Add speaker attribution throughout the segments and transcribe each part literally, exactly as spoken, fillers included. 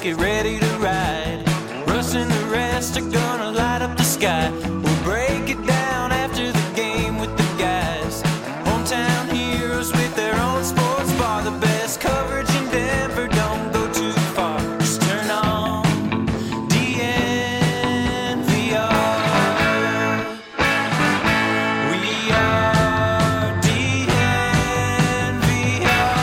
Speaker 1: get ready to ride. Russ and the rest are gonna light up the sky. We'll break it down after the game with the guys. Hometown heroes with their own sports bar. The best coverage in Denver, don't go too far. Just turn on D N V R. We are D N V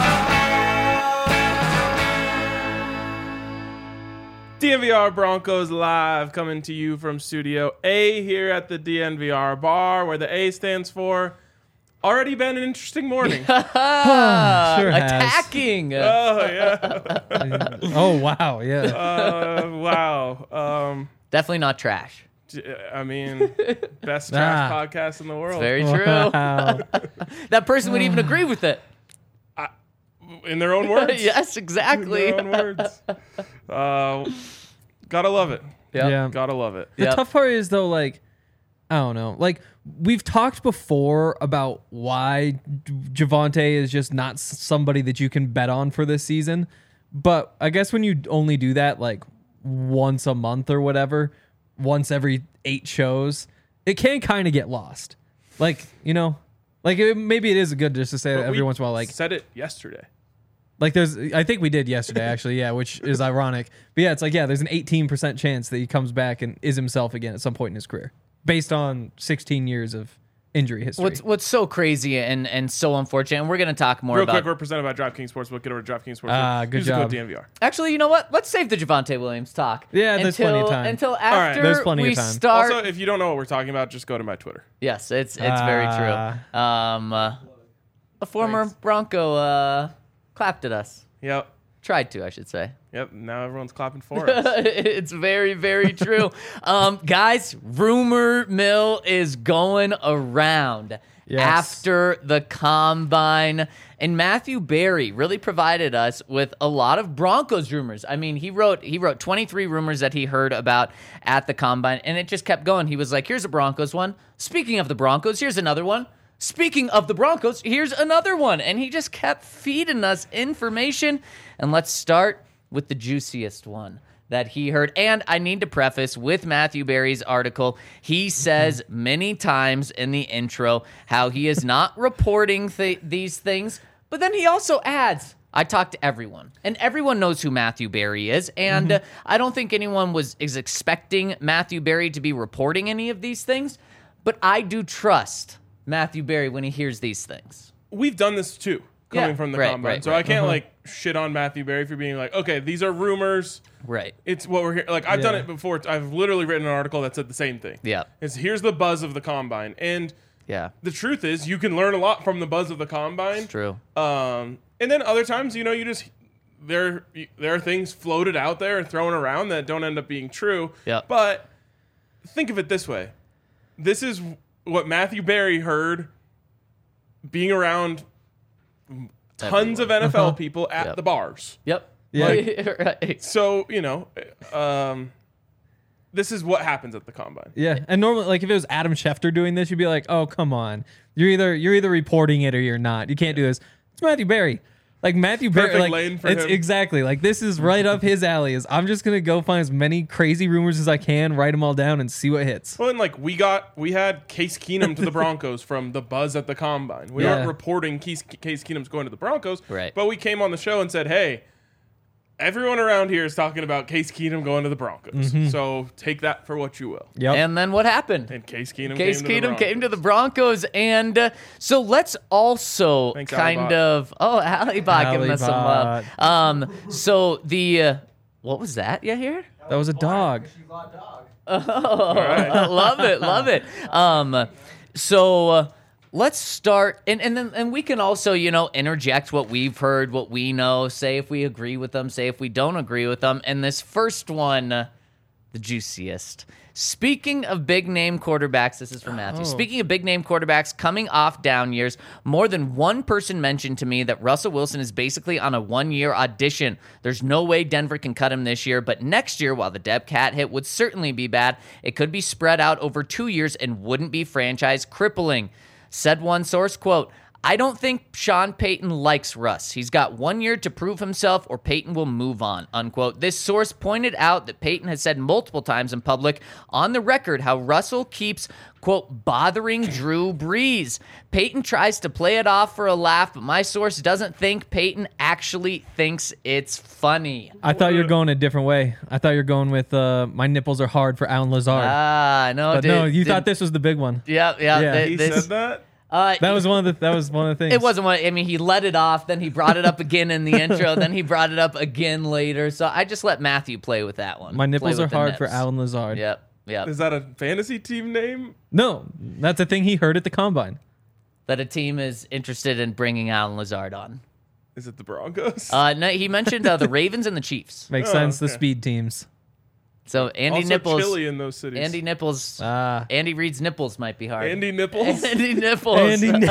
Speaker 1: R.
Speaker 2: D N V R Broncos Live, coming to you from Studio A here at the D N V R bar, where the A stands for already been an interesting morning.
Speaker 3: Sure has.
Speaker 4: Attacking.
Speaker 2: Oh, yeah.
Speaker 3: Oh, wow. Yeah.
Speaker 2: Uh, wow. Um,
Speaker 4: Definitely not trash.
Speaker 2: I mean, best trash
Speaker 3: Ah.
Speaker 2: podcast in the world.
Speaker 4: Very true.
Speaker 3: Wow.
Speaker 4: That person would even agree with it.
Speaker 2: In their own words.
Speaker 4: Yes, exactly.
Speaker 2: In their own words. Uh, gotta love it.
Speaker 4: Yep.
Speaker 3: Yeah.
Speaker 2: Gotta love it.
Speaker 3: The
Speaker 4: Yep.
Speaker 3: tough part is, though, like, I don't know. Like, we've talked before about why J- Javonte is just not s- somebody that you can bet on for this season. But I guess when you only do that, like, once a month or whatever, once every eight shows, it can kind of get lost. Like, you know, like, it, maybe it is good just to say that
Speaker 2: But
Speaker 3: every
Speaker 2: we
Speaker 3: once in a while, like,
Speaker 2: said it yesterday.
Speaker 3: like there's, I think we did yesterday, actually, yeah, which is ironic. But yeah, it's like, yeah, there's an eighteen percent chance that he comes back and is himself again at some point in his career, based on sixteen years of injury history.
Speaker 4: What's what's so crazy and, and so unfortunate, and we're going to talk more
Speaker 2: Real
Speaker 4: about...
Speaker 2: quick, we're presented by DraftKings Sportsbook. Get over to DraftKings Sportsbook.
Speaker 3: Ah, good
Speaker 2: Use the
Speaker 3: job.
Speaker 2: code D N V R.
Speaker 4: Actually, you know what? Let's save the Javonte Williams talk.
Speaker 3: Yeah, there's
Speaker 4: until,
Speaker 3: plenty of time.
Speaker 4: Until
Speaker 2: right,
Speaker 4: after
Speaker 3: there's plenty
Speaker 4: we
Speaker 3: of time.
Speaker 4: start...
Speaker 2: Also, if you don't know what we're talking about, just go to my Twitter.
Speaker 4: Yes, it's it's very
Speaker 3: Ah.
Speaker 4: true. Um, uh, a former
Speaker 2: Thanks.
Speaker 4: Bronco uh, clapped at us.
Speaker 2: Yep.
Speaker 4: Tried to, I should say.
Speaker 2: Yep. Now everyone's clapping for us.
Speaker 4: It's very, very true. um, guys, rumor mill is going around
Speaker 3: Yes.
Speaker 4: after the combine. And Matthew Berry really provided us with a lot of Broncos rumors. I mean, he wrote he wrote twenty-three rumors that he heard about at the combine, and it just kept going. He was like, here's a Broncos one. Speaking of the Broncos, here's another one. Speaking of the Broncos, here's another one. And he just kept feeding us information. And let's start with the juiciest one that he heard. And I need to preface with Matthew Berry's article. He says many times in the intro how he is not reporting th- these things. But then he also adds, I talked to everyone, and everyone knows who Matthew Berry is. And uh, I don't think anyone was is expecting Matthew Berry to be reporting any of these things. But I do trust Matthew Berry when he hears these things.
Speaker 2: We've done this too, coming
Speaker 4: Yeah,
Speaker 2: from the
Speaker 4: right,
Speaker 2: combine.
Speaker 4: right,
Speaker 2: so
Speaker 4: right.
Speaker 2: I can't like shit on Matthew Berry for being like, okay, these are rumors.
Speaker 4: Right.
Speaker 2: It's what we're here. Like I've done
Speaker 3: Yeah.
Speaker 2: it before. I've literally written an article that said the same thing.
Speaker 4: Yeah.
Speaker 2: It's here's the buzz of the combine, and
Speaker 4: Yeah.
Speaker 2: the truth is you can learn a lot from the buzz of the combine.
Speaker 4: True.
Speaker 2: Um, and then other times, you know, you just there there are things floated out there and thrown around that don't end up being true.
Speaker 4: Yeah.
Speaker 2: But think of it this way: this is what Matthew Berry heard being around tons of N F L people at
Speaker 4: Yep.
Speaker 2: the bars.
Speaker 4: Yep.
Speaker 3: Yeah.
Speaker 4: right.
Speaker 2: So you know, um, this is what happens at the combine.
Speaker 3: Yeah, and normally, like if it was Adam Schefter doing this, you'd be like, "Oh, come on, you're either you're either reporting it or you're not. You can't do this." It's Matthew Berry, like Matthew Berry,
Speaker 2: Perfect
Speaker 3: like
Speaker 2: lane for
Speaker 3: it's
Speaker 2: him.
Speaker 3: exactly like this is right up his alley. Is I'm just gonna go find as many crazy rumors as I can, write them all down, and see what hits.
Speaker 2: Well, and like we got, we had Case Keenum to the Broncos from the buzz at the combine. We
Speaker 3: Yeah.
Speaker 2: aren't reporting Case, Case Keenum's going to the Broncos,
Speaker 4: Right.
Speaker 2: But we came on the show and said, hey, everyone around here is talking about Case Keenum going to the Broncos. So take that for what you will.
Speaker 3: Yep.
Speaker 4: And then what happened?
Speaker 2: And Case Keenum
Speaker 4: Case
Speaker 2: came to
Speaker 4: Keenum
Speaker 2: the
Speaker 4: came to the Broncos, and uh, so let's also
Speaker 2: Thanks,
Speaker 4: kind
Speaker 2: Alibot.
Speaker 4: of oh, Alibot giving us some love.
Speaker 3: Alibot.
Speaker 4: Um, so the uh, what was that you hear?
Speaker 3: That was a dog.
Speaker 4: love it, love it. Um, so uh, let's start, and and then and we can also you know interject what we've heard, what we know, say if we agree with them, say if we don't agree with them. And this first one, uh, the juiciest. Speaking of big name quarterbacks, this is from Matthew.
Speaker 3: Oh.
Speaker 4: Speaking of big name quarterbacks coming off down years, more than one person mentioned to me that Russell Wilson is basically on a one-year audition. There's no way Denver can cut him this year, but next year, while the dead cat hit would certainly be bad, it could be spread out over two years and wouldn't be franchise crippling. Said one source, quote, I don't think Sean Payton likes Russ. He's got one year to prove himself or Payton will move on, unquote. This source pointed out that Payton has said multiple times in public on the record how Russell keeps, quote, bothering Drew Brees. Payton tries to play it off for a laugh, but my source doesn't think Payton actually thinks it's funny.
Speaker 3: I thought you were going a different way. I thought you were going with uh, my nipples are hard for Alan Lazard.
Speaker 4: Ah, no,
Speaker 3: but
Speaker 4: dude,
Speaker 3: no, you
Speaker 4: did,
Speaker 3: thought this was the big one.
Speaker 4: Yep, yeah,
Speaker 3: Yeah.
Speaker 4: th-
Speaker 2: He
Speaker 4: this,
Speaker 2: said that?
Speaker 4: Uh,
Speaker 3: That was one of the that was one of the things.
Speaker 4: It wasn't one. I mean, he let it off, then he brought it up again in the intro, then he brought it up again later. So I just let Matthew play with that one.
Speaker 3: My
Speaker 4: Play
Speaker 3: nipples
Speaker 4: with
Speaker 3: are
Speaker 4: the
Speaker 3: hard
Speaker 4: nips.
Speaker 3: for Alan Lazard.
Speaker 4: Yep, yep.
Speaker 2: Is that a fantasy team name?
Speaker 3: No, that's a thing he heard at the combine.
Speaker 4: That a team is interested in bringing Alan Lazard on.
Speaker 2: Is it the Broncos?
Speaker 4: Uh, no, he mentioned uh, the Ravens and the Chiefs.
Speaker 3: Makes
Speaker 2: Oh,
Speaker 3: sense. The
Speaker 2: okay.
Speaker 3: speed teams.
Speaker 4: So Andy
Speaker 2: also
Speaker 4: Nipples,
Speaker 2: chilly in those cities.
Speaker 4: Andy Nipples,
Speaker 3: Ah.
Speaker 4: Andy Reid's nipples might be hard.
Speaker 2: Andy Nipples.
Speaker 4: Andy Nipples.
Speaker 3: Andy. Ni-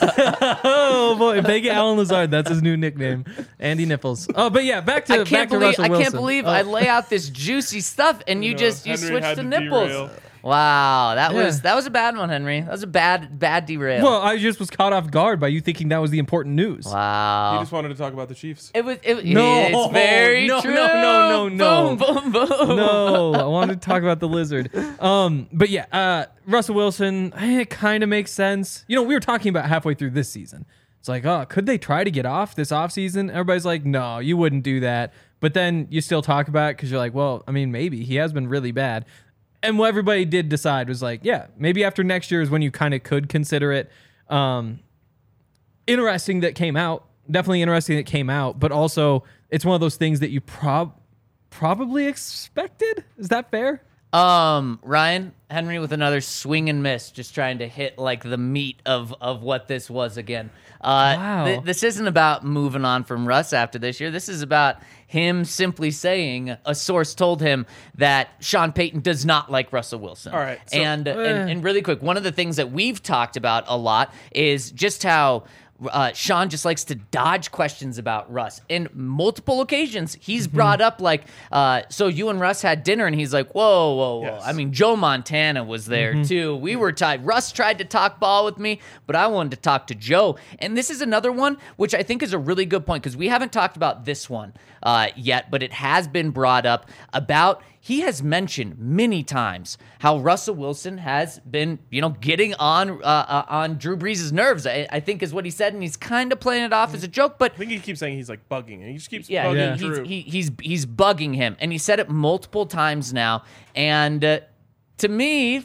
Speaker 3: oh boy, if they get Alan Lazard, that's his new nickname, Andy Nipples. Oh, but yeah, back to
Speaker 4: I
Speaker 3: back
Speaker 4: can't
Speaker 3: to
Speaker 4: believe
Speaker 3: Russell
Speaker 4: I
Speaker 3: Wilson.
Speaker 4: can't believe
Speaker 3: Oh.
Speaker 4: I lay out this juicy stuff and you
Speaker 2: No,
Speaker 4: just you
Speaker 2: Henry
Speaker 4: switched
Speaker 2: had
Speaker 4: to
Speaker 2: to
Speaker 4: nipples.
Speaker 2: derail.
Speaker 4: Wow, that
Speaker 3: Yeah.
Speaker 4: was that was a bad one, Henry. That was a bad bad derail.
Speaker 3: Well, I just was caught off guard by you thinking that was the important news.
Speaker 4: wow.
Speaker 2: You just wanted to talk about the Chiefs.
Speaker 4: It was. It,
Speaker 3: No,
Speaker 4: it's very
Speaker 3: no,
Speaker 4: true.
Speaker 3: no, no, no, no.
Speaker 4: Boom, boom, boom.
Speaker 3: No, I wanted to talk about the lizard. Um, but yeah, uh, Russell Wilson, eh, it kind of makes sense. You know, we were talking about halfway through this season. It's like, oh, could they try to get off this offseason? Everybody's like, no, you wouldn't do that. But then you still talk about it because you're like, well, I mean, maybe he has been really bad. And what everybody did decide was like, yeah, maybe after next year is when you kind of could consider it. Um, interesting that came out. Definitely interesting that came out. But also, it's one of those things that you prob probably expected. Is that fair?
Speaker 4: Um, Ryan Henry with another swing and miss, just trying to hit like the meat of of what this was again. Uh,
Speaker 3: Wow.
Speaker 4: th- this isn't about moving on from Russ after this year. This is about him simply saying a source told him that Sean Payton does not like Russell Wilson.
Speaker 2: All right, so-
Speaker 4: and,
Speaker 3: Eh.
Speaker 4: and and really quick, one of the things that we've talked about a lot is just how uh, Sean just likes to dodge questions about Russ. In multiple occasions, he's
Speaker 2: Mm-hmm.
Speaker 4: brought up like, uh, so you and Russ had dinner, and he's like, whoa, whoa, whoa.
Speaker 2: Yes.
Speaker 4: I mean, Joe Montana was there too. We were tied. Russ tried to talk ball with me, but I wanted to talk to Joe. And this is another one, which I think is a really good point because we haven't talked about this one uh, yet, but it has been brought up about. He has mentioned many times how Russell Wilson has been, you know, getting on uh, uh, on Drew Brees' nerves. I, I think is what he said, and he's kind of playing it off as a joke. But
Speaker 2: I think he keeps saying he's like bugging, and he just keeps
Speaker 4: yeah,
Speaker 2: bugging
Speaker 4: he-
Speaker 2: Drew.
Speaker 4: he's, he, he's he's bugging him, and he said it multiple times now. And uh, to me,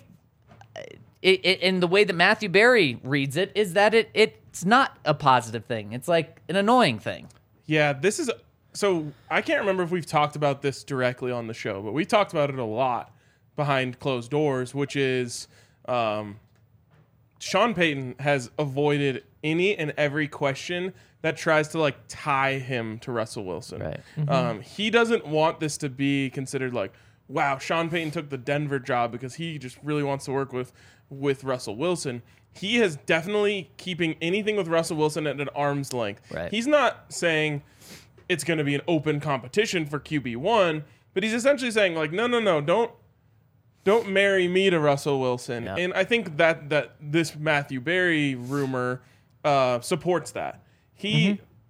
Speaker 4: it, it, and the way that Matthew Berry reads it is that it it's not a positive thing. It's like an annoying thing.
Speaker 2: Yeah, this is so I can't remember if we've talked about this directly on the show, but we talked about it a lot behind closed doors, which is um, Sean Payton has avoided any and every question that tries to like tie him to Russell Wilson.
Speaker 4: Right.
Speaker 2: Um, he doesn't want this to be considered like, wow, Sean Payton took the Denver job because he just really wants to work with with Russell Wilson. He is definitely keeping anything with Russell Wilson at an arm's length.
Speaker 4: Right.
Speaker 2: He's not saying it's going to be an open competition for Q B one, but he's essentially saying like, no, no, no, don't don't marry me to Russell Wilson.
Speaker 4: Yeah.
Speaker 2: And I think that that this Matthew Berry rumor uh, supports that. He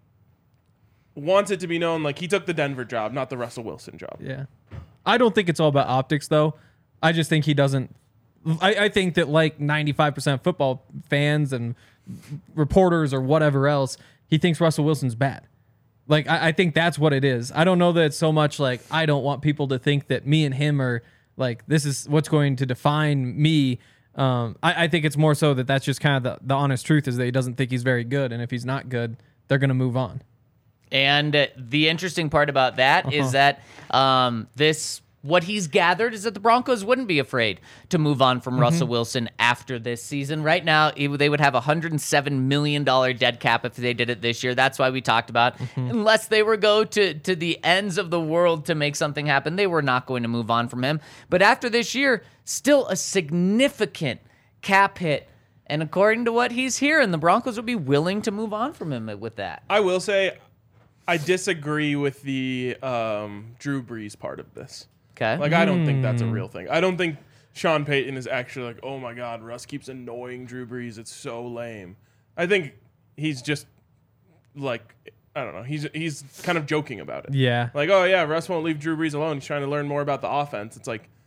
Speaker 3: Mm-hmm.
Speaker 2: wants it to be known like he took the Denver job, not the Russell Wilson job.
Speaker 3: Yeah. I don't think it's all about optics, though. I just think he doesn't. I, I think that, like ninety-five percent of football fans and reporters or whatever else, he thinks Russell Wilson's bad. Like, I, I think that's what it is. I don't know that it's so much like I don't want people to think that me and him are like, this is what's going to define me. Um, I, I think it's more so that that's just kind of the, the honest truth is that he doesn't think he's very good. And if he's not good, they're going to move on.
Speaker 4: And uh, the interesting part about that is that um, this, what he's gathered is that the Broncos wouldn't be afraid to move on from Russell Wilson after this season. Right now, it, they would have a one hundred seven million dollars dead cap if they did it this year. That's why we talked about, unless they were go to, to the ends of the world to make something happen, they were not going to move on from him. But after this year, still a significant cap hit. And according to what he's hearing, the Broncos would be willing to move on from him with that.
Speaker 2: I will say I disagree with the um, Drew Brees part of this.
Speaker 4: Okay.
Speaker 2: Like, I don't think that's a real thing. I don't think Sean Payton is actually like, oh my God, Russ keeps annoying Drew Brees. It's so lame. I think he's just like, I don't know. He's he's kind of joking about it.
Speaker 3: Yeah.
Speaker 2: Like, oh yeah, Russ won't leave Drew Brees alone. He's trying to learn more about the offense. It's like,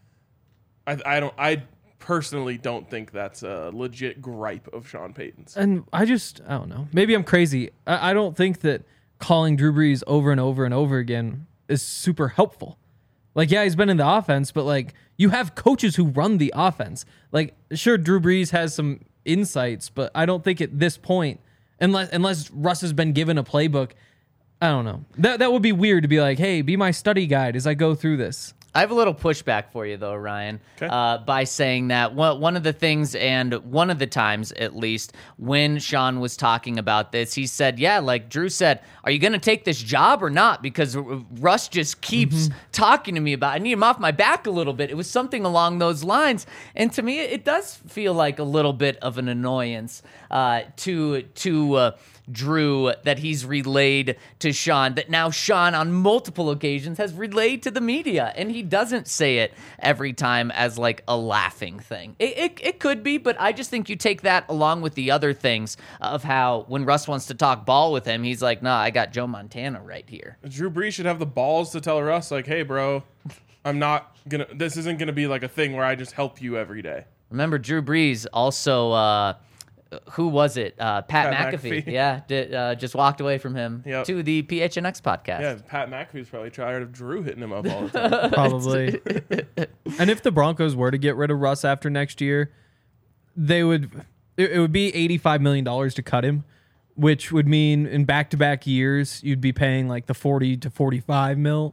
Speaker 2: I I don't I personally don't think that's a legit gripe of Sean Payton's.
Speaker 3: And I just, I don't know. Maybe I'm crazy. I, I don't think that calling Drew Brees over and over and over again is super helpful. Like, yeah, he's been in the offense, but like, you have coaches who run the offense. Like, sure, Drew Brees has some insights, but I don't think at this point, unless unless Russ has been given a playbook, I don't know. That that would be weird to be like, hey, be my study guide as I go through this.
Speaker 4: I have a little pushback for you, though, Ryan,
Speaker 2: Okay.
Speaker 4: uh, by saying that one one of the things, and one of the times at least, when Sean was talking about this, he said, yeah, like Drew said, are you going to take this job or not? Because Russ just keeps
Speaker 3: Mm-hmm.
Speaker 4: talking to me about, I need him off my back a little bit. It was something along those lines. And to me, it does feel like a little bit of an annoyance uh, to, to uh, Drew that he's relayed to Sean, that now Sean on multiple occasions has relayed to the media, and he doesn't say it every time as like a laughing thing. It, it, it could be, but I just think you take that along with the other things of how when Russ wants to talk ball with him, he's like, nah, I got Joe Montana right here.
Speaker 2: Drew Brees should have the balls to tell Russ, like, hey, bro, I'm not gonna. This isn't gonna be like a thing where I just help you every day.
Speaker 4: Remember, Drew Brees also, uh, who was it? Uh, Pat,
Speaker 2: Pat
Speaker 4: McAfee.
Speaker 2: McAfee.
Speaker 4: Yeah, did, uh, just walked away from him
Speaker 2: Yep.
Speaker 4: to the P H N X podcast.
Speaker 2: Yeah, Pat McAfee's probably tired of Drew hitting him up all the time.
Speaker 3: Probably. And if the Broncos were to get rid of Russ after next year, they would it, it would be eighty-five million dollars to cut him, which would mean in back-to-back years you'd be paying like the forty to forty-five mil.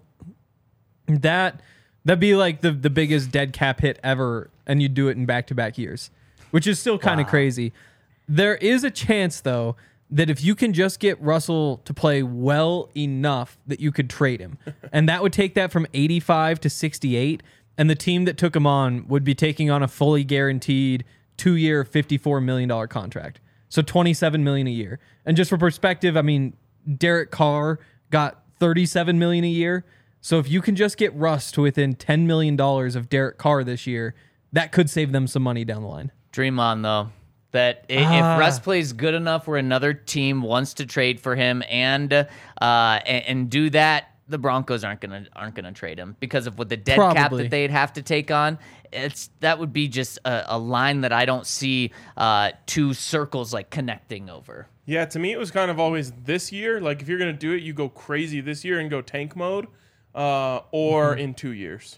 Speaker 3: That that'd be like the the biggest dead cap hit ever, and you'd do it in back-to-back years, which is still kind of
Speaker 4: Wow.
Speaker 3: crazy. There is a chance though that if you can just get Russell to play well enough that you could trade him. And that would take that from eighty-five to sixty-eight. And the team that took him on would be taking on a fully guaranteed two-year, fifty-four million dollars contract. So twenty-seven million dollars a year. And just for perspective, I mean, Derek Carr got thirty-seven million dollars a year. So if you can just get Russ to within ten million dollars of Derek Carr this year, that could save them some money down the line.
Speaker 4: Dream on, though. That i-
Speaker 3: Ah.
Speaker 4: if Russ plays good enough where another team wants to trade for him and uh, and, and do that, the Broncos aren't gonna aren't gonna trade him because of what the dead cap
Speaker 3: Probably.
Speaker 4: that they'd have to take on. It's that would be just a, a line that I don't see uh, two circles like connecting over.
Speaker 2: Yeah, to me, it was kind of always this year. Like, if you're going to do it, you go crazy this year and go tank mode, uh, or
Speaker 3: Mm-hmm.
Speaker 2: in two years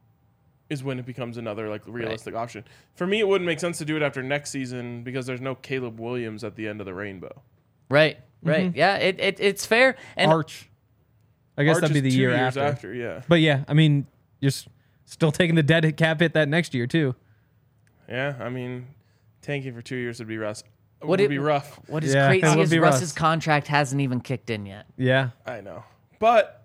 Speaker 2: is when it becomes another, like, realistic option. For me, it wouldn't make sense to do it after next season because there's no Caleb Williams at the end of the rainbow.
Speaker 4: Right, right, yeah, it, it it's fair. And
Speaker 3: Arch. I guess
Speaker 2: Arch
Speaker 3: that'd be
Speaker 2: is
Speaker 3: the
Speaker 2: two
Speaker 3: year
Speaker 2: years
Speaker 3: after.
Speaker 2: after. Yeah.
Speaker 3: But yeah, I mean, you're s- still taking the dead cap hit that next year too.
Speaker 2: Yeah, I mean, tanking for two years would be rough.
Speaker 4: What
Speaker 2: Would
Speaker 4: it-
Speaker 2: be rough.
Speaker 4: what is
Speaker 3: Yeah, it
Speaker 4: crazy
Speaker 3: would
Speaker 4: is
Speaker 3: be
Speaker 4: Russ's
Speaker 3: Russ.
Speaker 4: contract hasn't even kicked in yet.
Speaker 3: Yeah.
Speaker 2: I know. But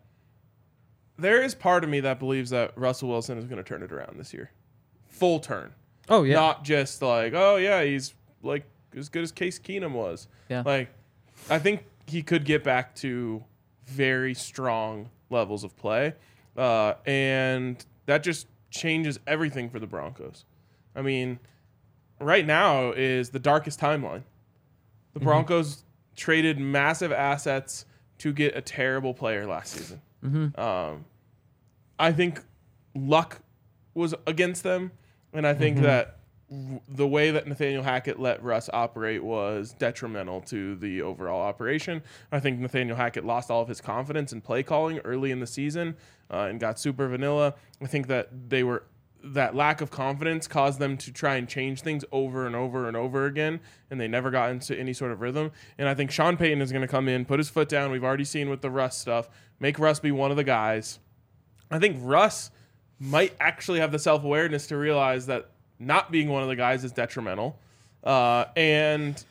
Speaker 2: there is part of me that believes that Russell Wilson is going to turn it around this year. Full turn.
Speaker 3: Oh yeah.
Speaker 2: Not just like, oh yeah, he's like as good as Case Keenum was.
Speaker 4: Yeah.
Speaker 2: Like, I think he could get back to very strong levels of play, uh, and that just changes everything for the Broncos. I mean, right now is the darkest timeline. The Broncos traded massive assets to get a terrible player last season. Um, I think luck was against them, and I think that w- the way that Nathaniel Hackett let Russ operate was detrimental to the overall operation. I think Nathaniel Hackett lost all of his confidence in play calling early in the season uh, and got super vanilla. I think that they were that lack of confidence caused them to try and change things over and over and over again, and they never got into any sort of rhythm. And I think Sean Payton is going to come in, put his foot down. We've already seen with the Russ stuff, make Russ be one of the guys. I think Russ might actually have the self-awareness to realize that not being one of the guys is detrimental. Uh, and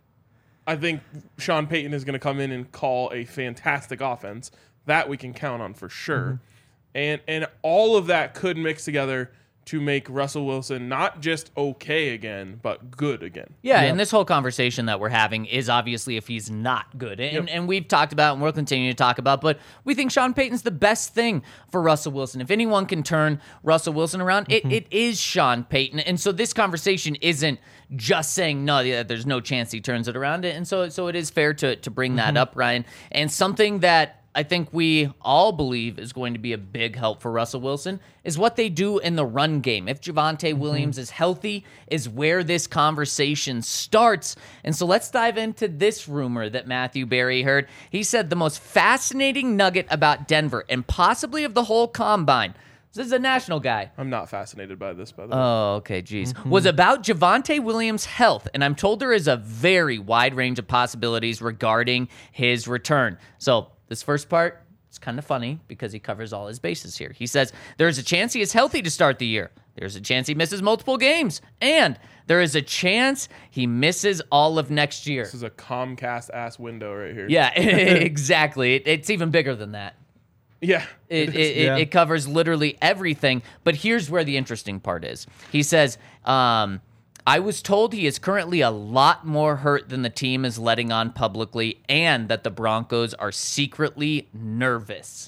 Speaker 2: I think Sean Payton is going to come in and call a fantastic offense. That we can count on for sure. And and all of that could mix together to make Russell Wilson not just okay again, but good again.
Speaker 4: Yeah, and this whole conversation that we're having is obviously if he's not good. And,
Speaker 2: Yep.
Speaker 4: and we've talked about and we'll continue to talk about, but we think Sean Payton's the best thing for Russell Wilson. If anyone can turn Russell Wilson around,
Speaker 2: Mm-hmm.
Speaker 4: it, it is Sean Payton. And so this conversation isn't just saying, no, yeah, there's no chance he turns it around. And so, so it is fair to, to bring that up, Ryan. And something that I think we all believe is going to be a big help for Russell Wilson is what they do in the run game. If Javonte Williams is healthy, is where this conversation starts. And so let's dive into this rumor that Matthew Berry heard. He said the most fascinating nugget about Denver and possibly of the whole combine. This is a national guy.
Speaker 2: I'm not fascinated by this, by the way.
Speaker 4: Oh, okay, geez. Was about Javonte Williams' health, and I'm told there is a very wide range of possibilities regarding his return. So this first part, it's kind of funny because he covers all his bases here. He says, there is a chance he is healthy to start the year. There's a chance he misses multiple games. And there is a chance he misses all of next year.
Speaker 2: This is a Comcast-ass window right here.
Speaker 4: Yeah, exactly. It, it's even bigger than that.
Speaker 2: Yeah.
Speaker 4: It, it,
Speaker 2: is.
Speaker 4: it,
Speaker 3: Yeah.
Speaker 4: it covers literally everything. But here's where the interesting part is. He says, um, I was told he is currently a lot more hurt than the team is letting on publicly, and that the Broncos are secretly nervous.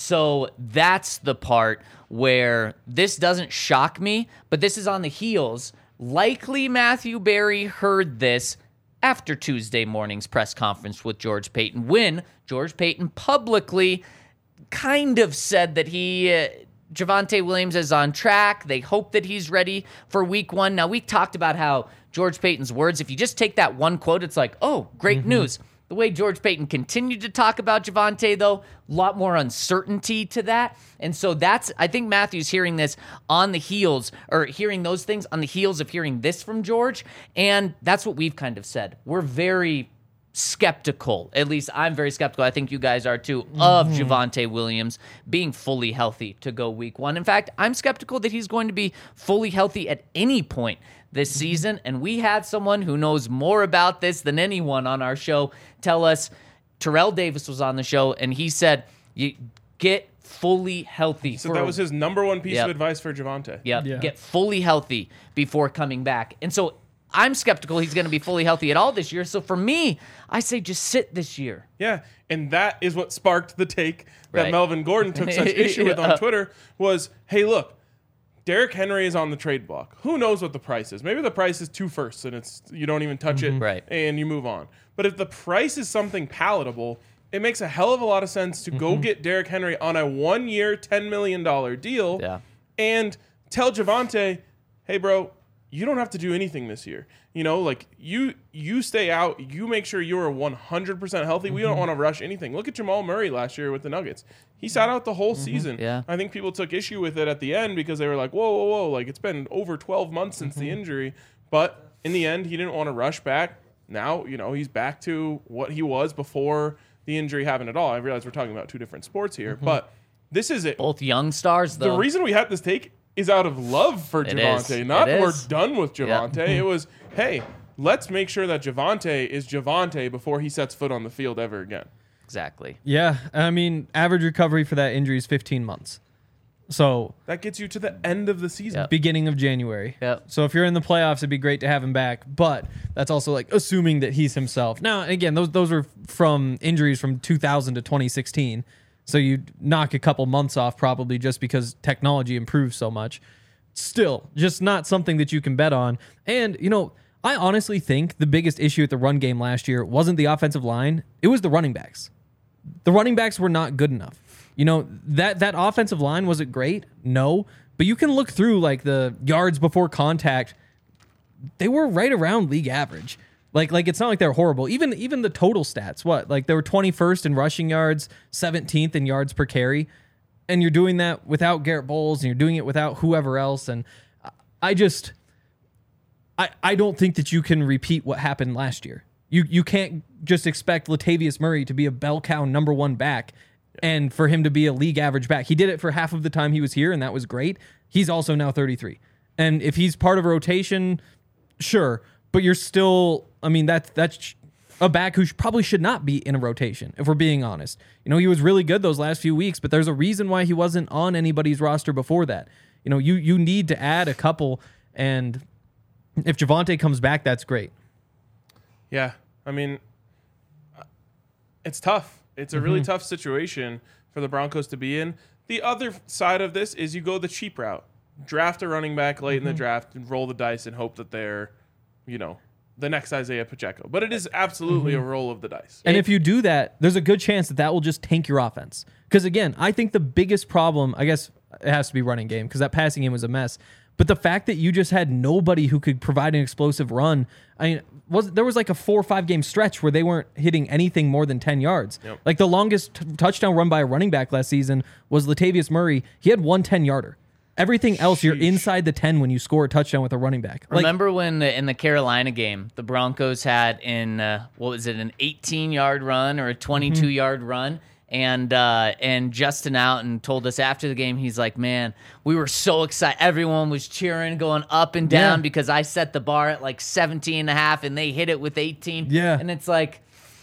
Speaker 4: So that's the part where this doesn't shock me, but this is on the heels. Likely Matthew Berry heard this after Tuesday morning's press conference with George Paton, when George Paton publicly kind of said that he, uh, Javonte Williams is on track. They hope that he's ready for week one. Now, we talked about how George Paton's words, if you just take that one quote, it's like, oh, great news. The way George Paton continued to talk about Javonte, though, a lot more uncertainty to that. And so that's, I think Matthew's hearing this on the heels, or hearing those things on the heels of hearing this from George. And that's what we've kind of said. We're very skeptical, at least I'm very skeptical, I think you guys are too, of Javonte Williams being fully healthy to go week one. In fact, I'm skeptical that he's going to be fully healthy at any point this season, and we had someone who knows more about this than anyone on our show tell us. Terrell Davis was on the show, and he said, you get fully healthy.
Speaker 2: So
Speaker 4: for
Speaker 2: that
Speaker 4: a-
Speaker 2: was his number one piece
Speaker 4: Yep.
Speaker 2: of advice for Javonte.
Speaker 4: Yep.
Speaker 3: Yeah.
Speaker 4: Get fully healthy before coming back. And so I'm skeptical he's going to be fully healthy at all this year. So for me, I say just sit this year.
Speaker 2: Yeah, and that is what sparked the take that
Speaker 4: Right.
Speaker 2: Melvin Gordon took such issue with
Speaker 4: Yeah.
Speaker 2: on Twitter was, hey, look, Derrick Henry is on the trade block. Who knows what the price is? Maybe the price is two firsts and it's you don't even touch it
Speaker 4: Right.
Speaker 2: and you move on. But if the price is something palatable, it makes a hell of a lot of sense to go get Derrick Henry on a one-year, ten million dollars deal
Speaker 4: Yeah.
Speaker 2: and tell Javonte, hey, bro, you don't have to do anything this year. You know, like you you stay out, you make sure you are one hundred percent healthy. We don't want to rush anything. Look at Jamal Murray last year with the Nuggets. He sat out the whole season.
Speaker 4: Yeah.
Speaker 2: I think people took issue with it at the end because they were like, whoa, whoa, whoa, like it's been over twelve months since the injury. But in the end, he didn't want to rush back. Now, you know, he's back to what he was before the injury happened at all. I realize we're talking about two different sports here, but this is it.
Speaker 4: Both young stars, though.
Speaker 2: The reason we had this take is out of love for
Speaker 4: It
Speaker 2: Javonte,
Speaker 4: is.
Speaker 2: not
Speaker 4: It
Speaker 2: we're
Speaker 4: is.
Speaker 2: done with
Speaker 4: Yeah.
Speaker 2: Javonte. It was, hey, let's make sure that Javonte is Javonte before he sets foot on the field ever again.
Speaker 4: Exactly.
Speaker 3: Yeah, I mean, average recovery for that injury is fifteen months. So
Speaker 2: That gets you to the end of the season.
Speaker 4: Yep.
Speaker 3: beginning of January.
Speaker 4: Yep.
Speaker 3: So if you're in the playoffs, it'd be great to have him back. But that's also like assuming that he's himself. Now, again, those those are from injuries from two thousand to twenty sixteen. So you knock a couple months off probably just because technology improves so much. Still, just not something that you can bet on. And, you know, I honestly think the biggest issue at the run game last year wasn't the offensive line. It was the running backs. The running backs were not good enough. You know, that that offensive line, was it great? No. But you can look through like the yards before contact. They were right around league average. Like like it's not like they're horrible. Even even the total stats, what? Like they were twenty-first in rushing yards, seventeenth in yards per carry. And you're doing that without Garrett Bowles and you're doing it without whoever else. And I just I I don't think that you can repeat what happened last year. You you can't just expect Latavius Murray to be a bell cow number one back and for him to be a league average back. He did it for half of the time he was here, and that was great. He's also now thirty-three. And if he's part of a rotation, sure. But you're still, I mean, that's that's a back who sh- probably should not be in a rotation, if we're being honest. You know, he was really good those last few weeks, but there's a reason why he wasn't on anybody's roster before that. You You know, you you need to add a couple, and if Javonte comes back, that's great.
Speaker 2: Yeah, I mean, it's tough. It's a
Speaker 3: Mm-hmm.
Speaker 2: really tough situation for the Broncos to be in. The other side of this is you go the cheap route. Draft a running back late
Speaker 3: Mm-hmm.
Speaker 2: in the draft and roll the dice and hope that they're, you know, the next Isaiah Pacheco. But it is absolutely
Speaker 3: Mm-hmm.
Speaker 2: a roll of the dice.
Speaker 3: And if you do that, there's a good chance that that will just tank your offense. Because again, I think the biggest problem, I guess it has to be running game, because that passing game was a mess. But the fact that you just had nobody who could provide an explosive run, I mean, was there was like a four or five game stretch where they weren't hitting anything more than ten yards.
Speaker 2: Yep.
Speaker 3: Like the longest t- touchdown run by a running back last season was Latavius Murray. He had one ten yarder. Everything else, you're
Speaker 2: Sheesh.
Speaker 3: inside the ten when you score a touchdown with a running back. Like,
Speaker 4: Remember when the, in the Carolina game, the Broncos had in uh, what was it, an eighteen-yard run or a twenty-two-yard run, and uh, and Justin Outen told us after the game, he's like, "Man, we were so excited. Everyone was cheering, going up and down
Speaker 3: Yeah.
Speaker 4: because I set the bar at like seventeen and a half, and they hit it with eighteen."
Speaker 3: Yeah.
Speaker 4: And it's like,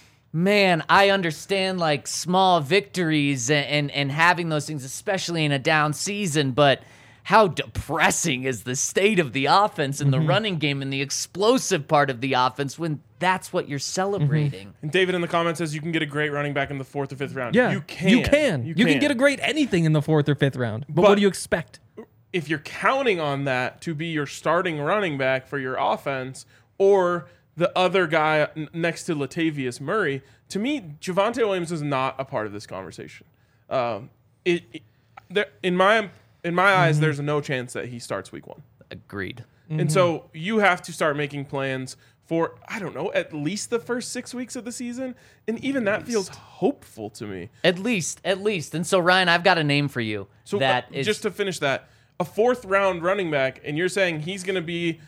Speaker 4: man, I understand like small victories and, and, and having those things, especially in a down season, but how depressing is the state of the offense and the running game and the explosive part of the offense when that's what you're celebrating?
Speaker 2: And David in the comments says you can get a great running back in the fourth or fifth round.
Speaker 3: yeah,
Speaker 2: You can.
Speaker 3: You can. You, can. get a great anything in the fourth or fifth round. But,
Speaker 2: But-
Speaker 3: what do you expect?
Speaker 2: If you're counting on that to be your starting running back for your offense or the other guy n- next to Latavius Murray, to me, Javonte Williams is not a part of this conversation. Um, it, it there, in my in my eyes, there's no chance that he starts week one.
Speaker 4: Agreed.
Speaker 2: And so you have to start making plans for, I don't know, at least the first six weeks of the season. And even that feels hopeful to me.
Speaker 4: At least, at least. And so, Ryan, I've got a name for you.
Speaker 2: So
Speaker 4: that
Speaker 2: uh,
Speaker 4: is
Speaker 2: just to finish that, a fourth round running back, and you're saying he's going to be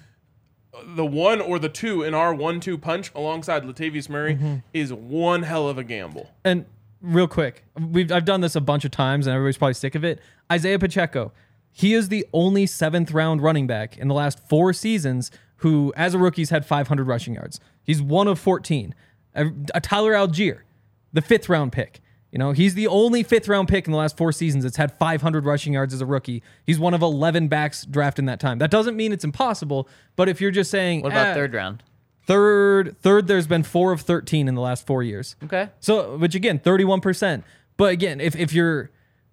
Speaker 2: the one or the two in our one two punch alongside Latavius Murray
Speaker 3: Mm-hmm.
Speaker 2: is one hell of a gamble.
Speaker 3: And real quick, we've I've done this a bunch of times, and everybody's probably sick of it. Isaiah Pacheco, he is the only seventh round running back in the last four seasons who, as a rookie, has had five hundred rushing yards. He's one of fourteen. A, a Tyler Algier, the fifth round pick. You know, he's the only fifth round pick in the last four seasons that's had five hundred rushing yards as a rookie. He's one of eleven backs drafted in that time. That doesn't mean it's impossible, but if you're just saying,
Speaker 4: what about
Speaker 3: eh,
Speaker 4: third round?
Speaker 3: Third, third, there's been four of thirteen in the last four years.
Speaker 4: Okay.
Speaker 3: So, which again, thirty-one percent. But again, if if you're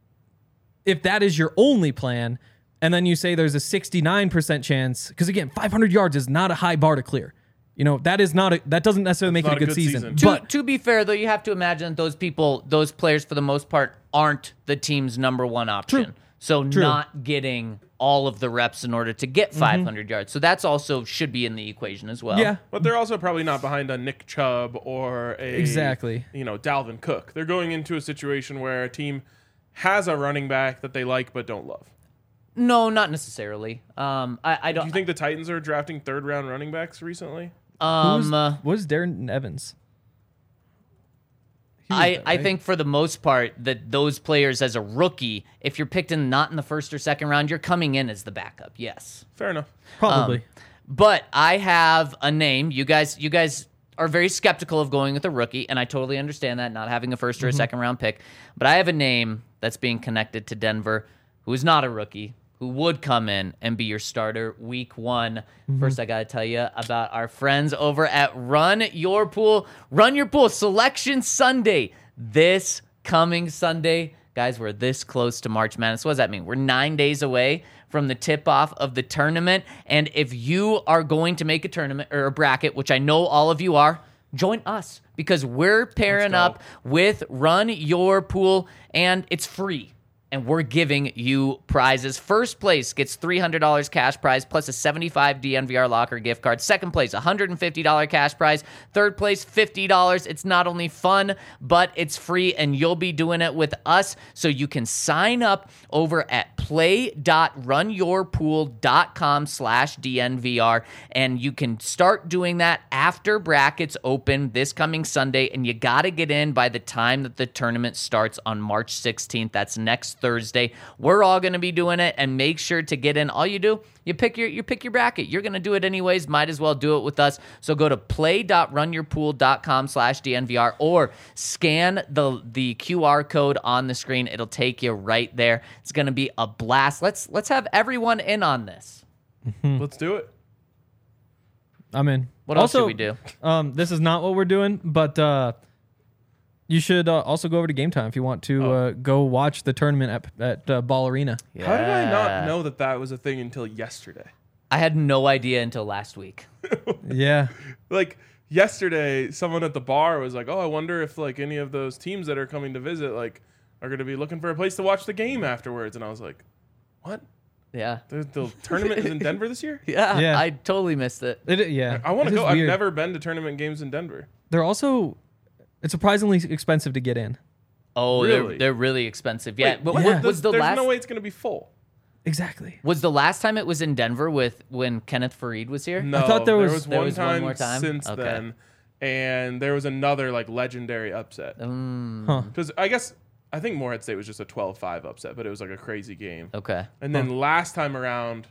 Speaker 3: if that is your only plan, and then you say there's a sixty-nine percent chance, because again, five hundred yards is not a high bar to clear. You know, that is not a that doesn't necessarily make it
Speaker 2: not
Speaker 3: a good,
Speaker 2: a good
Speaker 3: season.
Speaker 2: season.
Speaker 4: To,
Speaker 3: But
Speaker 4: to be fair, though, you have to imagine that those people, those players, for the most part, aren't the team's number one option.
Speaker 3: True.
Speaker 4: So
Speaker 3: True.
Speaker 4: not getting all of the reps in order to get five hundred yards. So that's also should be in the equation as well.
Speaker 3: yeah,
Speaker 2: But they're also probably not behind a Nick Chubb or a
Speaker 3: Exactly.
Speaker 2: you know, Dalvin Cook. They're going into a situation where a team has a running back that they like but don't love.
Speaker 4: No, not necessarily. Um, I, I
Speaker 2: Do
Speaker 4: don't.
Speaker 2: you think the Titans are drafting third round running backs recently?
Speaker 4: um, uh,
Speaker 3: what is Darren Evans? He was
Speaker 4: I,
Speaker 3: that,
Speaker 4: I
Speaker 3: right?
Speaker 4: think for the most part that those players as a rookie, if you're picked in not in the first or second round, you're coming in as the backup. Yes.
Speaker 2: Fair enough.
Speaker 3: probably.
Speaker 4: Um, But I have a name. You guys, you guys are very skeptical of going with a rookie, and I totally understand that, not having a first or a second round pick. But I have a name that's being connected to Denver, who is not a rookie, who would come in and be your starter week one. First, I got to tell you about our friends over at Run Your Pool. Run Your Pool Selection Sunday this coming Sunday. Guys, we're this close to March Madness. What does that mean? We're nine days away from the tip-off of the tournament. And if you are going to make a tournament or a bracket, which I know all of you are, join us because we're pairing
Speaker 2: go.
Speaker 4: up with Run Your Pool, and it's free. And we're giving you prizes. First place gets three hundred dollars cash prize plus a seventy-five D N V R locker gift card. Second place, one hundred fifty dollars cash prize. Third place, fifty dollars. It's not only fun, but it's free, and you'll be doing it with us. So you can sign up over at play.runyourpool.com slash DNVR, and you can start doing that after brackets open this coming Sunday, and you got to get in by the time that the tournament starts on March sixteenth. That's next Thursday. We're all going to be doing it, and make sure to get in. All you do, you pick your you pick your bracket. You're going to do it anyways. Might as well do it with us. So go to play.runyourpool.com slash DNVR or scan the the Q R code on the screen. It'll take you right there. It's going to be a blast. Let's let's have everyone in on this.
Speaker 2: Let's do it.
Speaker 3: I'm in.
Speaker 4: What else
Speaker 3: also,
Speaker 4: should we do?
Speaker 3: Um, this is not what we're doing, but uh, you should uh, also go over to Game Time if you want to
Speaker 2: Oh.
Speaker 3: uh, go watch the tournament at, at uh, Ball Arena.
Speaker 2: How did I
Speaker 4: Yeah.
Speaker 2: not know that that was a thing until yesterday?
Speaker 4: I had no idea until last week.
Speaker 3: Yeah.
Speaker 2: Like yesterday, someone at the bar was like, "Oh, I wonder if like any of those teams that are coming to visit like are going to be looking for a place to watch the game afterwards." And I was like, "What?
Speaker 4: Yeah.
Speaker 2: The, the tournament is in Denver this year?
Speaker 4: Yeah,
Speaker 3: Yeah.
Speaker 4: I totally missed it.
Speaker 3: It, yeah.
Speaker 2: I want
Speaker 3: It
Speaker 2: to
Speaker 3: is
Speaker 2: go. I've
Speaker 3: weird.
Speaker 2: never been to tournament games in Denver.
Speaker 3: They're also, it's surprisingly expensive to get in.
Speaker 4: Oh,
Speaker 2: Really?
Speaker 4: they're they're really expensive. Yeah,
Speaker 2: Wait,
Speaker 4: but
Speaker 2: what-
Speaker 4: what
Speaker 3: yeah.
Speaker 4: was the
Speaker 2: There's
Speaker 4: last
Speaker 2: no way it's going to be full.
Speaker 3: Exactly.
Speaker 4: was the last time it was in Denver with when Kenneth Farid was here?
Speaker 2: No,
Speaker 3: thought there was-
Speaker 4: there
Speaker 2: one
Speaker 4: was one
Speaker 2: time
Speaker 4: more time?
Speaker 2: since
Speaker 4: Okay.
Speaker 2: then, and there was another like legendary upset.
Speaker 4: Mm,
Speaker 3: Huh.
Speaker 2: Because I guess I think Morehead State was just a twelve five upset, but it was like a crazy game.
Speaker 4: okay.
Speaker 2: And then last time around,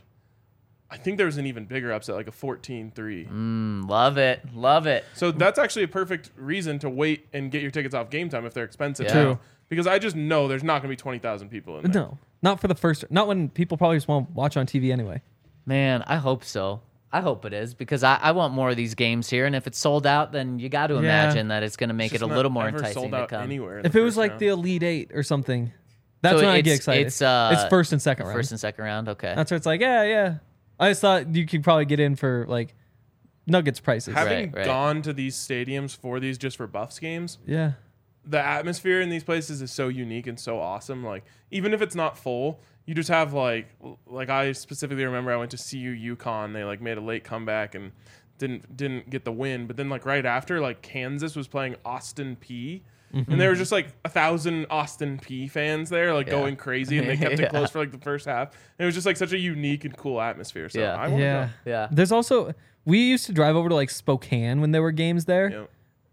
Speaker 2: I think there was an even bigger upset, like a fourteen three.
Speaker 4: Mm, love it. Love it.
Speaker 2: So that's actually a perfect reason to wait and get your tickets off Game Time if they're expensive.
Speaker 4: Yeah.
Speaker 2: now.
Speaker 3: True.
Speaker 2: Because I just know there's not going to be twenty thousand people in there.
Speaker 3: No, not for the first, not when people probably just want to watch on T V anyway.
Speaker 4: Man, I hope so. I hope it is because I, I want more of these games here. And if it's sold out, then you got to
Speaker 3: Yeah.
Speaker 4: imagine that it's going to make
Speaker 2: It's
Speaker 4: it a
Speaker 2: just
Speaker 4: little
Speaker 2: not
Speaker 4: more
Speaker 2: ever
Speaker 4: enticing
Speaker 2: sold
Speaker 4: to
Speaker 2: out
Speaker 4: come.
Speaker 2: anywhere in
Speaker 3: If
Speaker 2: the
Speaker 3: it was
Speaker 2: first
Speaker 3: like
Speaker 2: round.
Speaker 3: the Elite Eight or something, that's
Speaker 4: So
Speaker 3: when I get
Speaker 4: it's-
Speaker 3: excited.
Speaker 4: It's, uh,
Speaker 3: it's first and second round.
Speaker 4: First and second round. Okay.
Speaker 3: That's where it's like, yeah, yeah. I just thought you could probably get in for like Nuggets prices.
Speaker 2: having
Speaker 4: Right, right.
Speaker 2: gone to these stadiums for these just for Buffs games,
Speaker 3: Yeah.
Speaker 2: the atmosphere in these places is so unique and so awesome. Like even if it's not full, you just have like like I specifically remember I went to C U UConn. They like made a late comeback and didn't didn't get the win. But then like right after, like Kansas was playing Austin P. And there was just like a thousand Austin P fans there, like
Speaker 4: Yeah.
Speaker 2: going crazy, and they kept
Speaker 4: Yeah.
Speaker 2: it close for like the first half. And it was just like such a unique and cool atmosphere. So
Speaker 4: Yeah.
Speaker 2: I want to
Speaker 3: Yeah.
Speaker 4: Yeah.
Speaker 3: There's also, we used to drive over to like Spokane when there were games there.
Speaker 2: go.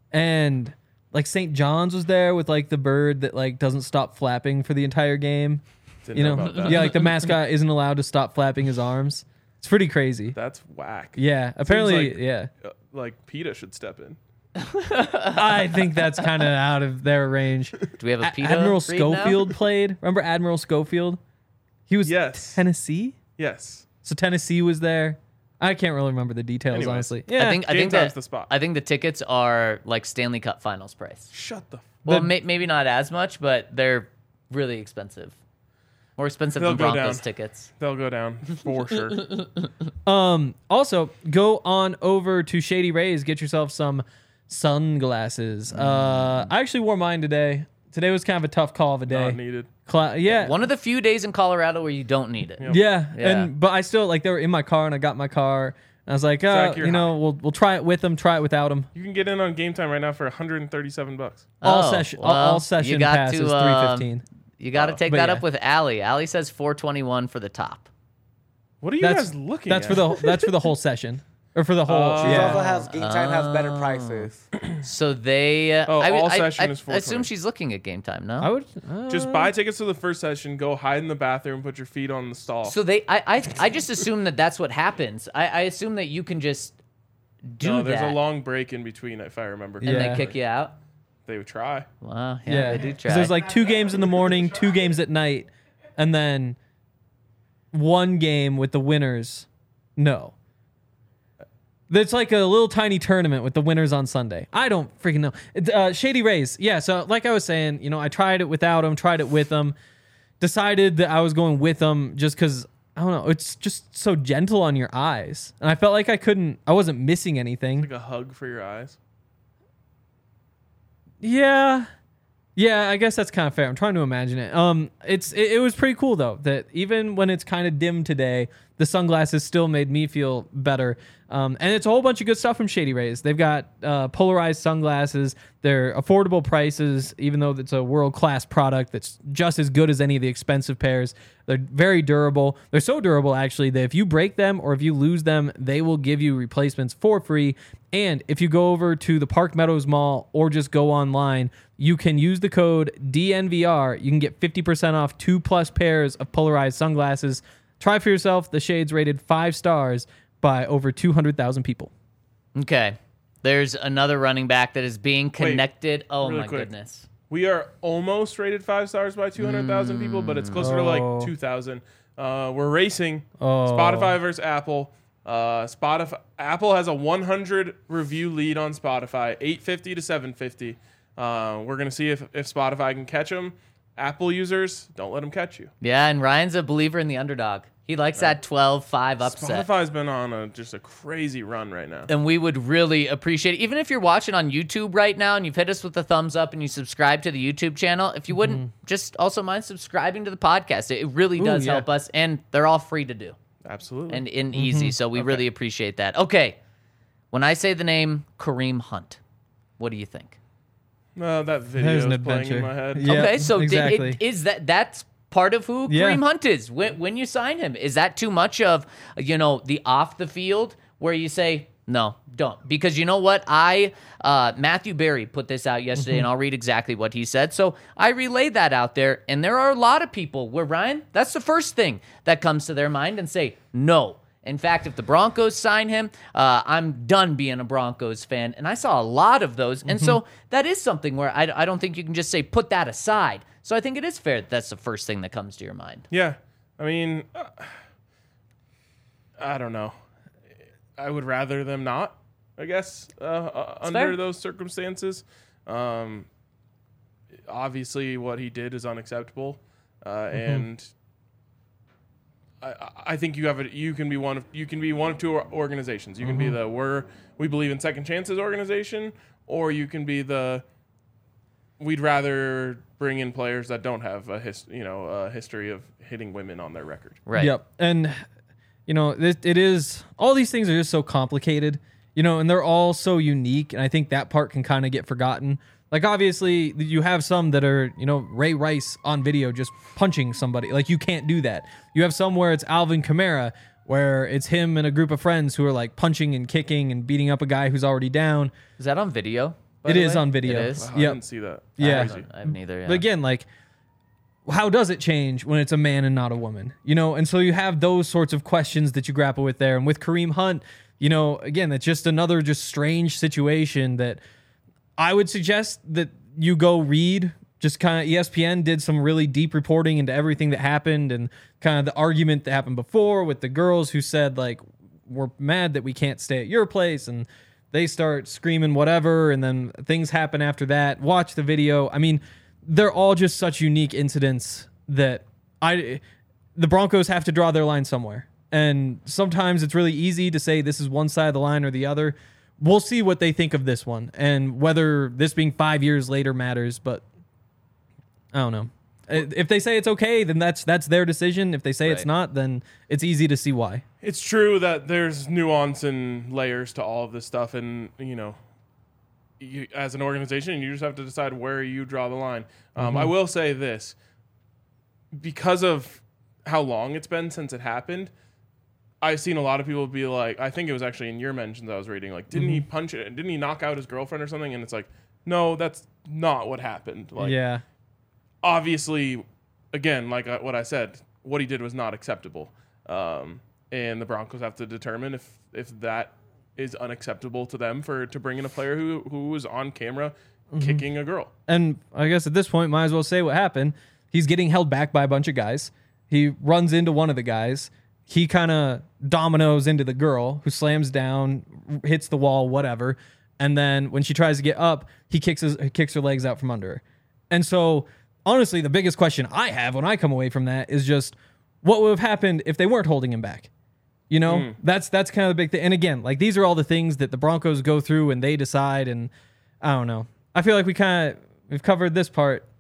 Speaker 3: And like Saint John's was there with like the bird that like doesn't stop flapping for the entire game.
Speaker 2: Didn't
Speaker 3: You
Speaker 2: know,
Speaker 3: know,
Speaker 2: about that.
Speaker 3: yeah, like the mascot isn't allowed to stop flapping his arms. It's pretty crazy.
Speaker 2: That's whack.
Speaker 3: Yeah, apparently,
Speaker 2: like-
Speaker 3: yeah.
Speaker 2: Uh, like PETA should step in.
Speaker 3: I think that's kind of out of their range.
Speaker 4: Do we have a
Speaker 3: A-
Speaker 4: PETA
Speaker 3: Admiral
Speaker 4: read now?
Speaker 3: Schofield played. Remember Admiral Schofield? He was
Speaker 2: Yes.
Speaker 3: Tennessee.
Speaker 2: Yes.
Speaker 3: So Tennessee was there. I can't really remember the details,
Speaker 2: Anyways.
Speaker 3: honestly. Yeah,
Speaker 4: I think I
Speaker 2: Game
Speaker 4: think
Speaker 2: time's
Speaker 4: that
Speaker 2: the spot.
Speaker 4: I think the tickets are like Stanley Cup Finals price.
Speaker 2: Shut the. F-
Speaker 4: Well,
Speaker 3: The-
Speaker 4: may, maybe not as much, but they're really expensive. More expensive
Speaker 2: They'll
Speaker 4: than
Speaker 2: go
Speaker 4: Broncos
Speaker 2: down.
Speaker 4: tickets.
Speaker 2: They'll go down for sure.
Speaker 3: Um, also, go on over to Shady Rays, get yourself some sunglasses. Uh, I actually wore mine today. Today was kind of a tough call of a day.
Speaker 2: Not needed.
Speaker 3: Cla- yeah,
Speaker 4: One of the few days in Colorado where you don't need it.
Speaker 2: Yep.
Speaker 3: yeah,
Speaker 4: Yeah.
Speaker 3: and but I still like they were in my car, and I got my car. And I was like, uh,
Speaker 2: Zach, you're
Speaker 3: you know,
Speaker 2: high.
Speaker 3: we'll we'll try it with them, try it without them.
Speaker 2: You can get in on Game Time right now for one hundred thirty-seven bucks.
Speaker 3: All
Speaker 4: Oh,
Speaker 3: session, all,
Speaker 4: well,
Speaker 3: all
Speaker 4: you
Speaker 3: session
Speaker 4: got
Speaker 3: pass
Speaker 4: to,
Speaker 3: is three
Speaker 4: um,
Speaker 3: fifteen.
Speaker 4: You got to
Speaker 2: Oh.
Speaker 4: take
Speaker 3: But
Speaker 4: that
Speaker 3: yeah.
Speaker 4: up with Allie. Allie says four twenty-one for the top.
Speaker 2: What are you
Speaker 3: That's
Speaker 2: guys looking
Speaker 3: that's
Speaker 2: at?
Speaker 3: for the that's for the whole session or for the whole.
Speaker 2: Oh.
Speaker 5: She
Speaker 3: yeah.
Speaker 5: also has Game Time has better
Speaker 4: Oh.
Speaker 5: prices.
Speaker 4: So they. Uh,
Speaker 2: Oh,
Speaker 4: I,
Speaker 2: all
Speaker 4: I,
Speaker 2: session
Speaker 4: I,
Speaker 2: is
Speaker 4: I assume
Speaker 2: four twenty.
Speaker 4: she's looking at game time. No.
Speaker 3: I would uh,
Speaker 2: Just buy tickets to the first session, go hide in the bathroom, put your feet on the stall.
Speaker 4: So they. I, I. I just assume that that's what happens. I, I assume that you can just do
Speaker 2: no, there's
Speaker 4: that.
Speaker 2: a long break in between, if I remember.
Speaker 4: and
Speaker 3: Yeah.
Speaker 4: they kick you out.
Speaker 2: They would try.
Speaker 4: Wow. Yeah,
Speaker 3: Yeah,
Speaker 4: they do
Speaker 3: 'Cause
Speaker 4: try.
Speaker 3: there's like two games in the morning, two games at night, and then one game with the winners. No. It's like a little tiny tournament with the winners on Sunday. I don't freaking know. It- Uh, Shady Rays. Yeah, so like I was saying, you know, I tried it without them, tried it with them, decided that I was going with them just because, I don't know, it's just so gentle on your eyes. And I felt like I couldn't, I wasn't missing anything.
Speaker 2: Like a hug for your eyes.
Speaker 3: Yeah. Yeah, I guess that's kind of fair. I'm trying to imagine it. Um, it's it, it was pretty cool though that even when it's kind of dim today, the sunglasses still made me feel better. Um, and it's a whole bunch of good stuff from Shady Rays. They've got uh, polarized sunglasses. They're affordable prices, even though it's a world-class product that's just as good as any of the expensive pairs. They're very durable. They're so durable, actually, that if you break them or if you lose them, they will give you replacements for free. And if you go over to the Park Meadows Mall or just go online, you can use the code D N V R. You can get fifty percent off two plus pairs of polarized sunglasses. Try for yourself. The Shades rated five stars by over two hundred thousand people.
Speaker 4: Okay. There's another running back that is being connected. oh,
Speaker 2: really
Speaker 4: my
Speaker 2: quick.
Speaker 4: goodness.
Speaker 2: We are almost rated five stars by two hundred thousand people, but it's closer to
Speaker 3: Oh.
Speaker 2: like two thousand. Uh, we're racing
Speaker 3: Oh.
Speaker 2: Spotify versus Apple. Uh, Spotify Apple has a one hundred review lead on Spotify, eight fifty to seven fifty. Uh, we're gonna see if if Spotify can catch them. Apple users, don't let them catch you.
Speaker 4: Yeah, and Ryan's a believer in the underdog. He likes that twelve five upset.
Speaker 2: Spotify's been on a just a crazy run right now.
Speaker 4: And we would really appreciate it. Even if you're watching on YouTube right now and you've hit us with a thumbs up and you subscribe to the YouTube channel, if you wouldn't just also mind subscribing to the podcast, it really does
Speaker 3: yeah.
Speaker 4: help us, and they're all free to do
Speaker 2: Absolutely.
Speaker 4: and in easy. So we really appreciate that. Okay, when I say the name Kareem Hunt, what do you think?
Speaker 2: Uh, that video
Speaker 3: There's
Speaker 2: is
Speaker 3: an
Speaker 2: playing
Speaker 3: adventure.
Speaker 2: in my head.
Speaker 3: Yeah,
Speaker 4: okay, so did
Speaker 3: exactly.
Speaker 4: it, is that that's part of who
Speaker 3: Yeah.
Speaker 4: Kareem Hunt is when when you sign him? Is that too much of, you know, the off the field where you say no, don't? Because you know what, I uh, Matthew Berry put this out yesterday, and I'll read exactly what he said. So I relayed that out there, and there are a lot of people where, Ryan, that's the first thing that comes to their mind and say no. In fact, if the Broncos sign him, uh, I'm done being a Broncos fan. And I saw a lot of those. And so that is something where I, I don't think you can just say, put that aside. So I think it is fair that that's the first thing that comes to your mind.
Speaker 2: Yeah. I mean, uh, I don't know. I would rather them not, I guess, uh, uh, under
Speaker 4: fair.
Speaker 2: those circumstances. Um, obviously, what he did is unacceptable. Uh, and I, I think you have a, you can be one of you can be one of two organizations. You can be the we're we believe in second chances organization, or you can be the we'd rather bring in players that don't have a his, you know a history of hitting women on their record.
Speaker 4: Right.
Speaker 3: Yep. And, you know, it, it is, all these things are just so complicated, you know, and they're all so unique. And I think that part can kind of get forgotten. Like, obviously, you have some that are, you know, Ray Rice on video just punching somebody. Like, you can't do that. You have some where it's Alvin Kamara, where it's him and a group of friends who are, like, punching and kicking and beating up a guy who's already down.
Speaker 4: Is that on video? by
Speaker 3: It
Speaker 4: the
Speaker 3: is
Speaker 4: way?
Speaker 3: on video.
Speaker 4: It is?
Speaker 2: Wow, I
Speaker 3: Yep.
Speaker 2: didn't see that.
Speaker 3: Yeah.
Speaker 2: Crazy.
Speaker 4: I haven't either, yeah.
Speaker 3: But again, like, how does it change when it's a man and not a woman? You know, and so you have those sorts of questions that you grapple with there. And with Kareem Hunt, you know, again, that's just another just strange situation that I would suggest that you go read. Just kind of E S P N did some really deep reporting into everything that happened and kind of the argument that happened before with the girls who said, like, we're mad that we can't stay at your place, and they start screaming whatever, and then things happen after that. Watch the video. I mean, they're all just such unique incidents that I the Broncos have to draw their line somewhere. And sometimes it's really easy to say this is one side of the line or the other. We'll see what they think of this one and whether this being five years later matters, but I don't know. If they say it's okay, then that's that's their decision. If they say it's
Speaker 4: Right.
Speaker 3: not, then it's easy to see why.
Speaker 2: It's true that there's nuance and layers to all of this stuff, and you know, you, as an organization, you just have to decide where you draw the line. Um, I will say this, because of how long it's been since it happened, I've seen a lot of people be like, I think it was actually in your mentions I was reading, like, didn't he punch it? Didn't he knock out his girlfriend or something? And it's like, no, that's not what happened. Like,
Speaker 3: yeah.
Speaker 2: obviously, again, like uh, what I said, what he did was not acceptable. Um, and the Broncos have to determine if, if that is unacceptable to them for to bring in a player who, who was on camera kicking a girl.
Speaker 3: And I guess at this point, might as well say what happened. He's getting held back by a bunch of guys. He runs into one of the guys. He kind of dominoes into the girl who slams down, hits the wall, whatever. And then when she tries to get up, he kicks his, he kicks her legs out from under her. And so, honestly, the biggest question I have when I come away from that is just what would have happened if they weren't holding him back? You know, mm. that's that's kind of the big thing. And again, like these are all the things that the Broncos go through and they decide. And I don't know. I feel like we kind of we've covered this part.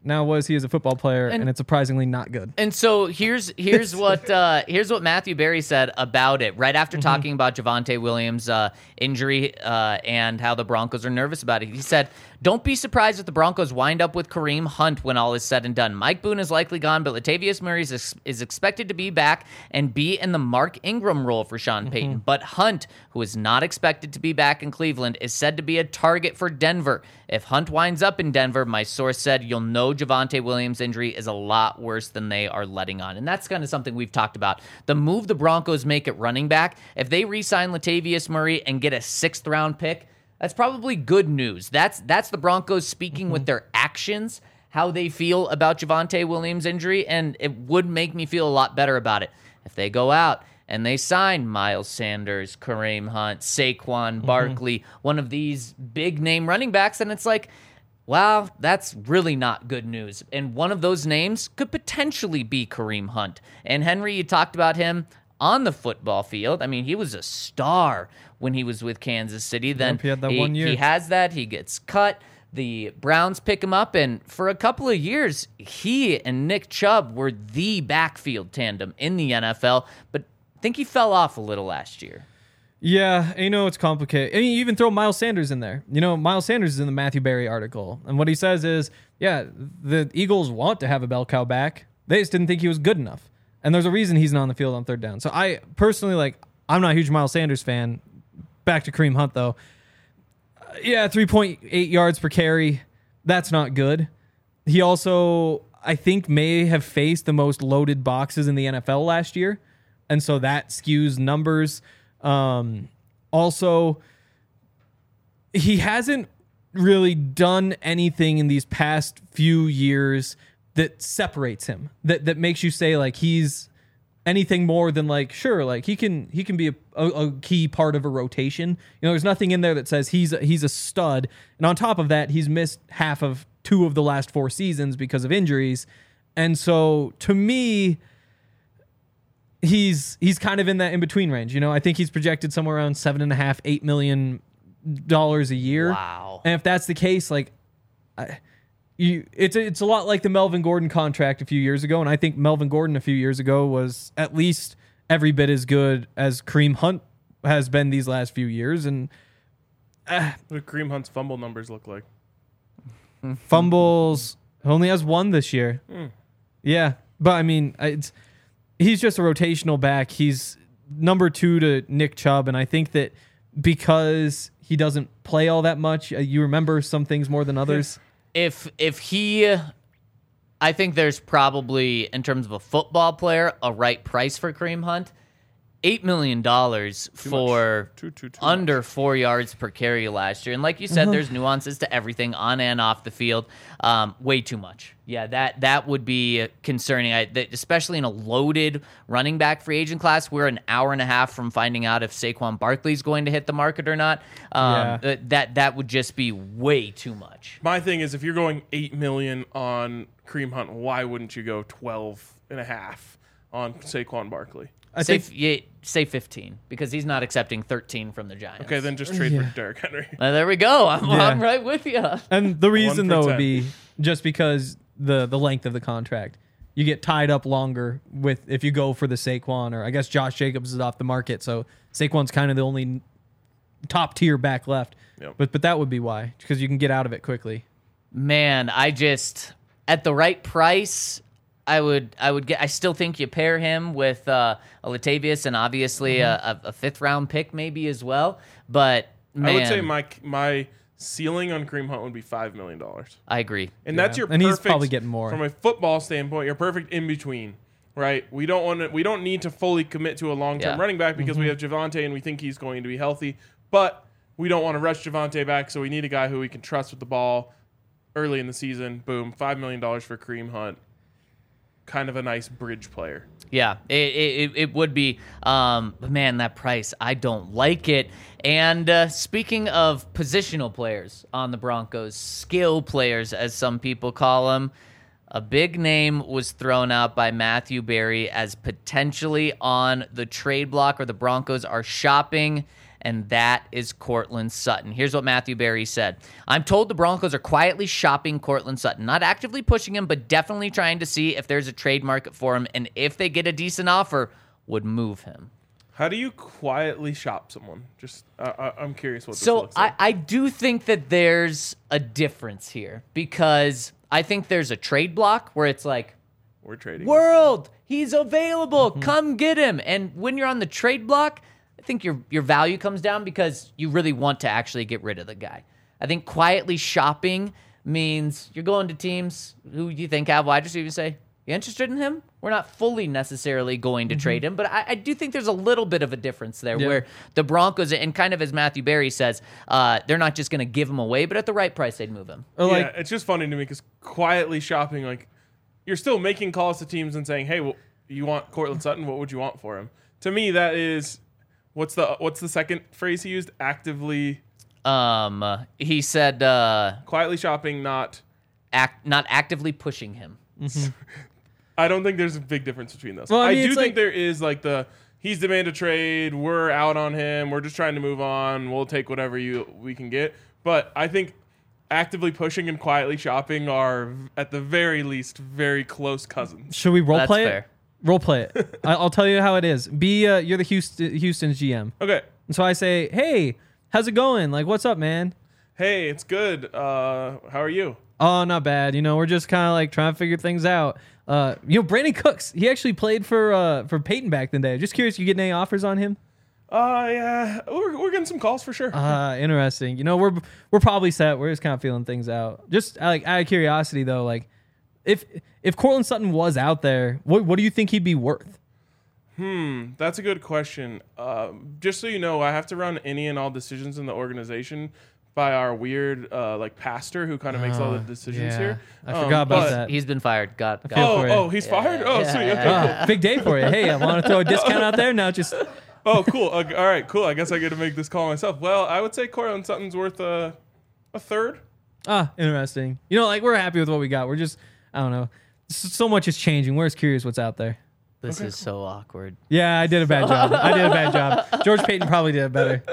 Speaker 3: now was he as a football player, and,
Speaker 4: And-
Speaker 3: and it's surprisingly not good.
Speaker 4: And so here's here's what uh, here's what Matthew Berry said about it right after talking about Javonte Williams' uh, injury uh, and how the Broncos are nervous about it. He said, "Don't be surprised if the Broncos wind up with Kareem Hunt when all is said and done. Mike Boone is likely gone, but Latavius Murray is, ex- is expected to be back and be in the Mark Ingram role for Sean Payton. But Hunt, who is not expected to be back in Cleveland, is said to be a target for Denver. If Hunt winds up in Denver, my source said, you'll know Javonte Williams' injury is a lot worse than they are letting on." And that's kind of something we've talked about. The move the Broncos make at running back, if they re-sign Latavius Murray and get a sixth round pick, that's probably good news. That's that's the Broncos speaking with their actions, how they feel about Javonte Williams' injury, and it would make me feel a lot better about it. If they go out and they sign Miles Sanders, Kareem Hunt, Saquon Barkley, one of these big-name running backs, and it's like, wow, that's really not good news. And one of those names could potentially be Kareem Hunt. And Henry, you talked about him on the football field. I mean, he was a star when he was with Kansas City. Then
Speaker 3: Yep, he had that one year.
Speaker 4: he has that. He gets cut. The Browns pick him up, and for a couple of years, he and Nick Chubb were the backfield tandem in the N F L, but I think he fell off a little last year.
Speaker 3: Yeah, you know, it's complicated. I mean, you even throw Miles Sanders in there. You know, Miles Sanders is in the Matthew Berry article. And what he says is, yeah, the Eagles want to have a bell cow back. They just didn't think he was good enough. And there's a reason he's not on the field on third down. So I personally, like, I'm not a huge Miles Sanders fan. Back to Kareem Hunt, though. Uh, yeah, three point eight yards per carry. That's not good. He also, I think, may have faced the most loaded boxes in the N F L last year. And so that skews numbers. Um, also, he hasn't really done anything in these past few years that separates him, that that makes you say like he's anything more than like, sure, like he can he can be a, a, a key part of a rotation. You know, there's nothing in there that says he's a, he's a stud. And on top of that, he's missed half of two of the last four seasons because of injuries. And so to me, he's he's kind of in that in between range. You know, I think he's projected somewhere around seven and a half, eight million dollars a year.
Speaker 4: Wow.
Speaker 3: And if that's the case, like, I, you, it's a, it's a lot like the Melvin Gordon contract a few years ago, and I think Melvin Gordon a few years ago was at least every bit as good as Kareem Hunt has been these last few years. And uh,
Speaker 2: What do Kareem Hunt's fumble numbers look like?
Speaker 3: fumbles only has one this year.
Speaker 2: Mm.
Speaker 3: Yeah, but I mean, it's he's just a rotational back. He's number two to Nick Chubb, and I think that because he doesn't play all that much, uh, you remember some things more than others.
Speaker 4: If if he, I think there's probably, in terms of a football player, a right price for Kareem Hunt. Eight million dollars for
Speaker 2: Too, too, too
Speaker 4: under
Speaker 2: much.
Speaker 4: four yards per carry last year, and like you said, there's nuances to everything on and off the field. Um, way too much. Yeah, that that would be concerning. I, that, especially in a loaded running back free agent class. We're an hour and a half from finding out if Saquon Barkley's going to hit the market or not. Um,
Speaker 3: Yeah.
Speaker 4: that, that that would just be way too much.
Speaker 2: My thing is, if you're going eight million on Kareem Hunt, why wouldn't you go twelve and a half on Saquon Barkley?
Speaker 3: I
Speaker 4: say,
Speaker 3: think
Speaker 4: yeah, say fifteen, because he's not accepting thirteen from the Giants.
Speaker 2: Okay, then just trade
Speaker 3: Yeah.
Speaker 2: for Derrick Henry.
Speaker 4: Uh, there we go. I'm,
Speaker 3: Yeah.
Speaker 4: I'm right with you.
Speaker 3: And the reason
Speaker 2: One
Speaker 3: though
Speaker 2: for
Speaker 3: would
Speaker 2: ten.
Speaker 3: be just because the the length of the contract. You get tied up longer with if you go for the Saquon, or I guess Josh Jacobs is off the market, so Saquon's kind of the only top tier back left.
Speaker 2: Yep.
Speaker 3: But but that would be why, because you can get out of it quickly.
Speaker 4: Man, I just at the right price, I would I would get. I still think you pair him with uh, a Latavius and obviously
Speaker 3: Mm-hmm.
Speaker 4: a, a fifth round pick maybe as well. But man,
Speaker 2: I would say my my ceiling on Kareem Hunt would be five million dollars,
Speaker 4: I agree.
Speaker 2: and that's your
Speaker 3: And he's
Speaker 2: perfect,
Speaker 3: probably getting more.
Speaker 2: from a football standpoint. You're perfect in between, right? We don't want to. We don't need to fully commit to a long term
Speaker 4: Yeah.
Speaker 2: running back because
Speaker 3: Mm-hmm.
Speaker 2: we have Javonte and we think he's going to be healthy, but we don't want to rush Javonte back, so we need a guy who we can trust with the ball early in the season. Boom, five million dollars for Kareem Hunt. Kind of a nice bridge player.
Speaker 4: Yeah, it it, it would be. Um, but man, that price, I don't like it. And uh, speaking of positional players on the Broncos, skill players, as some people call them, a big name was thrown out by Matthew Berry as potentially on the trade block, or the Broncos are shopping, and that is Courtland Sutton. Here's what Matthew Berry said. I'm told the Broncos are quietly shopping Courtland Sutton, not actively pushing him, but definitely trying to see if there's a trade market for him, and if they get a decent offer, would move him.
Speaker 2: How do you quietly shop someone? Just, uh, I- I'm curious what this
Speaker 4: So
Speaker 2: looks like.
Speaker 4: I, I do think that there's a difference here, because I think there's a trade block where it's like,
Speaker 2: We're trading.
Speaker 4: world, he's available, come get him. And when you're on the trade block, I think your your value comes down because you really want to actually get rid of the guy. I think quietly shopping means you're going to teams who you think have wide receivers, say, you interested in him? We're not fully necessarily going to trade him, but I, I do think there's a little bit of a difference there
Speaker 3: Yeah.
Speaker 4: where the Broncos, and kind of as Matthew Berry says, uh, they're not just going to give him away, but at the right price, they'd move him.
Speaker 3: Or
Speaker 2: Yeah,
Speaker 3: like,
Speaker 2: it's just funny to me because quietly shopping, like, you're still making calls to teams and saying, hey, well, you want Courtland Sutton? What would you want for him? To me, that is, what's the what's the second phrase he used? Actively,
Speaker 4: Um, uh, he said, uh,
Speaker 2: quietly shopping, not.
Speaker 4: act, not actively pushing him.
Speaker 2: I don't think there's a big difference between those.
Speaker 3: Well, I
Speaker 2: I,
Speaker 3: mean,
Speaker 2: do
Speaker 3: it's
Speaker 2: think
Speaker 3: like-
Speaker 2: there is like the he's demanded a trade. We're out on him. We're just trying to move on. We'll take whatever you we can get. But I think actively pushing and quietly shopping are at the very least very close cousins.
Speaker 3: should we role
Speaker 4: That's
Speaker 3: play
Speaker 4: fair.
Speaker 3: it? Role play it. I- I'll tell you how it is. Be uh, you're the Houston Houston's G M.
Speaker 2: Okay.
Speaker 3: And so I say, hey, how's it going? Like, what's up, man?
Speaker 2: Hey, it's good. Uh, how are you?
Speaker 3: Oh, not bad. You know, we're just kind of like trying to figure things out. Uh, you know, Brandon Cooks, he actually played for uh for Peyton back in the day. Just curious, you getting any offers on him?
Speaker 2: Uh, yeah, we're, we're getting some calls for sure.
Speaker 3: Uh, interesting. You know, we're we're probably set. We're just kind of feeling things out. Just uh, like out of curiosity, though, like if if Courtland Sutton was out there, what what do you think he'd be worth?
Speaker 2: Hmm, that's a good question. Uh, just so you know, I have to run any and all decisions in the organization by our weird uh, like pastor who kind of makes all the
Speaker 3: Oh,
Speaker 2: decisions
Speaker 3: yeah.
Speaker 2: here.
Speaker 3: I
Speaker 2: Um,
Speaker 3: forgot about
Speaker 2: but-
Speaker 3: that.
Speaker 4: He's been fired. Got, got
Speaker 3: feel
Speaker 2: Oh,
Speaker 3: for you.
Speaker 2: oh, he's fired. Oh,
Speaker 4: yeah,
Speaker 2: sweet.
Speaker 4: yeah,
Speaker 2: Okay,
Speaker 4: yeah.
Speaker 2: cool.
Speaker 3: Oh, big day for you. Hey, I want to throw a discount out there. Now just
Speaker 2: Oh, cool. Okay, all right, cool. I guess I get to make this call myself. Well, I would say Courtland Sutton's worth a a third.
Speaker 3: ah, interesting. You know, like we're happy with what we got. We're just I don't know. S- So much is changing. We're just curious what's out there.
Speaker 4: This is so awkward.
Speaker 3: Yeah, I did a bad job. I did a bad job. George Payton probably did it better.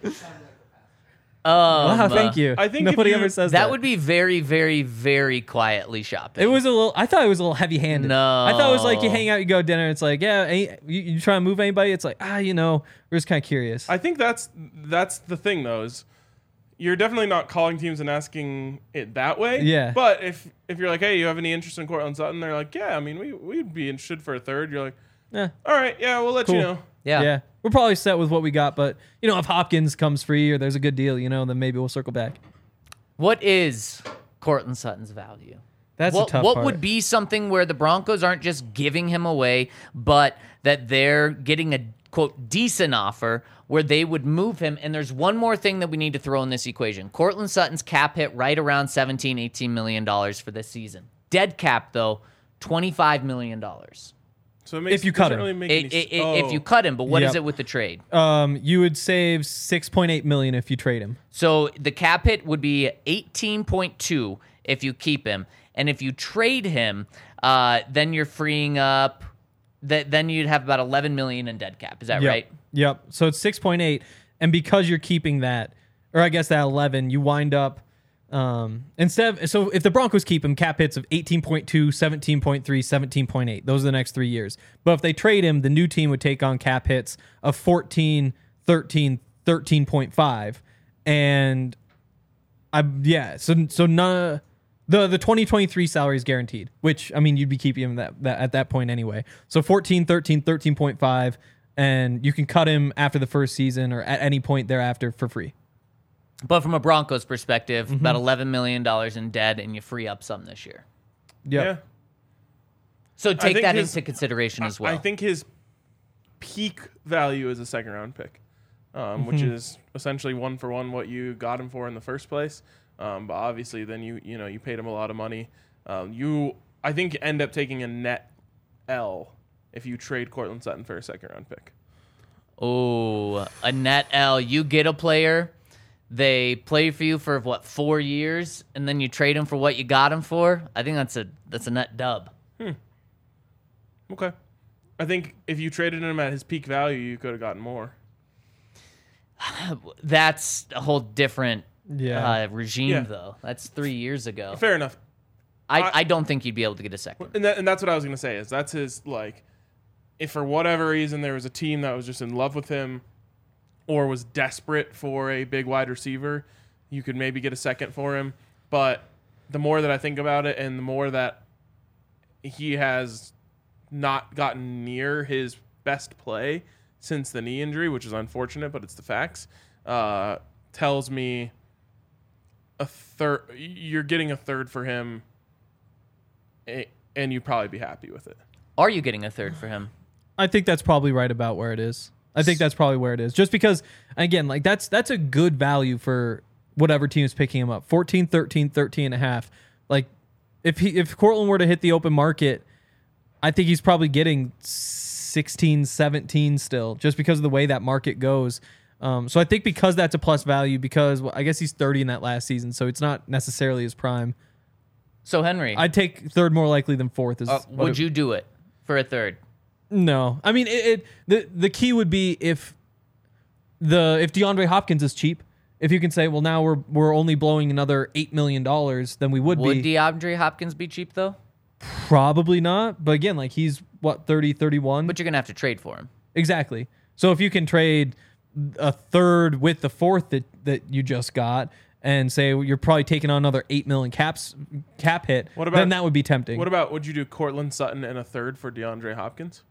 Speaker 4: Um,
Speaker 3: Wow, thank you.
Speaker 2: I think if
Speaker 3: nobody
Speaker 2: you-
Speaker 3: ever says that.
Speaker 4: That would be very, very, very quietly shopping.
Speaker 3: It was a little. I thought it was a little heavy-handed.
Speaker 4: No.
Speaker 3: I thought it was like you hang out, you go to dinner. It's like, yeah, any, you, you try to move anybody. It's like, ah, you know, we're just kind of curious.
Speaker 2: I think that's that's the thing though is you're definitely not calling teams and asking it that way.
Speaker 3: Yeah.
Speaker 2: But if if you're like, hey, you have any interest in Courtland Sutton? They're like, yeah, I mean, we we'd be interested for a third. You're like,
Speaker 3: yeah,
Speaker 2: all right, yeah, we'll let
Speaker 3: Cool.
Speaker 2: you know.
Speaker 4: yeah.
Speaker 3: yeah, we're probably set with what we got. But you know, if Hopkins comes free or there's a good deal, you know, then maybe we'll circle back.
Speaker 4: What is Courtland Sutton's value?
Speaker 3: That's
Speaker 4: what
Speaker 3: a tough
Speaker 4: what
Speaker 3: part.
Speaker 4: would be something where the Broncos aren't just giving him away, but that they're getting a quote decent offer where they would move him? And there's one more thing that we need to throw in this equation. Courtland Sutton's cap hit right around seventeen, eighteen million dollars for this season. Dead cap though, twenty-five million dollars.
Speaker 2: So it makes,
Speaker 3: If you cut
Speaker 2: doesn't
Speaker 3: him.
Speaker 2: really make
Speaker 4: It,
Speaker 2: any
Speaker 4: it, it, If
Speaker 2: oh.
Speaker 4: you cut him, but what is
Speaker 3: Yep.
Speaker 4: it with the trade?
Speaker 3: Um, you would save six point eight million if you trade him.
Speaker 4: So the cap hit would be eighteen point two if you keep him, and if you trade him, uh, then you're freeing up. That then you'd have about eleven million in dead cap. Is that
Speaker 3: Yep.
Speaker 4: right?
Speaker 3: Yep. So it's six point eight, and because you're keeping that, or I guess that eleven, you wind up um, instead. Of, so if the Broncos keep him, cap hits of eighteen point two, seventeen point three, seventeen point eight. Those are the next three years. But if they trade him, the new team would take on cap hits of fourteen, thirteen, thirteen point five, and I yeah. So so none. The the twenty twenty-three salary is guaranteed, which, I mean, you'd be keeping him that, that at that point anyway. So fourteen, thirteen, thirteen point five, and you can cut him after the first season or at any point thereafter for free.
Speaker 4: But from a Broncos perspective,
Speaker 3: Mm-hmm.
Speaker 4: about eleven million dollars in dead, and you free up some this year.
Speaker 3: Yep.
Speaker 2: Yeah.
Speaker 4: So take
Speaker 2: think
Speaker 4: that
Speaker 2: his-
Speaker 4: into consideration as well.
Speaker 2: I think his peak value is a second round pick, um,
Speaker 3: Mm-hmm.
Speaker 2: which is essentially one for one what you got him for in the first place. Um, but obviously, then you you know you paid him a lot of money. Um, you I think end up taking a net L if you trade Courtland Sutton for a second round pick.
Speaker 4: Oh, a net L. You get a player, they play for you for what, four years, and then you trade him for what you got him for. I think that's a that's a net dub.
Speaker 2: Okay, I think if you traded him at his peak value, you could have gotten more.
Speaker 4: That's a whole different
Speaker 3: Yeah.
Speaker 4: uh, regime,
Speaker 2: Yeah.
Speaker 4: though. That's three years ago.
Speaker 2: Fair enough.
Speaker 4: I,
Speaker 2: I-
Speaker 4: I don't think you'd be able to get a second.
Speaker 2: And, that, and that's what I was going to say is that's his, like, if for whatever reason there was a team that was just in love with him or was desperate for a big wide receiver, you could maybe get a second for him. But the more that I think about it and the more that he has not gotten near his best play since the knee injury, which is unfortunate, but it's the facts, uh, tells me a third. You're getting a third for him, a- and you'd probably be happy with it.
Speaker 4: Are you getting a third for him?
Speaker 3: I think that's probably right about where it is. I think that's probably where it is. Just because, again, like that's that's a good value for whatever team is picking him up. fourteen, thirteen, thirteen and a half. Like if he if Cortland were to hit the open market, I think he's probably getting sixteen, seventeen still, just because of the way that market goes. Um, so I think because that's a plus value, because well, I guess he's thirty in that last season, so it's not necessarily his prime.
Speaker 4: So, Henry,
Speaker 3: I'd take third more likely than fourth. Is
Speaker 4: uh,
Speaker 3: what
Speaker 4: would
Speaker 3: it-
Speaker 4: you do it for a third?
Speaker 3: No, I mean it, it. The the key would be if the if DeAndre Hopkins is cheap. If you can say, well, now we're we're only blowing another eight million dollars, then we would,
Speaker 4: Would
Speaker 3: be
Speaker 4: DeAndre Hopkins be cheap, though?
Speaker 3: probably not. But again, like he's what thirty, thirty-one
Speaker 4: But you're going to have to trade for him.
Speaker 3: exactly. So if you can trade a third with the fourth that that you just got, and say you're probably taking on another eight million caps cap hit,
Speaker 2: What about-
Speaker 3: then that would be tempting.
Speaker 2: What about would you do Cortland Sutton and a third for DeAndre Hopkins?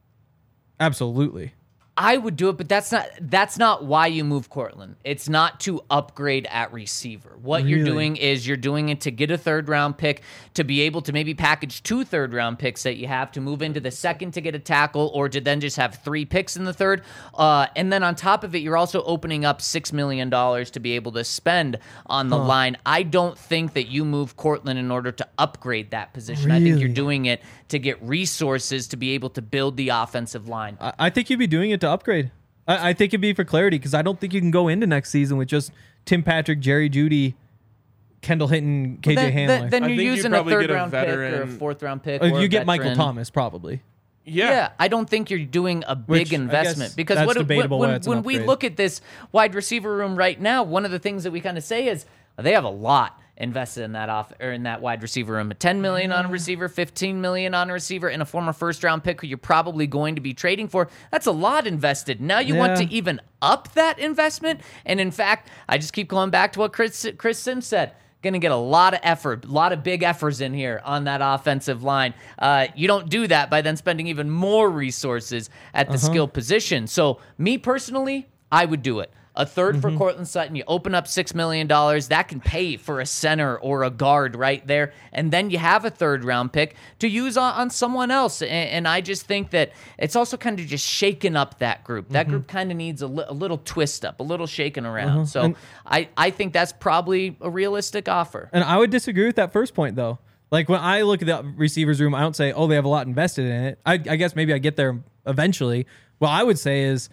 Speaker 3: Absolutely.
Speaker 4: I would do it, but that's not that's not why you move Cortland. It's not to upgrade at receiver. What you're
Speaker 3: Really?
Speaker 4: doing is you're doing it to get a third round pick, to be able to maybe package two third round picks that you have to move into the second to get a tackle, or to then just have three picks in the third. Uh, and then on top of it, you're also opening up six million dollars to be able to spend on the line. I don't think that you move Cortland in order to upgrade that position. I think you're
Speaker 3: Really?
Speaker 4: doing it to get resources to be able to build the offensive line.
Speaker 3: I, I think you'd be doing it to upgrade. I, I think it'd be for clarity because I don't think you can go into next season with just Tim Patrick, Jerry Judy, Kendall Hinton, K J
Speaker 4: then,
Speaker 3: Hamler.
Speaker 4: then, then
Speaker 2: I
Speaker 4: you're
Speaker 2: think you'd
Speaker 4: using a
Speaker 2: probably
Speaker 4: third
Speaker 2: get a
Speaker 4: round pick or a
Speaker 2: veteran-
Speaker 4: fourth round pick.
Speaker 3: Uh,
Speaker 4: or
Speaker 3: you
Speaker 4: a
Speaker 3: get Michael
Speaker 4: veteran.
Speaker 3: Thomas probably.
Speaker 2: Yeah.
Speaker 4: Yeah, I don't think you're doing a big
Speaker 3: Which, I
Speaker 4: investment
Speaker 3: guess
Speaker 4: because
Speaker 3: that's
Speaker 4: what,
Speaker 3: debatable
Speaker 4: when,
Speaker 3: why it's an
Speaker 4: when we
Speaker 3: upgrade.
Speaker 4: look at this wide receiver room right now, one of the things that we kind of say is they have a lot invested in that off or in that wide receiver room. ten million on a receiver, fifteen million on a receiver, and a former first round pick who you're probably going to be trading for. That's a lot invested. Now you want
Speaker 3: Yeah.
Speaker 4: to even up that investment, and in fact, I just keep going back to what Chris Chris Sims said. Going to get a lot of effort, a lot of big efforts in here on that offensive line. Uh, you don't do that by then spending even more resources at the skill position. So, me personally, I would do it. A third for Cortland Sutton. You open up six million dollars. That can pay for a center or a guard right there. And then you have a third round pick to use on, on someone else. And, and I just think that it's also kind of just shaking up that group. That group kind of needs a, li- a little twist up, a little shaking around. So
Speaker 3: And-
Speaker 4: I, I think that's probably a realistic offer.
Speaker 3: And I would disagree with that first point, though. Like when I look at the receivers room, I don't say, oh, they have a lot invested in it. I, I guess maybe I get there eventually. What I would say is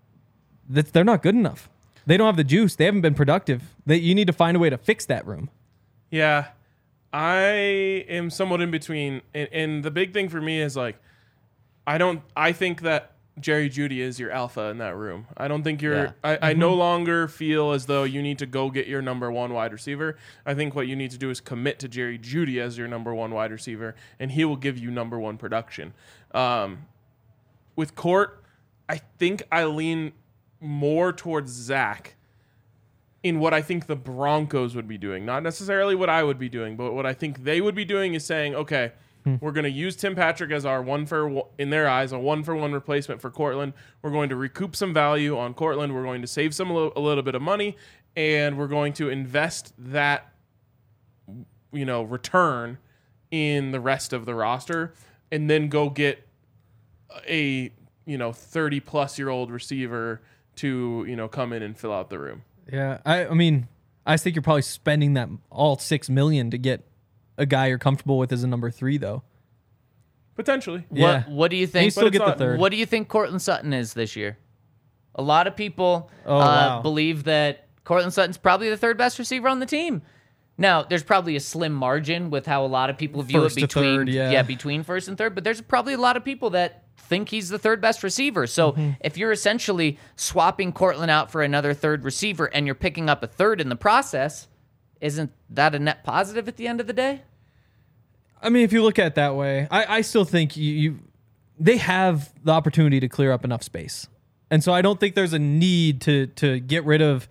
Speaker 3: that they're not good enough. They don't have the juice. They haven't been productive. That you need to find a way to fix that room.
Speaker 2: Yeah, I am somewhat in between, and, and the big thing for me is like, I don't. I think that Jerry Judy is your alpha in that room. I don't think you're.
Speaker 4: Yeah.
Speaker 2: I, I no longer feel as though you need to go get your number one wide receiver. I think what you need to do is commit to Jerry Judy as your number one wide receiver, and he will give you number one production. Um, with Court, I think I lean more towards Zach in what I think the Broncos would be doing. Not necessarily what I would be doing, but what I think they would be doing is saying, okay, we're going to use Tim Patrick as our one for, in their eyes, a one for one replacement for Cortland. We're going to recoup some value on Cortland. We're going to save some a little, a little bit of money, and we're going to invest that, you know, return in the rest of the roster, and then go get a, you know, thirty plus year old receiver to, you know, come in and fill out the room.
Speaker 3: Yeah, I, I mean, I think you're probably spending that all six million to get a guy you're comfortable with as a number three, though.
Speaker 2: Potentially.
Speaker 3: Yeah.
Speaker 4: What What do you
Speaker 3: And you
Speaker 4: think?
Speaker 3: still
Speaker 2: it's
Speaker 3: get the
Speaker 2: not-
Speaker 3: third.
Speaker 4: What do you think Cortland Sutton is this year? A lot of people
Speaker 3: Oh,
Speaker 4: uh,
Speaker 3: wow.
Speaker 4: believe that Cortland Sutton's probably the third best receiver on the team. Now, there's probably a slim margin with how a lot of people view
Speaker 3: First
Speaker 4: it
Speaker 3: to
Speaker 4: between
Speaker 3: third, yeah.
Speaker 4: between first and third, but there's probably a lot of people that think he's the third best receiver. So
Speaker 3: Mm-hmm.
Speaker 4: if you're essentially swapping Cortland out for another third receiver and you're picking up a third in the process, isn't that a net positive at the end of the day?
Speaker 3: I mean, if you look at it that way, I, I still think you, you they have the opportunity to clear up enough space. And so I don't think there's a need to to get rid of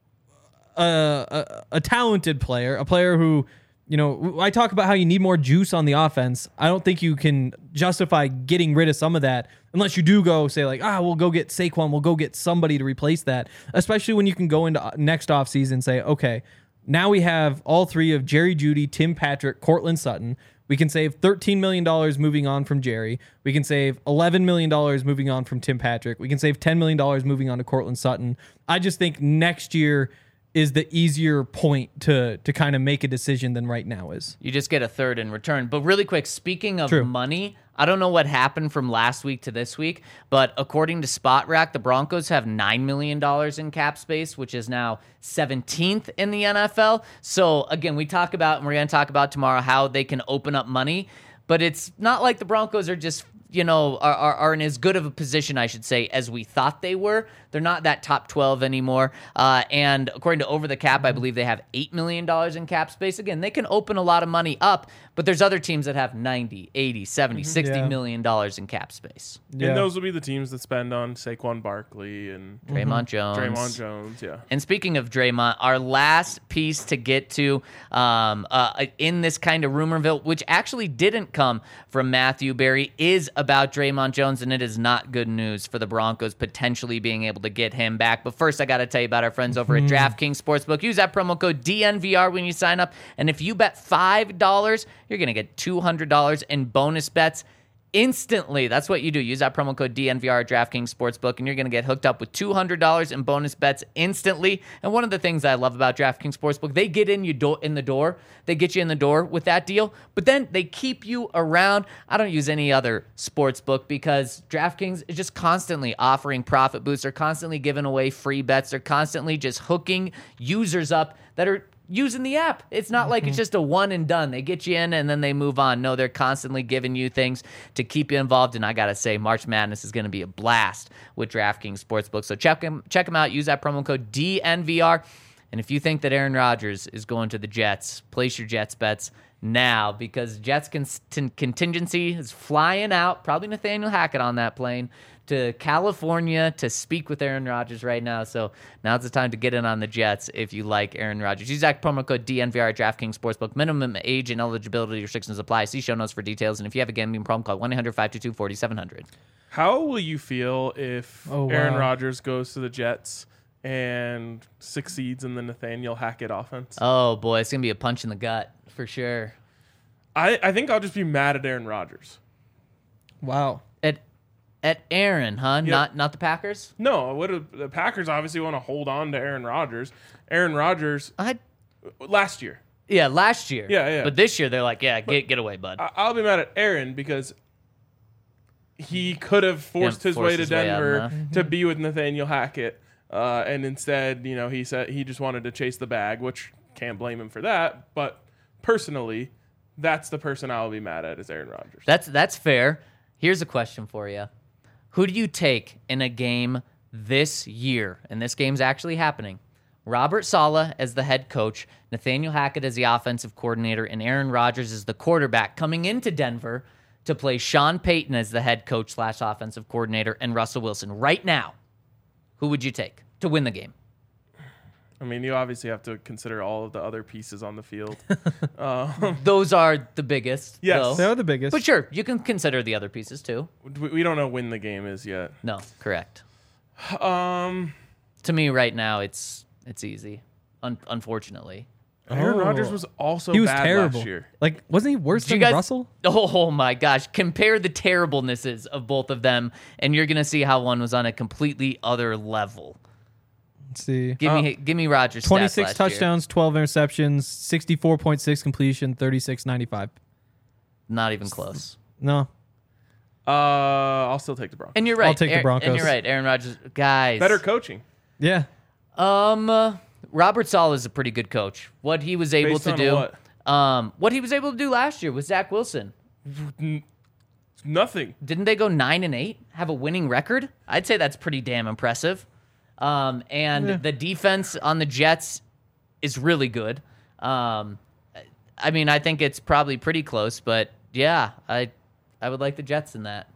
Speaker 3: a, a, a talented player, a player who, you know, I talk about how you need more juice on the offense. I don't think you can justify getting rid of some of that unless you do go say like, ah, we'll go get Saquon, we'll go get somebody to replace that, especially when you can go into next offseason and say, okay, now we have all three of Jerry Jeudy, Tim Patrick, Cortland Sutton. We can save thirteen million dollars moving on from Jerry. We can save eleven million dollars moving on from Tim Patrick. We can save ten million dollars moving on to Cortland Sutton. I just think next year is the easier point to to kind of make a decision than right now is.
Speaker 4: You just get a third in return. But really quick, speaking of
Speaker 3: True.
Speaker 4: money, I don't know what happened from last week to this week, but according to Spot Rack, the Broncos have nine million dollars in cap space, which is now seventeenth in the N F L. So again, we talk about, and we're going to talk about tomorrow, how they can open up money, but it's not like the Broncos are just, you know, are, are, are in as good of a position, I should say, as we thought they were. They're not that top twelve anymore. Uh, and according to Over the Cap, I believe they have eight million dollars in cap space. Again, they can open a lot of money up, but there's other teams that have ninety, eighty, seventy, sixty
Speaker 3: Yeah.
Speaker 4: million dollars in cap space.
Speaker 3: Yeah.
Speaker 2: And those will be the teams that spend on Saquon Barkley and
Speaker 4: Draymond Jones.
Speaker 2: Draymond Jones. Yeah.
Speaker 4: And speaking of Draymond, our last piece to get to um, uh, in this kind of rumorville, which actually didn't come from Matthew Berry, is about Draymond Jones, and it is not good news for the Broncos potentially being able to get him back. But first, I got to tell you about our friends over at DraftKings Sportsbook. Use that promo code D N V R when you sign up, and if you bet five dollars, you're going to get two hundred dollars in bonus bets instantly. That's what you do. Use that promo code D N V R at DraftKings Sportsbook, and you're going to get hooked up with two hundred dollars in bonus bets instantly. And one of the things I love about DraftKings Sportsbook, they get in you do- in the door. They get you in the door with that deal, but then they keep you around. I don't use any other sportsbook because DraftKings is just constantly offering profit boosts. They're constantly giving away free bets. They're constantly just hooking users up that are using the app. It's not like it's just a one and done. They get you in and then they move on. No, they're constantly giving you things to keep you involved. And I got to say, March Madness is going to be a blast with DraftKings Sportsbook. So check them, check them out. Use that promo code D N V R. And if you think that Aaron Rodgers is going to the Jets, place your Jets bets now because Jets con- contingency is flying out. Probably Nathaniel Hackett on that plane to California to speak with Aaron Rodgers right now. So now's the time to get in on the Jets if you like Aaron Rodgers. Use that promo code D N V R at DraftKings Sportsbook. Minimum age and eligibility restrictions apply. See show notes for details. And if you have a gambling problem, call one eight hundred five two two four seven zero zero.
Speaker 2: How will you feel if
Speaker 3: Oh,
Speaker 2: Aaron
Speaker 3: wow.
Speaker 2: Rodgers goes to the Jets and succeeds in the Nathaniel Hackett offense?
Speaker 4: Oh, boy, it's going to be a punch in the gut for sure.
Speaker 2: I, I think I'll just be mad at Aaron Rodgers.
Speaker 3: Wow.
Speaker 4: At at Aaron, huh?
Speaker 2: Yeah.
Speaker 4: Not not the Packers?
Speaker 2: No, what do- the Packers obviously want to hold on to Aaron Rodgers. Aaron Rodgers
Speaker 4: I
Speaker 2: last year.
Speaker 4: Yeah, last year.
Speaker 2: Yeah, yeah.
Speaker 4: But this year, they're like, yeah, get get away, bud.
Speaker 2: I- I'll be mad at Aaron because he could have forced
Speaker 4: Yeah,
Speaker 2: his
Speaker 4: forced
Speaker 2: way to
Speaker 4: his way out
Speaker 2: Denver
Speaker 4: enough.
Speaker 2: to be with Nathaniel Hackett, uh, and instead, you know, he said he just wanted to chase the bag, which can't blame him for that. But personally, that's the person I'll be mad at is Aaron Rodgers.
Speaker 4: That's that's fair. Here's a question for you. Who do you take in a game this year? And this game's actually happening. Robert Saleh as the head coach, Nathaniel Hackett as the offensive coordinator, and Aaron Rodgers as the quarterback coming into Denver to play Sean Payton as the head coach slash offensive coordinator and Russell Wilson. Right now, who would you take to win the game?
Speaker 2: I mean, you obviously have to consider all of the other pieces on the field. uh,
Speaker 4: Those are the biggest.
Speaker 2: Yes.
Speaker 4: though.
Speaker 3: They're the biggest.
Speaker 4: But sure, you can consider the other pieces too.
Speaker 2: we we don't know when the game is yet.
Speaker 4: No, correct.
Speaker 2: Um,
Speaker 4: To me, right now, it's it's easy. Un- unfortunately.
Speaker 2: Aaron
Speaker 3: Oh.
Speaker 2: Rodgers was also
Speaker 3: he was
Speaker 2: bad
Speaker 3: terrible.
Speaker 2: last year.
Speaker 3: Like, wasn't he worse
Speaker 4: Did you
Speaker 3: than
Speaker 4: guys-
Speaker 3: Russell?
Speaker 4: Oh my gosh! Compare the terriblenesses of both of them, and you're gonna see how one was on a completely other level.
Speaker 3: Let's see.
Speaker 4: Give me, give me Rodgers. stats
Speaker 3: twenty-six
Speaker 4: last year.
Speaker 3: touchdowns, twelve interceptions, sixty-four point six completion, thirty-six ninety-five.
Speaker 4: Not even close.
Speaker 3: No.
Speaker 2: Uh, I'll still take the Broncos.
Speaker 4: And you're right.
Speaker 3: I'll take the
Speaker 4: Aaron-
Speaker 3: Broncos.
Speaker 4: And you're right, Aaron Rodgers. Guys,
Speaker 2: Better coaching.
Speaker 3: Yeah.
Speaker 4: Um, uh, Robert Saleh is a pretty good coach. What he was able
Speaker 2: Based
Speaker 4: to
Speaker 2: on
Speaker 4: do,
Speaker 2: what?
Speaker 4: um, what he was able to do last year with Zach Wilson.
Speaker 2: Nothing.
Speaker 4: Didn't they go nine and eight? Have a winning record? I'd say that's pretty damn impressive. Um, and
Speaker 3: Yeah.
Speaker 4: the defense on the Jets is really good. Um, I mean, I think it's probably pretty close, but yeah, I I would like the Jets in that.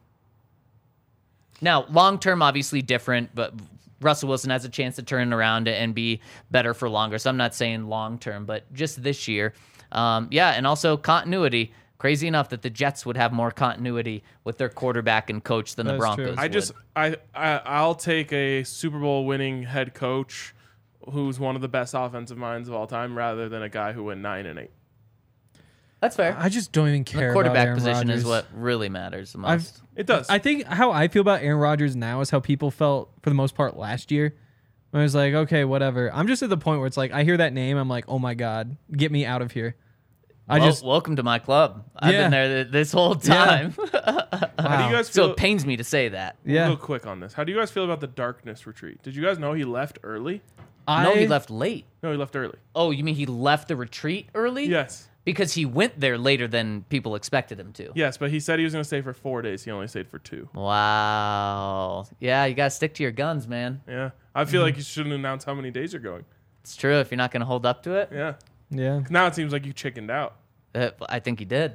Speaker 4: Now, long term, obviously different, but Russell Wilson has a chance to turn around and be better for longer. So I'm not saying long term, but just this year. Um, yeah, and also continuity. Crazy enough that the Jets would have more continuity with their quarterback and coach than the
Speaker 3: That's
Speaker 4: Broncos
Speaker 3: true.
Speaker 2: I
Speaker 4: would.
Speaker 2: just I, I I'll take a Super Bowl winning head coach who's one of the best offensive minds of all time rather than a guy who went nine and eight.
Speaker 4: That's fair.
Speaker 3: I just don't even care.
Speaker 4: The
Speaker 3: about
Speaker 4: quarterback
Speaker 3: Aaron
Speaker 4: position
Speaker 3: Rodgers.
Speaker 4: is what really matters the most.
Speaker 3: I've
Speaker 2: It does.
Speaker 3: I think how I feel about Aaron Rodgers now is how people felt for the most part last year. When I was like, okay, whatever. I'm just at the point where it's like I hear that name, I'm like, oh my god, get me out of here. I
Speaker 4: Well,
Speaker 3: just
Speaker 4: welcome to my club. I've
Speaker 3: Yeah.
Speaker 4: been there th- this whole time.
Speaker 2: How do
Speaker 3: wow.
Speaker 2: you guys
Speaker 4: So
Speaker 2: feel?
Speaker 4: it pains me to say that.
Speaker 3: yeah.
Speaker 2: Real quick on this. How do you guys feel about the Darkness retreat? Did you guys know he left early?
Speaker 3: I,
Speaker 4: No, he left late.
Speaker 2: No, he left early.
Speaker 4: Oh, you mean he left the retreat early?
Speaker 2: Yes.
Speaker 4: Because he went there later than people expected him to.
Speaker 2: Yes, but he said he was going to stay for four days. He only stayed for two.
Speaker 4: Wow. Yeah, you got to stick to your guns, man.
Speaker 2: Yeah. I feel like you shouldn't announce how many days you're going.
Speaker 4: It's true if you're not going to hold up to it.
Speaker 2: Yeah.
Speaker 3: Yeah.
Speaker 2: Now it seems like you chickened out.
Speaker 4: Uh, I think he did.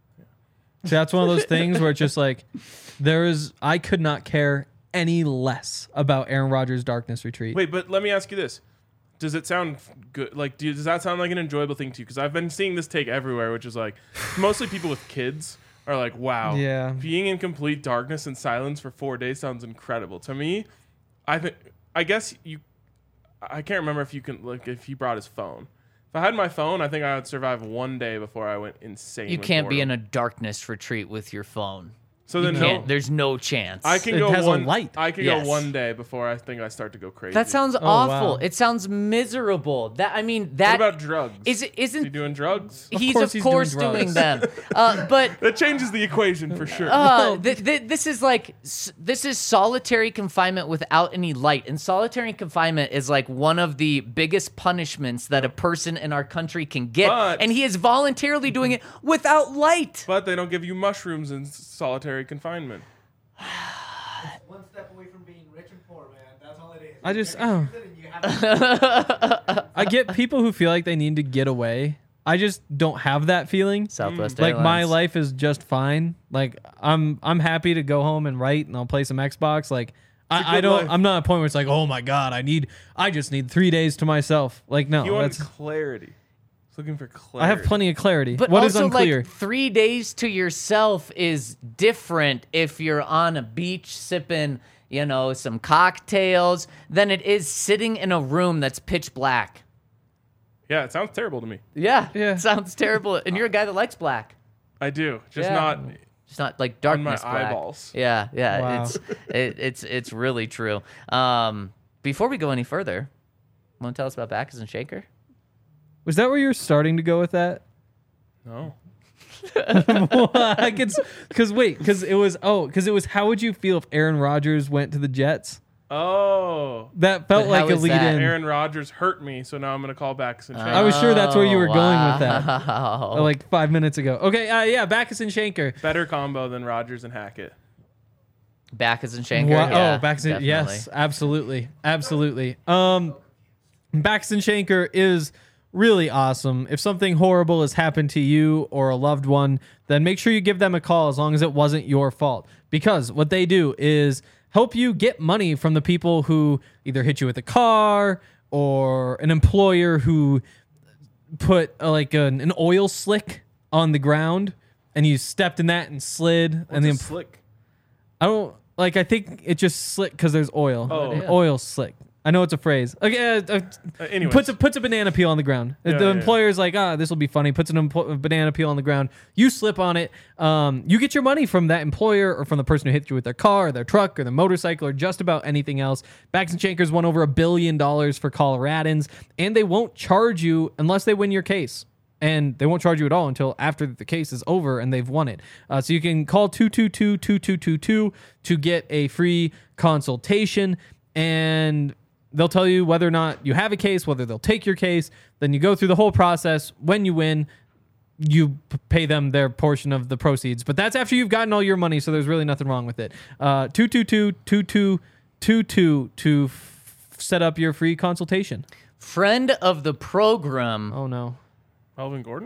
Speaker 3: See, that's one of those things where it's just like there is I could not care any less about Aaron Rodgers' Darkness Retreat.
Speaker 2: Wait, but let me ask you this. Does it sound good? Like, do, does that sound like an enjoyable thing to you? Because I've been seeing this take everywhere, which is like mostly people with kids are like, wow,
Speaker 3: Yeah.
Speaker 2: being in complete darkness and silence for four days sounds incredible. To me, I think, I guess you, I can't remember if you can, like, if he brought his phone. If I had my phone, I think I would survive one day before I went insane.
Speaker 4: You
Speaker 2: with
Speaker 4: can't be in
Speaker 2: boredom.
Speaker 4: a darkness retreat with your phone.
Speaker 2: So
Speaker 4: You
Speaker 2: then no,
Speaker 4: can't. There's no chance.
Speaker 2: I can
Speaker 3: It
Speaker 2: go
Speaker 3: has a
Speaker 2: one.
Speaker 3: light.
Speaker 2: I can
Speaker 4: Yes.
Speaker 2: go one day before I think I start to go crazy.
Speaker 4: That sounds
Speaker 3: Oh,
Speaker 4: awful.
Speaker 3: wow.
Speaker 4: It sounds miserable. That I mean
Speaker 2: What
Speaker 4: that
Speaker 2: about drugs?
Speaker 4: is it
Speaker 2: Is he
Speaker 4: isn't
Speaker 2: doing drugs?
Speaker 4: he's
Speaker 3: course
Speaker 4: of
Speaker 3: he's doing
Speaker 4: course doing,
Speaker 3: drugs.
Speaker 4: them. Uh, but
Speaker 2: That changes the equation for sure.
Speaker 4: uh, th- th- this is like s- this is solitary confinement without any light, and solitary confinement is like one of the biggest punishments that a person in our country can get,
Speaker 2: But-
Speaker 4: and he is voluntarily doing it without light.
Speaker 2: But they don't give you mushrooms in solitary confinement.
Speaker 5: One step away from being rich and poor, man. That's all it is.
Speaker 3: I just-
Speaker 5: Never
Speaker 3: oh.
Speaker 5: choose it and you have to-
Speaker 3: I get people who feel like they need to get away. I just don't have that feeling.
Speaker 4: Southwest
Speaker 3: Like my
Speaker 4: Airlines.
Speaker 3: life is just fine. Like I'm I'm happy to go home and write and I'll play some Xbox. Like
Speaker 2: a
Speaker 3: I, I
Speaker 2: good
Speaker 3: don't
Speaker 2: life.
Speaker 3: I'm not at a point where it's like, oh my god, I need I just need three days to myself. Like no,
Speaker 2: You want
Speaker 3: that's
Speaker 2: clarity. It's looking for clarity.
Speaker 3: I have plenty of clarity.
Speaker 4: But
Speaker 3: What is
Speaker 4: also,
Speaker 3: unclear?
Speaker 4: like, three days to yourself is different if you're on a beach sipping, you know, some cocktails than it is sitting in a room that's pitch black.
Speaker 2: Yeah, it sounds terrible to me.
Speaker 4: Yeah,
Speaker 3: Yeah.
Speaker 4: sounds terrible. And you're a guy that likes black,
Speaker 2: I do. Just
Speaker 4: Yeah.
Speaker 2: not.
Speaker 4: just not like
Speaker 2: On my
Speaker 4: darkness black.
Speaker 2: eyeballs.
Speaker 4: Yeah, yeah,
Speaker 3: Wow.
Speaker 4: it's it, it's it's really true. Um, before we go any further, want to tell us about Backus and Shaker?
Speaker 3: Was that where you're starting to go with that?
Speaker 2: No.
Speaker 3: I could, because wait, because it was oh, because it was how would you feel if Aaron Rodgers went to the Jets?
Speaker 2: Oh.
Speaker 3: That felt
Speaker 4: But
Speaker 3: like
Speaker 4: how
Speaker 3: a
Speaker 4: is
Speaker 3: lead
Speaker 4: that?
Speaker 3: in.
Speaker 2: Aaron Rodgers hurt me, so now I'm gonna call back and
Speaker 3: I was sure that's where you were going with that.
Speaker 4: Wow.
Speaker 3: Uh, like five minutes ago. Okay, uh, yeah, Backus and Shanker.
Speaker 2: better combo than Rodgers and Hackett.
Speaker 4: Backus and Shanker.
Speaker 3: Wow.
Speaker 4: Yeah,
Speaker 3: oh, Backus and
Speaker 4: definitely.
Speaker 3: yes, absolutely, absolutely. Um, Backus and Shanker is really awesome. If something horrible has happened to you or a loved one, then make sure you give them a call as long as it wasn't your fault. Because what they do is help you get money from the people who either hit you with a car or an employer who put uh, like an, an oil slick on the ground and you stepped in that and slid and
Speaker 2: What's
Speaker 3: the
Speaker 2: a
Speaker 3: em-
Speaker 2: slick?
Speaker 3: I don't like. I think it just slick because there's oil.
Speaker 2: Oh.
Speaker 4: Yeah.
Speaker 3: Oil slick. I know it's a phrase. Okay, uh, uh,
Speaker 2: Uh, anyways.
Speaker 3: puts a puts a banana peel on the ground.
Speaker 2: Yeah,
Speaker 3: the
Speaker 2: yeah,
Speaker 3: employer's like, ah, this will be funny. Puts an empl- banana peel on the ground. You slip on it. Um, you get your money from that employer or from the person who hit you with their car, or their truck, or their motorcycle, or just about anything else. Backs and Shankers won over a billion dollars for Coloradans, and they won't charge you unless they win your case. And they won't charge you at all until after the case is over and they've won it. Uh, so you can call two two two, two two two two to get a free consultation, and they'll tell you whether or not you have a case, whether they'll take your case. Then you go through the whole process. When you win, you p- pay them their portion of the proceeds. But that's after you've gotten all your money, so there's really nothing wrong with it. Uh, two two two, two two two two to f- set up your free consultation.
Speaker 4: Friend of the program,
Speaker 3: Oh, no.
Speaker 2: Melvin Gordon?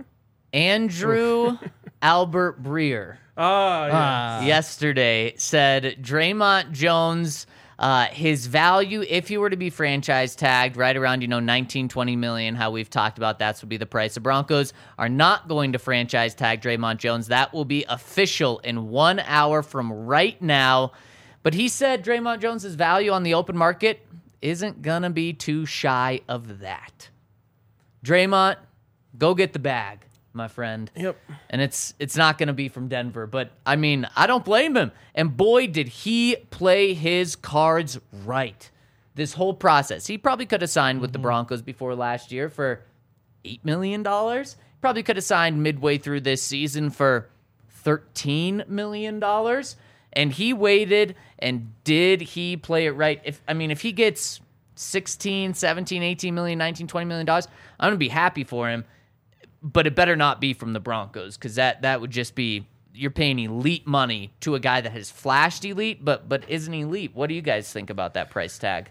Speaker 4: Andrew Albert Breer.
Speaker 2: Ah, yeah.
Speaker 3: Ah.
Speaker 4: yesterday said Draymond Jones, uh, his value, if he were to be franchise tagged, right around, you know, nineteen, twenty million, how we've talked about that's would be the price. The Broncos are not going to franchise tag Draymond Jones. That will be official in one hour from right now. But he said Draymond Jones's value on the open market isn't going to be too shy of that. Draymond, go get the bag, my friend.
Speaker 2: Yep.
Speaker 4: And it's it's not going to be from Denver. But, I mean, I don't blame him. And, boy, did he play his cards right this whole process. He probably could have signed with the Broncos before last year for eight million dollars. Probably could have signed midway through this season for thirteen million dollars. And he waited, and did he play it right? If I mean, if he gets sixteen, seventeen, eighteen million, nineteen, twenty million dollars, I'm going to be happy for him. But it better not be from the Broncos, because that, that would just be, you're paying elite money to a guy that has flashed elite, but but isn't elite. What do you guys think about that price tag?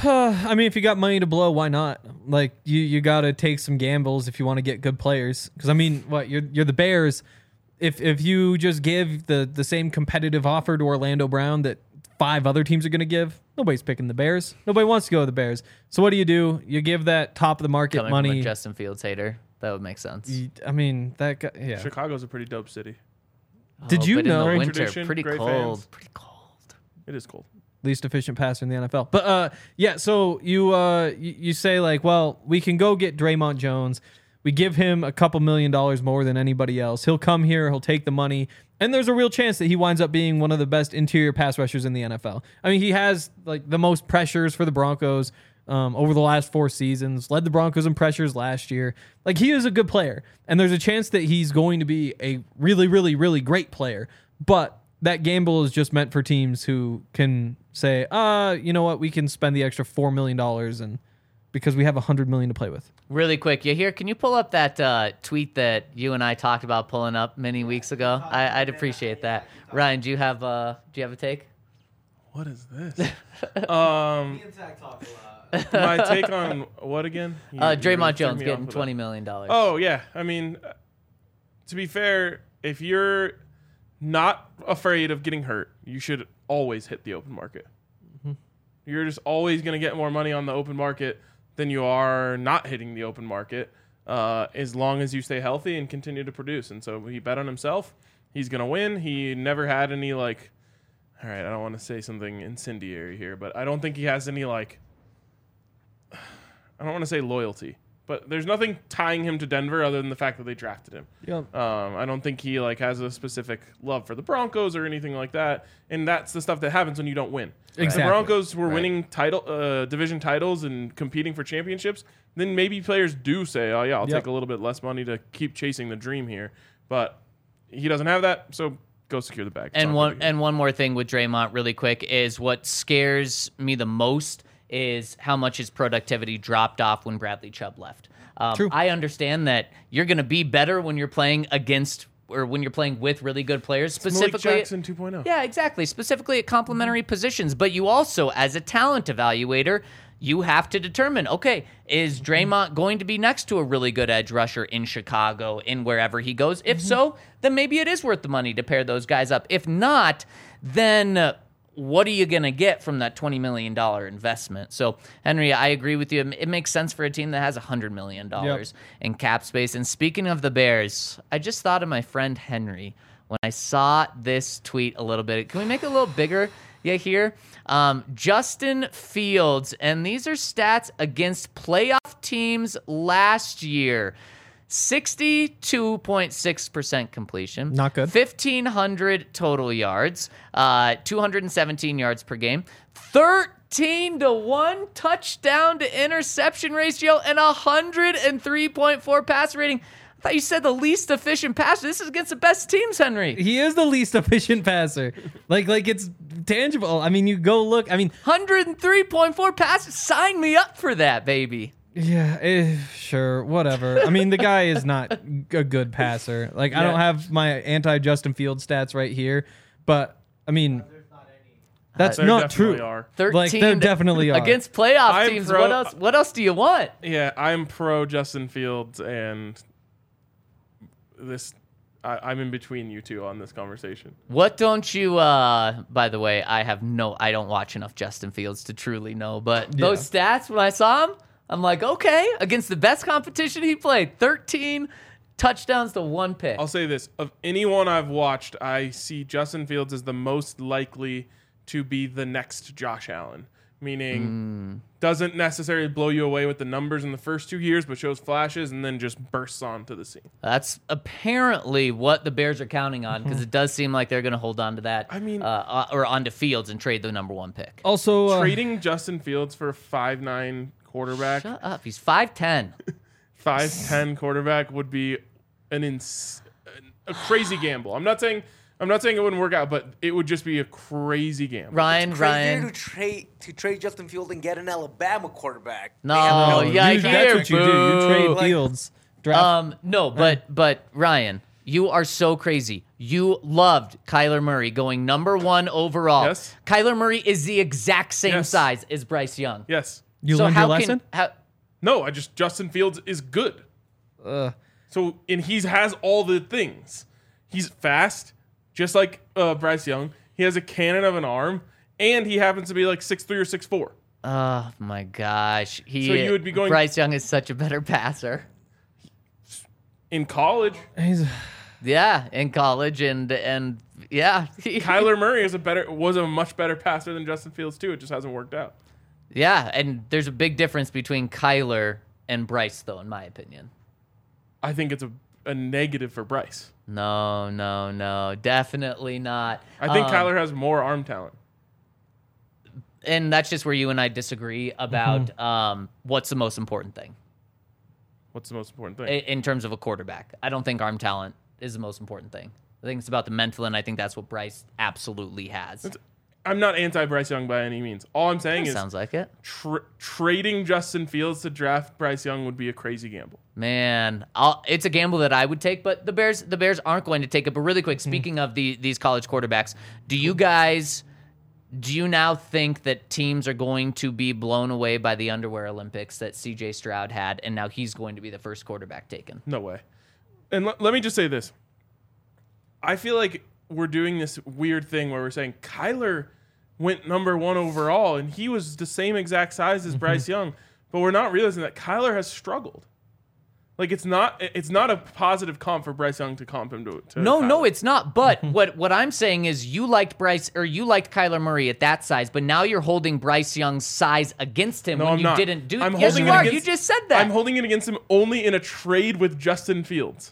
Speaker 3: I mean, if you got money to blow, why not? Like, you, you got to take some gambles if you want to get good players. Because, I mean, what, you're you're the Bears. If if you just give the, the same competitive offer to Orlando Brown that five other teams are going to give, nobody's picking the Bears. Nobody wants to go to the Bears. So what do you do? You give that top of the market
Speaker 4: Coming
Speaker 3: money.
Speaker 4: from a Justin Fields hater, that would make sense.
Speaker 3: You- I mean, that guy, yeah.
Speaker 2: Chicago's a pretty dope city.
Speaker 3: Did
Speaker 4: Oh,
Speaker 3: you
Speaker 4: but
Speaker 3: know-
Speaker 4: in the
Speaker 2: Great
Speaker 4: winter,
Speaker 2: tradition,
Speaker 4: pretty
Speaker 2: great
Speaker 4: cold,
Speaker 2: fans.
Speaker 4: pretty cold.
Speaker 2: It is cold.
Speaker 3: Least efficient passer in the N F L. But uh, yeah, so you uh, you, you say like, well, we can go get Draymond Jones. We give him a couple million dollars more than anybody else. He'll come here, he'll take the money, and there's a real chance that he winds up being one of the best interior pass rushers in the N F L. I mean, he has like the most pressures for the Broncos um, over the last four seasons. Led the Broncos in pressures last year. Like, he is a good player, and there's a chance that he's going to be a really, really, really great player. But that gamble is just meant for teams who can say, uh, you know what, we can spend the extra four million dollars and because we have one hundred million dollars to play with.
Speaker 4: Really quick, you here? Can you pull up that uh, tweet that you and I talked about pulling up many weeks ago? I, I'd appreciate that. Ryan, do you have uh, do you have a take?
Speaker 2: What is this? um,
Speaker 5: Me and Zach talk a lot.
Speaker 2: my take on what again? You-
Speaker 4: Uh,
Speaker 2: you really
Speaker 4: Draymond
Speaker 2: threw
Speaker 4: Jones
Speaker 2: me
Speaker 4: getting
Speaker 2: off with
Speaker 4: twenty
Speaker 2: that.
Speaker 4: million dollars.
Speaker 2: Oh yeah, I mean, uh, to be fair, if you're not afraid of getting hurt, you should always hit the open market.
Speaker 3: Mm-hmm.
Speaker 2: You're just always going to get more money on the open market than you are not hitting the open market, uh, as long as you stay healthy and continue to produce. And so he bet on himself. He's going to win. He never had any, like, all right, I don't want to say something incendiary here, but I don't think he has any, like, I don't want to say loyalty, but there's nothing tying him to Denver other than the fact that they drafted him.
Speaker 3: Yep.
Speaker 2: Um, I don't think he like has a specific love for the Broncos or anything like that, and that's the stuff that happens when you don't win.
Speaker 3: Exactly.
Speaker 2: If the Broncos were
Speaker 4: Right.
Speaker 2: winning title, uh, division titles and competing for championships, then maybe players do say, "Oh yeah, I'll
Speaker 3: Yep.
Speaker 2: take a little bit less money to keep chasing the dream here." But he doesn't have that, so go secure the bag. It's
Speaker 4: And
Speaker 2: not
Speaker 4: one
Speaker 2: good again.
Speaker 4: and one more thing with Draymond, really quick, is what scares me the most is how much his productivity dropped off when Bradley Chubb left. Um,
Speaker 3: True.
Speaker 4: I understand that you're going to be better when you're playing against or when you're playing with really good players,
Speaker 2: Malik
Speaker 4: specifically.
Speaker 2: Jackson two point oh.
Speaker 4: Yeah, exactly. Specifically at complementary positions. But you also, as a talent evaluator, you have to determine, okay, is Draymond going to be next to a really good edge rusher in Chicago, in wherever he goes? If so, then maybe it is worth the money to pair those guys up. If not, then uh, what are you going to get from that twenty million dollars investment? So, Henry, I agree with you. It makes sense for a team that has one hundred million dollars in cap space. And speaking of the Bears, I just thought of my friend Henry when I saw this tweet a little bit. Can we make it a little bigger? Yeah, here. Um, Justin Fields, and these are stats against playoff teams last year. sixty-two point six percent completion.
Speaker 3: Not good.
Speaker 4: fifteen hundred total yards, uh, two hundred seventeen yards per game, thirteen to one touchdown to interception ratio, and one hundred three point four passer rating. I thought you said the least efficient passer. This is against the best teams, Henry.
Speaker 3: He is the least efficient passer. Like, like it's tangible. I mean, you go look. I mean,
Speaker 4: one hundred three point four passes. Sign me up for that, baby.
Speaker 3: Yeah, eh, sure, whatever. I mean, the guy is not a good passer. Like, I
Speaker 2: Yeah.
Speaker 3: don't have my anti-Justin Fields stats right here, but I mean, that's
Speaker 2: There
Speaker 3: not
Speaker 2: definitely
Speaker 3: true.
Speaker 2: are.
Speaker 4: thirteen
Speaker 3: Like, there definitely are.
Speaker 4: against playoff
Speaker 2: I'm
Speaker 4: teams.
Speaker 2: pro-
Speaker 4: what else? What else do you want?
Speaker 2: Yeah, I'm pro Justin Fields, and this I, I'm in between you two on this conversation.
Speaker 4: What don't you? Uh, by the way, I have no. I don't watch enough Justin Fields to truly know. But those stats, when I saw him, I'm like, okay, against the best competition he played, thirteen touchdowns to one pick.
Speaker 2: I'll say this: of anyone I've watched, I see Justin Fields as the most likely to be the next Josh Allen. Meaning, doesn't necessarily blow you away with the numbers in the first two years, but shows flashes and then just bursts onto the scene.
Speaker 4: That's apparently what the Bears are counting on because it does seem like they're going to hold on to that.
Speaker 2: I mean-
Speaker 4: uh, or onto Fields and trade the number one pick.
Speaker 3: Also, uh,
Speaker 2: Trading Justin Fields for a five nine quarterback,
Speaker 4: Shut up. He's five ten.
Speaker 2: five ten quarterback would be an ins- a crazy gamble. I'm not saying I'm not saying it wouldn't work out, but it would just be a crazy gamble.
Speaker 4: Ryan,
Speaker 5: Crazier
Speaker 4: Ryan.
Speaker 5: to trade to trade Justin Fields and get an Alabama quarterback.
Speaker 4: No,
Speaker 5: They have
Speaker 4: Oh,
Speaker 3: you-
Speaker 4: yeah, I
Speaker 3: that's
Speaker 4: hear,
Speaker 3: what you do. You
Speaker 4: boo.
Speaker 3: trade
Speaker 5: Like-
Speaker 3: Fields. Draft.
Speaker 4: Um, no, but but Ryan, you are so crazy. You loved Kyler Murray going number one overall.
Speaker 2: Yes.
Speaker 4: Kyler Murray is the exact same
Speaker 2: Yes.
Speaker 4: size as Bryce Young.
Speaker 2: Yes.
Speaker 3: you
Speaker 4: so
Speaker 3: learned
Speaker 4: how
Speaker 3: your lesson.
Speaker 4: Can, how,
Speaker 2: No, I just Justin Fields is good.
Speaker 3: Uh,
Speaker 2: So and he has all the things. He's fast, just like uh, Bryce Young. He has a cannon of an arm, and he happens to be like six three or six four.
Speaker 4: oh my gosh, he.
Speaker 2: So you would be going-
Speaker 4: Bryce Young is such a better passer.
Speaker 2: In college,
Speaker 3: he's
Speaker 4: Yeah, in college and and yeah, he-
Speaker 2: Kyler Murray is a better was a much better passer than Justin Fields too. It just hasn't worked out.
Speaker 4: yeah, and there's a big difference between Kyler and Bryce, though, in my opinion.
Speaker 2: I think it's a, a negative for Bryce.
Speaker 4: No, no, no, definitely not.
Speaker 2: I think
Speaker 4: Um,
Speaker 2: Kyler has more arm talent.
Speaker 4: and that's just where you and I disagree about um, what's the most important thing
Speaker 2: What's the most important thing?
Speaker 4: in, in terms of a quarterback. I don't think arm talent is the most important thing. I think it's about the mental, and I think that's what Bryce absolutely has.
Speaker 2: I'm not anti-Bryce Young by any means. All I'm saying is
Speaker 4: Sounds like it.
Speaker 2: tra- trading Justin Fields to draft Bryce Young would be a crazy gamble.
Speaker 4: Man, I'll, it's a gamble that I would take, but the Bears, the Bears aren't going to take it. But really quick, speaking of the these college quarterbacks, do you guys, do you now think that teams are going to be blown away by the underwear Olympics that C J Stroud had, and now he's going to be the first quarterback taken?
Speaker 2: No way. And l- let me just say this. I feel like we're doing this weird thing where we're saying Kyler went number one overall, and he was the same exact size as Bryce Young, but we're not realizing that Kyler has struggled. Like it's not it's not a positive comp for Bryce Young to comp him to. to
Speaker 4: No, no,
Speaker 2: Kyler.
Speaker 4: it's not. But what what I'm saying is, you liked Bryce or you liked Kyler Murray at that size, but now you're holding Bryce Young's size against him
Speaker 2: No,
Speaker 4: when
Speaker 2: I'm
Speaker 4: you
Speaker 2: not.
Speaker 4: didn't do.
Speaker 2: I'm
Speaker 4: Yes,
Speaker 2: holding
Speaker 4: you
Speaker 2: it
Speaker 4: are.
Speaker 2: against-
Speaker 4: You just said that.
Speaker 2: I'm holding it against him only in a trade with Justin Fields.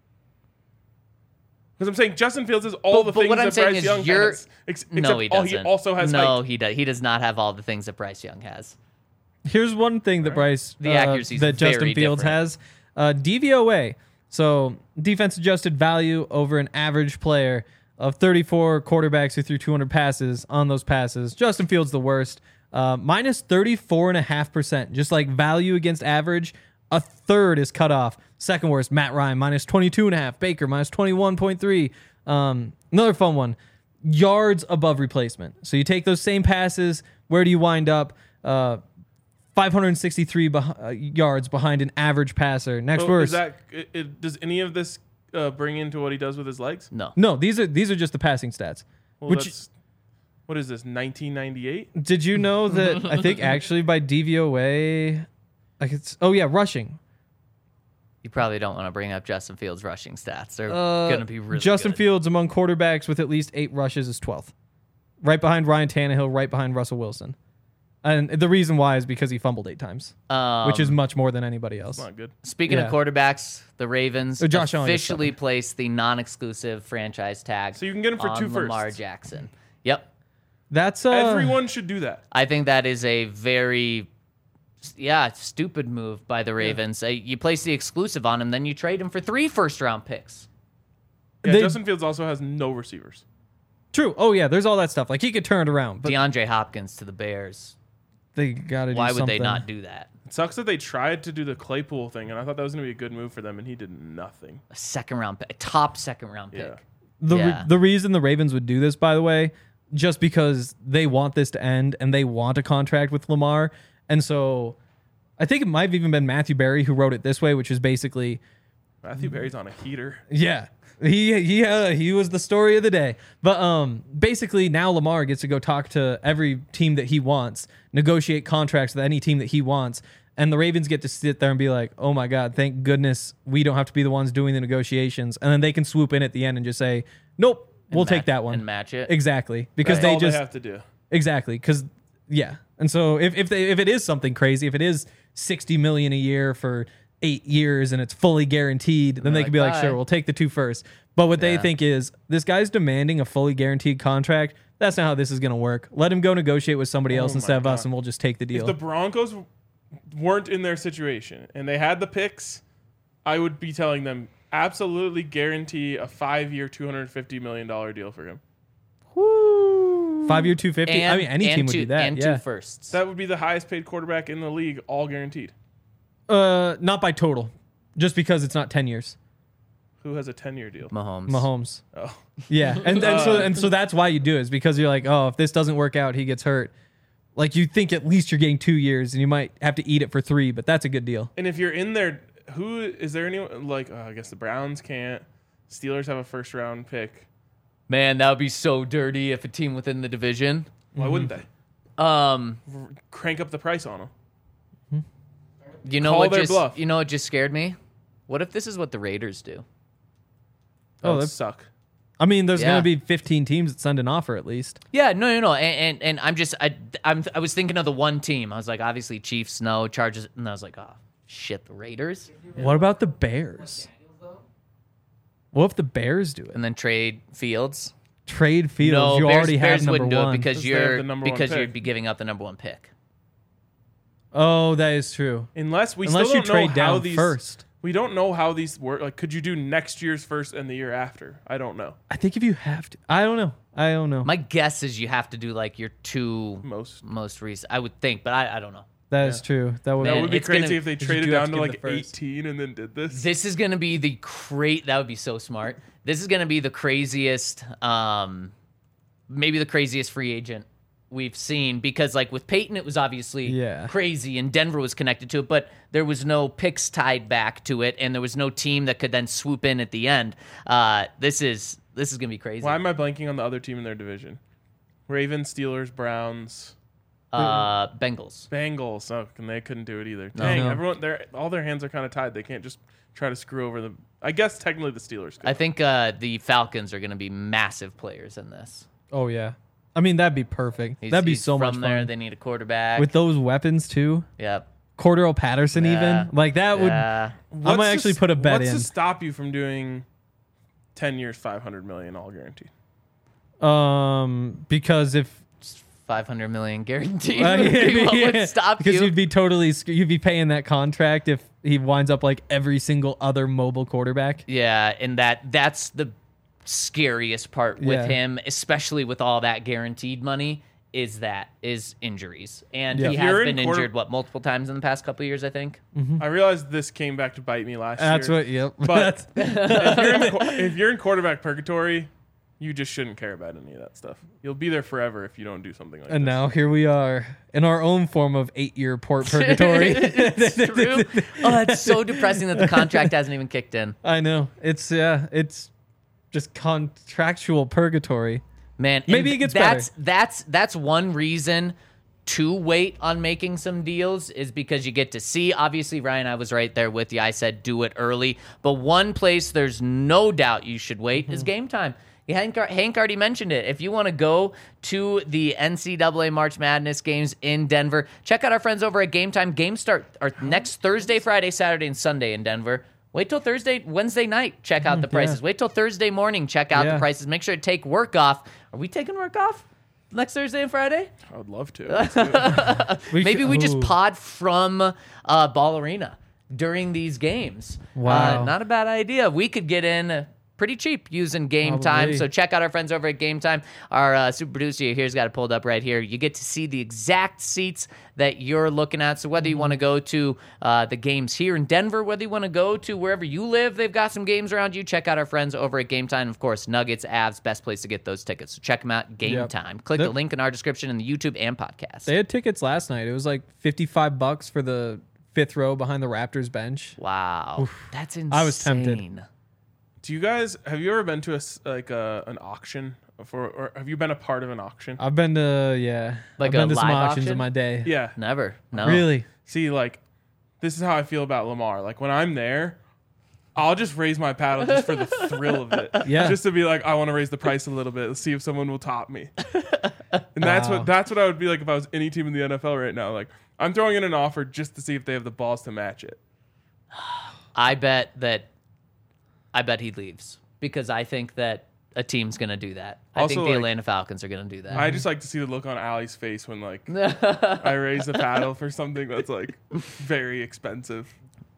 Speaker 2: Because I'm saying Justin Fields has all
Speaker 4: But-
Speaker 2: the
Speaker 4: but
Speaker 2: things
Speaker 4: what I'm
Speaker 2: that
Speaker 4: saying
Speaker 2: Bryce
Speaker 4: is
Speaker 2: Young
Speaker 4: you're-
Speaker 2: has. Ex-
Speaker 4: no,
Speaker 2: except
Speaker 4: he
Speaker 2: all
Speaker 4: doesn't.
Speaker 2: he also has
Speaker 4: no,
Speaker 2: height.
Speaker 4: he does. He does not have all the things that Bryce Young has.
Speaker 3: Here's one thing that Bryce
Speaker 4: The
Speaker 3: uh,
Speaker 4: accuracy's
Speaker 3: that Justin
Speaker 4: very
Speaker 3: Fields
Speaker 4: different.
Speaker 3: has, uh, D V O A. So defense adjusted value over an average player of thirty-four quarterbacks who threw two hundred passes on those passes. Justin Fields the worst, uh, minus thirty-four and a half percent. Just like value against average, a third is cut off. Second worst, Matt Ryan minus twenty-two and a half. Baker minus twenty-one point three. Um, another fun one, yards above replacement. So you take those same passes. Where do you wind up? Uh, five hundred sixty-three beh- uh, yards behind an average passer. Next
Speaker 2: So
Speaker 3: worst.
Speaker 2: is that, it, it- does any of this uh, bring into what he does with his legs?
Speaker 4: No.
Speaker 3: No, these are these are just the passing stats.
Speaker 2: Well,
Speaker 3: Which
Speaker 2: that's, what is this, nineteen ninety-eight?
Speaker 3: did you know that I think actually by D V O A, like it's oh yeah, rushing.
Speaker 4: You probably don't want to bring up Justin Fields' rushing stats. They're
Speaker 3: Uh,
Speaker 4: going to be really
Speaker 3: Justin
Speaker 4: good.
Speaker 3: Fields among quarterbacks with at least eight rushes is twelfth, right behind Ryan Tannehill, right behind Russell Wilson. And the reason why is because he fumbled eight times,
Speaker 4: Um,
Speaker 3: which is much more than anybody else.
Speaker 2: Not good.
Speaker 4: Speaking
Speaker 3: Yeah.
Speaker 4: of quarterbacks, the Ravens
Speaker 3: Oh, Josh Allen gets
Speaker 4: officially
Speaker 3: seven.
Speaker 4: placed the non-exclusive franchise tag.
Speaker 2: So you can get him for
Speaker 4: on
Speaker 2: two
Speaker 4: Lamar
Speaker 2: firsts.
Speaker 4: Jackson. Yep,
Speaker 3: That's uh,
Speaker 2: Everyone should do that.
Speaker 4: I think that is a very, yeah, stupid move by the Ravens. Uh, you place the exclusive on him, then you trade him for three first-round picks.
Speaker 2: Yeah,
Speaker 3: They-
Speaker 2: Justin Fields also has no receivers.
Speaker 3: true. Oh yeah, there's all that stuff. Like he could turn it around, but
Speaker 4: DeAndre Hopkins to the Bears.
Speaker 3: They got to do
Speaker 4: Why
Speaker 3: something.
Speaker 4: would they not do that?
Speaker 2: It sucks that they tried to do the Claypool thing, and I thought that was going to be a good move for them, and he did nothing.
Speaker 4: A second round pick, a top second round pick.
Speaker 2: Yeah.
Speaker 3: The,
Speaker 4: Yeah.
Speaker 3: re- the reason the Ravens would do this, by the way, just because they want this to end and they want a contract with Lamar. And so I think it might have even been Matthew Berry who wrote it this way, which is basically,
Speaker 2: Matthew Berry's on a heater.
Speaker 3: yeah, he he uh, he was the story of the day. But um, basically now Lamar gets to go talk to every team that he wants, negotiate contracts with any team that he wants. And the Ravens get to sit there and be like, oh my God, thank goodness we don't have to be the ones doing the negotiations. And then they can swoop in at the end and just say, nope, we'll
Speaker 4: match-
Speaker 3: take that one.
Speaker 4: and match it.
Speaker 3: Exactly. Because
Speaker 2: That's
Speaker 3: they
Speaker 2: all
Speaker 3: just
Speaker 2: they have to do.
Speaker 3: exactly because yeah. And so if if they if it is something crazy, if it is sixty million a year for eight years and it's fully guaranteed, then they
Speaker 4: like,
Speaker 3: could be like,
Speaker 4: "Bye."
Speaker 3: sure, we'll take the two first. But what they
Speaker 4: Yeah.
Speaker 3: think is this guy's demanding a fully guaranteed contract. That's not how this is going to work. Let him go negotiate with somebody else
Speaker 2: Oh my
Speaker 3: instead of us,
Speaker 2: God.
Speaker 3: and we'll just take the
Speaker 2: If
Speaker 3: deal.
Speaker 2: the Broncos weren't in their situation and they had the picks, I would be telling them absolutely guarantee a five-year, two hundred fifty million dollars deal for him.
Speaker 3: Five year two fifty.
Speaker 4: And,
Speaker 3: I mean, any
Speaker 4: and
Speaker 3: team would
Speaker 4: two,
Speaker 3: do that.
Speaker 4: And
Speaker 3: yeah.
Speaker 4: two firsts.
Speaker 2: That would be the highest paid quarterback in the league, all guaranteed.
Speaker 3: Uh, not by total, just because it's not ten years.
Speaker 2: Who has a ten-year deal?
Speaker 4: Mahomes.
Speaker 3: Mahomes.
Speaker 2: Oh.
Speaker 3: Yeah, and and so and so that's why you do it, is because you're like, oh, if this doesn't work out, he gets hurt. Like you think at least you're getting two years, and you might have to eat it for three, but that's a good deal.
Speaker 2: And if you're in there, who is there anyone like? Oh, I guess the Browns can't. Steelers have a first-round pick.
Speaker 4: Man, that would be so dirty if a team within the division.
Speaker 2: Why wouldn't they
Speaker 4: Um,
Speaker 2: R- crank up the price on them?
Speaker 4: you know
Speaker 2: Call
Speaker 4: what
Speaker 2: their
Speaker 4: just
Speaker 2: bluff.
Speaker 4: you know what just scared me? What if this is what the Raiders do?
Speaker 2: That
Speaker 3: Oh,
Speaker 2: would
Speaker 3: that's-
Speaker 2: suck.
Speaker 3: I mean, there's
Speaker 4: Yeah.
Speaker 3: gonna be fifteen teams that send an offer at least.
Speaker 4: Yeah, no, no, no, and and, and I'm just I I'm I was thinking of the one team. I was like, obviously Chiefs, no Chargers, and I was like, oh shit, the Raiders,
Speaker 3: What about the Bears? What if the Bears do it?
Speaker 4: and then trade Fields.
Speaker 3: Trade Fields.
Speaker 4: No,
Speaker 3: you
Speaker 4: Bears,
Speaker 3: already have
Speaker 4: Bears
Speaker 3: number
Speaker 4: wouldn't do
Speaker 3: one.
Speaker 4: it because
Speaker 2: Because they have
Speaker 4: you're
Speaker 2: the number one
Speaker 4: because
Speaker 2: pick.
Speaker 4: you'd be giving up the number one pick.
Speaker 3: Oh, that is true.
Speaker 2: Unless we
Speaker 3: Unless
Speaker 2: still
Speaker 3: you
Speaker 2: don't
Speaker 3: trade
Speaker 2: know how
Speaker 3: down
Speaker 2: these
Speaker 3: first.
Speaker 2: We don't know how these work. Like, could you do next year's first and the year after? I don't know.
Speaker 3: I think if you have to, I don't know. I don't know.
Speaker 4: My guess is you have to do like your two
Speaker 2: Most.
Speaker 4: most recent. I would think, but I, I don't know.
Speaker 3: That is true. That would.
Speaker 2: That
Speaker 4: Man,
Speaker 2: would be
Speaker 4: it's gonna-
Speaker 2: crazy if they
Speaker 3: you
Speaker 2: traded
Speaker 3: do have
Speaker 2: down
Speaker 3: to
Speaker 2: to
Speaker 3: give
Speaker 2: like
Speaker 3: the first.
Speaker 2: eighteen and then did this.
Speaker 4: This is going to be the cra- That would be so smart. This is going to be the craziest, um, maybe the craziest free agent we've seen, because like with Peyton, it was obviously
Speaker 3: Yeah.
Speaker 4: crazy and Denver was connected to it, but there was no picks tied back to it, and there was no team that could then swoop in at the end. Uh, this is this is going to be crazy.
Speaker 2: Why am I blanking on the other team in their division? Ravens, Steelers, Browns,
Speaker 4: Uh, Bengals.
Speaker 2: Bengals. Oh, and they couldn't do it either. Dang,
Speaker 3: No.
Speaker 2: everyone, their all their hands are kind of tied. They can't just try to screw over them. I guess technically the Steelers could.
Speaker 4: I think uh, the Falcons are going to be massive players in this.
Speaker 3: Oh yeah. I mean, that'd be perfect.
Speaker 4: He's-
Speaker 3: that'd be
Speaker 4: he's
Speaker 3: so
Speaker 4: from
Speaker 3: much
Speaker 4: there.
Speaker 3: fun
Speaker 4: They need a quarterback.
Speaker 3: with those weapons too.
Speaker 4: yep.
Speaker 3: Cordero Patterson,
Speaker 4: Yeah.
Speaker 3: even like that would.
Speaker 4: Yeah.
Speaker 3: I
Speaker 2: What's
Speaker 3: might
Speaker 2: to
Speaker 3: actually
Speaker 2: s-
Speaker 3: put a bet
Speaker 2: what's
Speaker 3: in.
Speaker 2: to stop you from doing ten years, five hundred million, all guaranteed?
Speaker 3: Um, because if
Speaker 4: five hundred million guaranteed.
Speaker 3: uh,
Speaker 4: would be what
Speaker 3: yeah,
Speaker 4: would stop
Speaker 3: because
Speaker 4: you?
Speaker 3: you'd be totally sc- you'd be paying that contract if he winds up like every single other mobile quarterback.
Speaker 4: Yeah, and that that's the scariest part with
Speaker 3: Yeah.
Speaker 4: him, especially with all that guaranteed money, is that is injuries. And
Speaker 3: Yeah.
Speaker 4: he
Speaker 3: If
Speaker 4: has
Speaker 2: you're
Speaker 4: been
Speaker 2: in quarter-
Speaker 4: injured what multiple times in the past couple of years, I think.
Speaker 2: I realized this came back to bite me last
Speaker 3: That's
Speaker 2: year.
Speaker 3: what. Yep.
Speaker 2: But
Speaker 3: That's-
Speaker 2: if, you're in, qu- if you're in quarterback purgatory, you just shouldn't care about any of that stuff. You'll be there forever if you don't do something like
Speaker 3: and
Speaker 2: this.
Speaker 3: now here we are in our own form of eight-year port purgatory.
Speaker 4: It's true. Oh, it's so depressing that the contract hasn't even kicked in.
Speaker 3: I know. It's yeah. It's just contractual purgatory.
Speaker 4: Man,
Speaker 3: Maybe
Speaker 4: and
Speaker 3: it gets
Speaker 4: that's
Speaker 3: better.
Speaker 4: that's that's one reason to wait on making some deals, is because you get to see. Obviously, Ryan, I was right there with you. I said do it early, but one place there's no doubt you should wait
Speaker 3: Mm-hmm.
Speaker 4: is Game Time. Hank, Hank already mentioned it. If you want to go to the N C double A March Madness games in Denver, check out our friends over at Game Time. Games start are next Thursday, Friday, Saturday, and Sunday in Denver. Wait till Thursday, Wednesday night. Check out the prices.
Speaker 3: yeah.
Speaker 4: Wait till Thursday morning. Check out
Speaker 3: Yeah.
Speaker 4: the prices. Make sure to take work off. Are we taking work off next Thursday and Friday?
Speaker 2: I would love to. Let's do it.
Speaker 3: We
Speaker 4: Maybe
Speaker 3: should-
Speaker 4: we just
Speaker 3: ooh.
Speaker 4: pod from uh, Ball Arena during these games.
Speaker 3: Wow.
Speaker 4: Uh, not a bad idea. We could get in pretty cheap using Game Time.
Speaker 3: Probably.
Speaker 4: So check out our friends over at Game Time. Our uh, super producer here's got it pulled up right here. You get to see the exact seats that you're looking at. So whether you want to go to uh, the games here in Denver, whether you want to go to wherever you live, they've got some games around you. Check out our friends over at Game Time. Of course, Nuggets, Avs, best place to get those tickets. So check them out, Game
Speaker 3: Yep.
Speaker 4: Time. Click
Speaker 3: Yep.
Speaker 4: the link in our description in the YouTube and podcast.
Speaker 3: They had tickets last night. It was like fifty-five bucks for the fifth row behind the Raptors bench.
Speaker 4: Wow. That's insane.
Speaker 3: I was tempted.
Speaker 2: Do you guys have you ever been to a s- like a, an auction for, or have you been a part of an auction?
Speaker 3: I've been to yeah,
Speaker 4: Like
Speaker 3: I've been
Speaker 4: a
Speaker 3: to some
Speaker 4: live
Speaker 3: auctions
Speaker 4: auction?
Speaker 3: in my day.
Speaker 2: Yeah.
Speaker 4: Never. No.
Speaker 3: Really?
Speaker 2: See, like, this is how I feel about Lamar. Like when I'm there, I'll just raise my paddle just for the thrill of it.
Speaker 3: Yeah.
Speaker 2: Just to be like, I want to raise the price a little bit. Let's see if someone will top me. And that's
Speaker 3: Wow.
Speaker 2: what that's what I would be like if I was any team in the N F L right now. Like I'm throwing in an offer just to see if they have the balls to match it.
Speaker 4: I bet that I bet he leaves because I think that a team's going to do that. I
Speaker 2: Also,
Speaker 4: think the
Speaker 2: like,
Speaker 4: Atlanta Falcons are going to do that.
Speaker 2: I just like to see the look on Allie's face when like I raise the paddle for something that's like very expensive.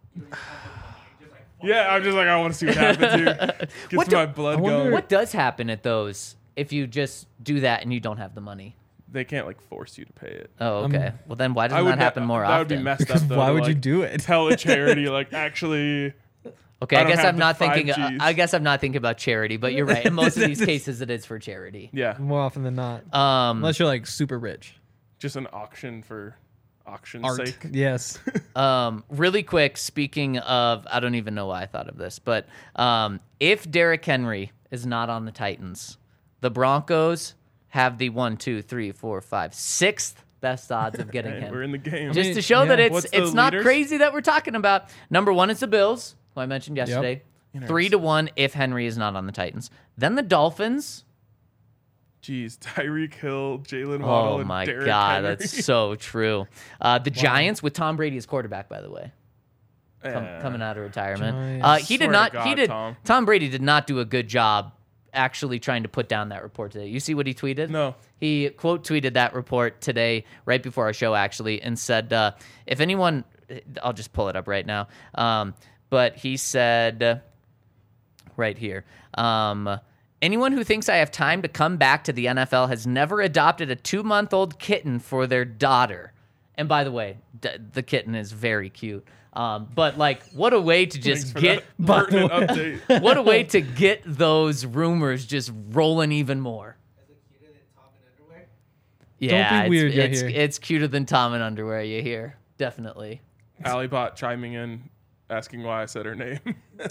Speaker 2: Yeah, I'm just like I want to see what happens here. Gets
Speaker 4: What do-
Speaker 2: my blood
Speaker 3: I wonder-
Speaker 2: going.
Speaker 4: What does happen at those if you just do that and you don't have the money?
Speaker 2: They can't like force you to pay it.
Speaker 4: Oh, okay. well, then why
Speaker 2: I
Speaker 4: doesn't
Speaker 2: would
Speaker 4: that
Speaker 2: ne-
Speaker 4: happen more
Speaker 2: that
Speaker 4: often?
Speaker 2: would be messed
Speaker 3: Because
Speaker 2: up. Though,
Speaker 3: why
Speaker 2: to,
Speaker 3: would you
Speaker 2: like,
Speaker 3: do it?
Speaker 2: Tell a charity like actually.
Speaker 4: Okay,
Speaker 2: I
Speaker 4: I,
Speaker 2: don't
Speaker 4: guess
Speaker 2: have
Speaker 4: I'm
Speaker 2: the
Speaker 4: not
Speaker 2: five
Speaker 4: thinking. uh,
Speaker 2: Gs.
Speaker 4: I guess I'm not thinking about charity, but you're right. In most of these cases, it is for charity.
Speaker 2: Yeah,
Speaker 3: More often than not,
Speaker 4: Um,
Speaker 3: unless you're like super rich.
Speaker 2: just an auction for auction's
Speaker 3: Art.
Speaker 2: sake.
Speaker 3: Yes.
Speaker 4: Um, really quick, speaking of, I don't even know why I thought of this, but um, if Derrick Henry is not on the Titans, the Broncos have the one, two, three, four, five, sixth best odds of getting
Speaker 2: Hey,
Speaker 4: him.
Speaker 2: we're in the game.
Speaker 4: Just
Speaker 3: mean,
Speaker 4: to show
Speaker 3: yeah.
Speaker 4: that it's
Speaker 2: What's the
Speaker 4: it's not
Speaker 2: leaders?
Speaker 4: crazy that we're talking about. Number one is the Bills, who I mentioned yesterday. Three to one if Henry is not on the Titans. Then the Dolphins.
Speaker 2: Jeez, Tyreek Hill, Jalen Waddle,
Speaker 4: Oh
Speaker 2: and
Speaker 4: my
Speaker 2: Derrick
Speaker 4: God,
Speaker 2: Henry.
Speaker 4: that's so true. Uh, the Giants with Tom Brady as quarterback, by the way. Com-
Speaker 2: Eh.
Speaker 4: coming out of retirement.
Speaker 3: Giants.
Speaker 4: Uh, he
Speaker 2: Swear
Speaker 4: did
Speaker 2: to
Speaker 4: not. he
Speaker 2: God,
Speaker 4: did.
Speaker 2: Tom.
Speaker 4: Tom Brady did not do a good job actually trying to put down that report today. You see what he tweeted?
Speaker 2: No.
Speaker 4: He quote tweeted that report today, right before our show, actually, and said, uh, "If anyone, I'll just pull it up right now." Um, but he said, right here. Um, Anyone who thinks I have time to come back to the N F L has never adopted a two-month-old kitten for their daughter. And by the way, d- the kitten is very cute. Um, but like, what a way to
Speaker 2: Thanks
Speaker 4: just
Speaker 2: for
Speaker 4: get
Speaker 2: that pertinent update.
Speaker 4: what a way to get those rumors just rolling even more.
Speaker 5: Is it cuter than Tom in underwear?
Speaker 4: Yeah,
Speaker 3: be weird,
Speaker 4: it's,
Speaker 3: you
Speaker 4: it's,
Speaker 3: hear.
Speaker 4: it's cuter than Tom in underwear. You hear, definitely.
Speaker 2: Alibot chiming in, asking why I said her name.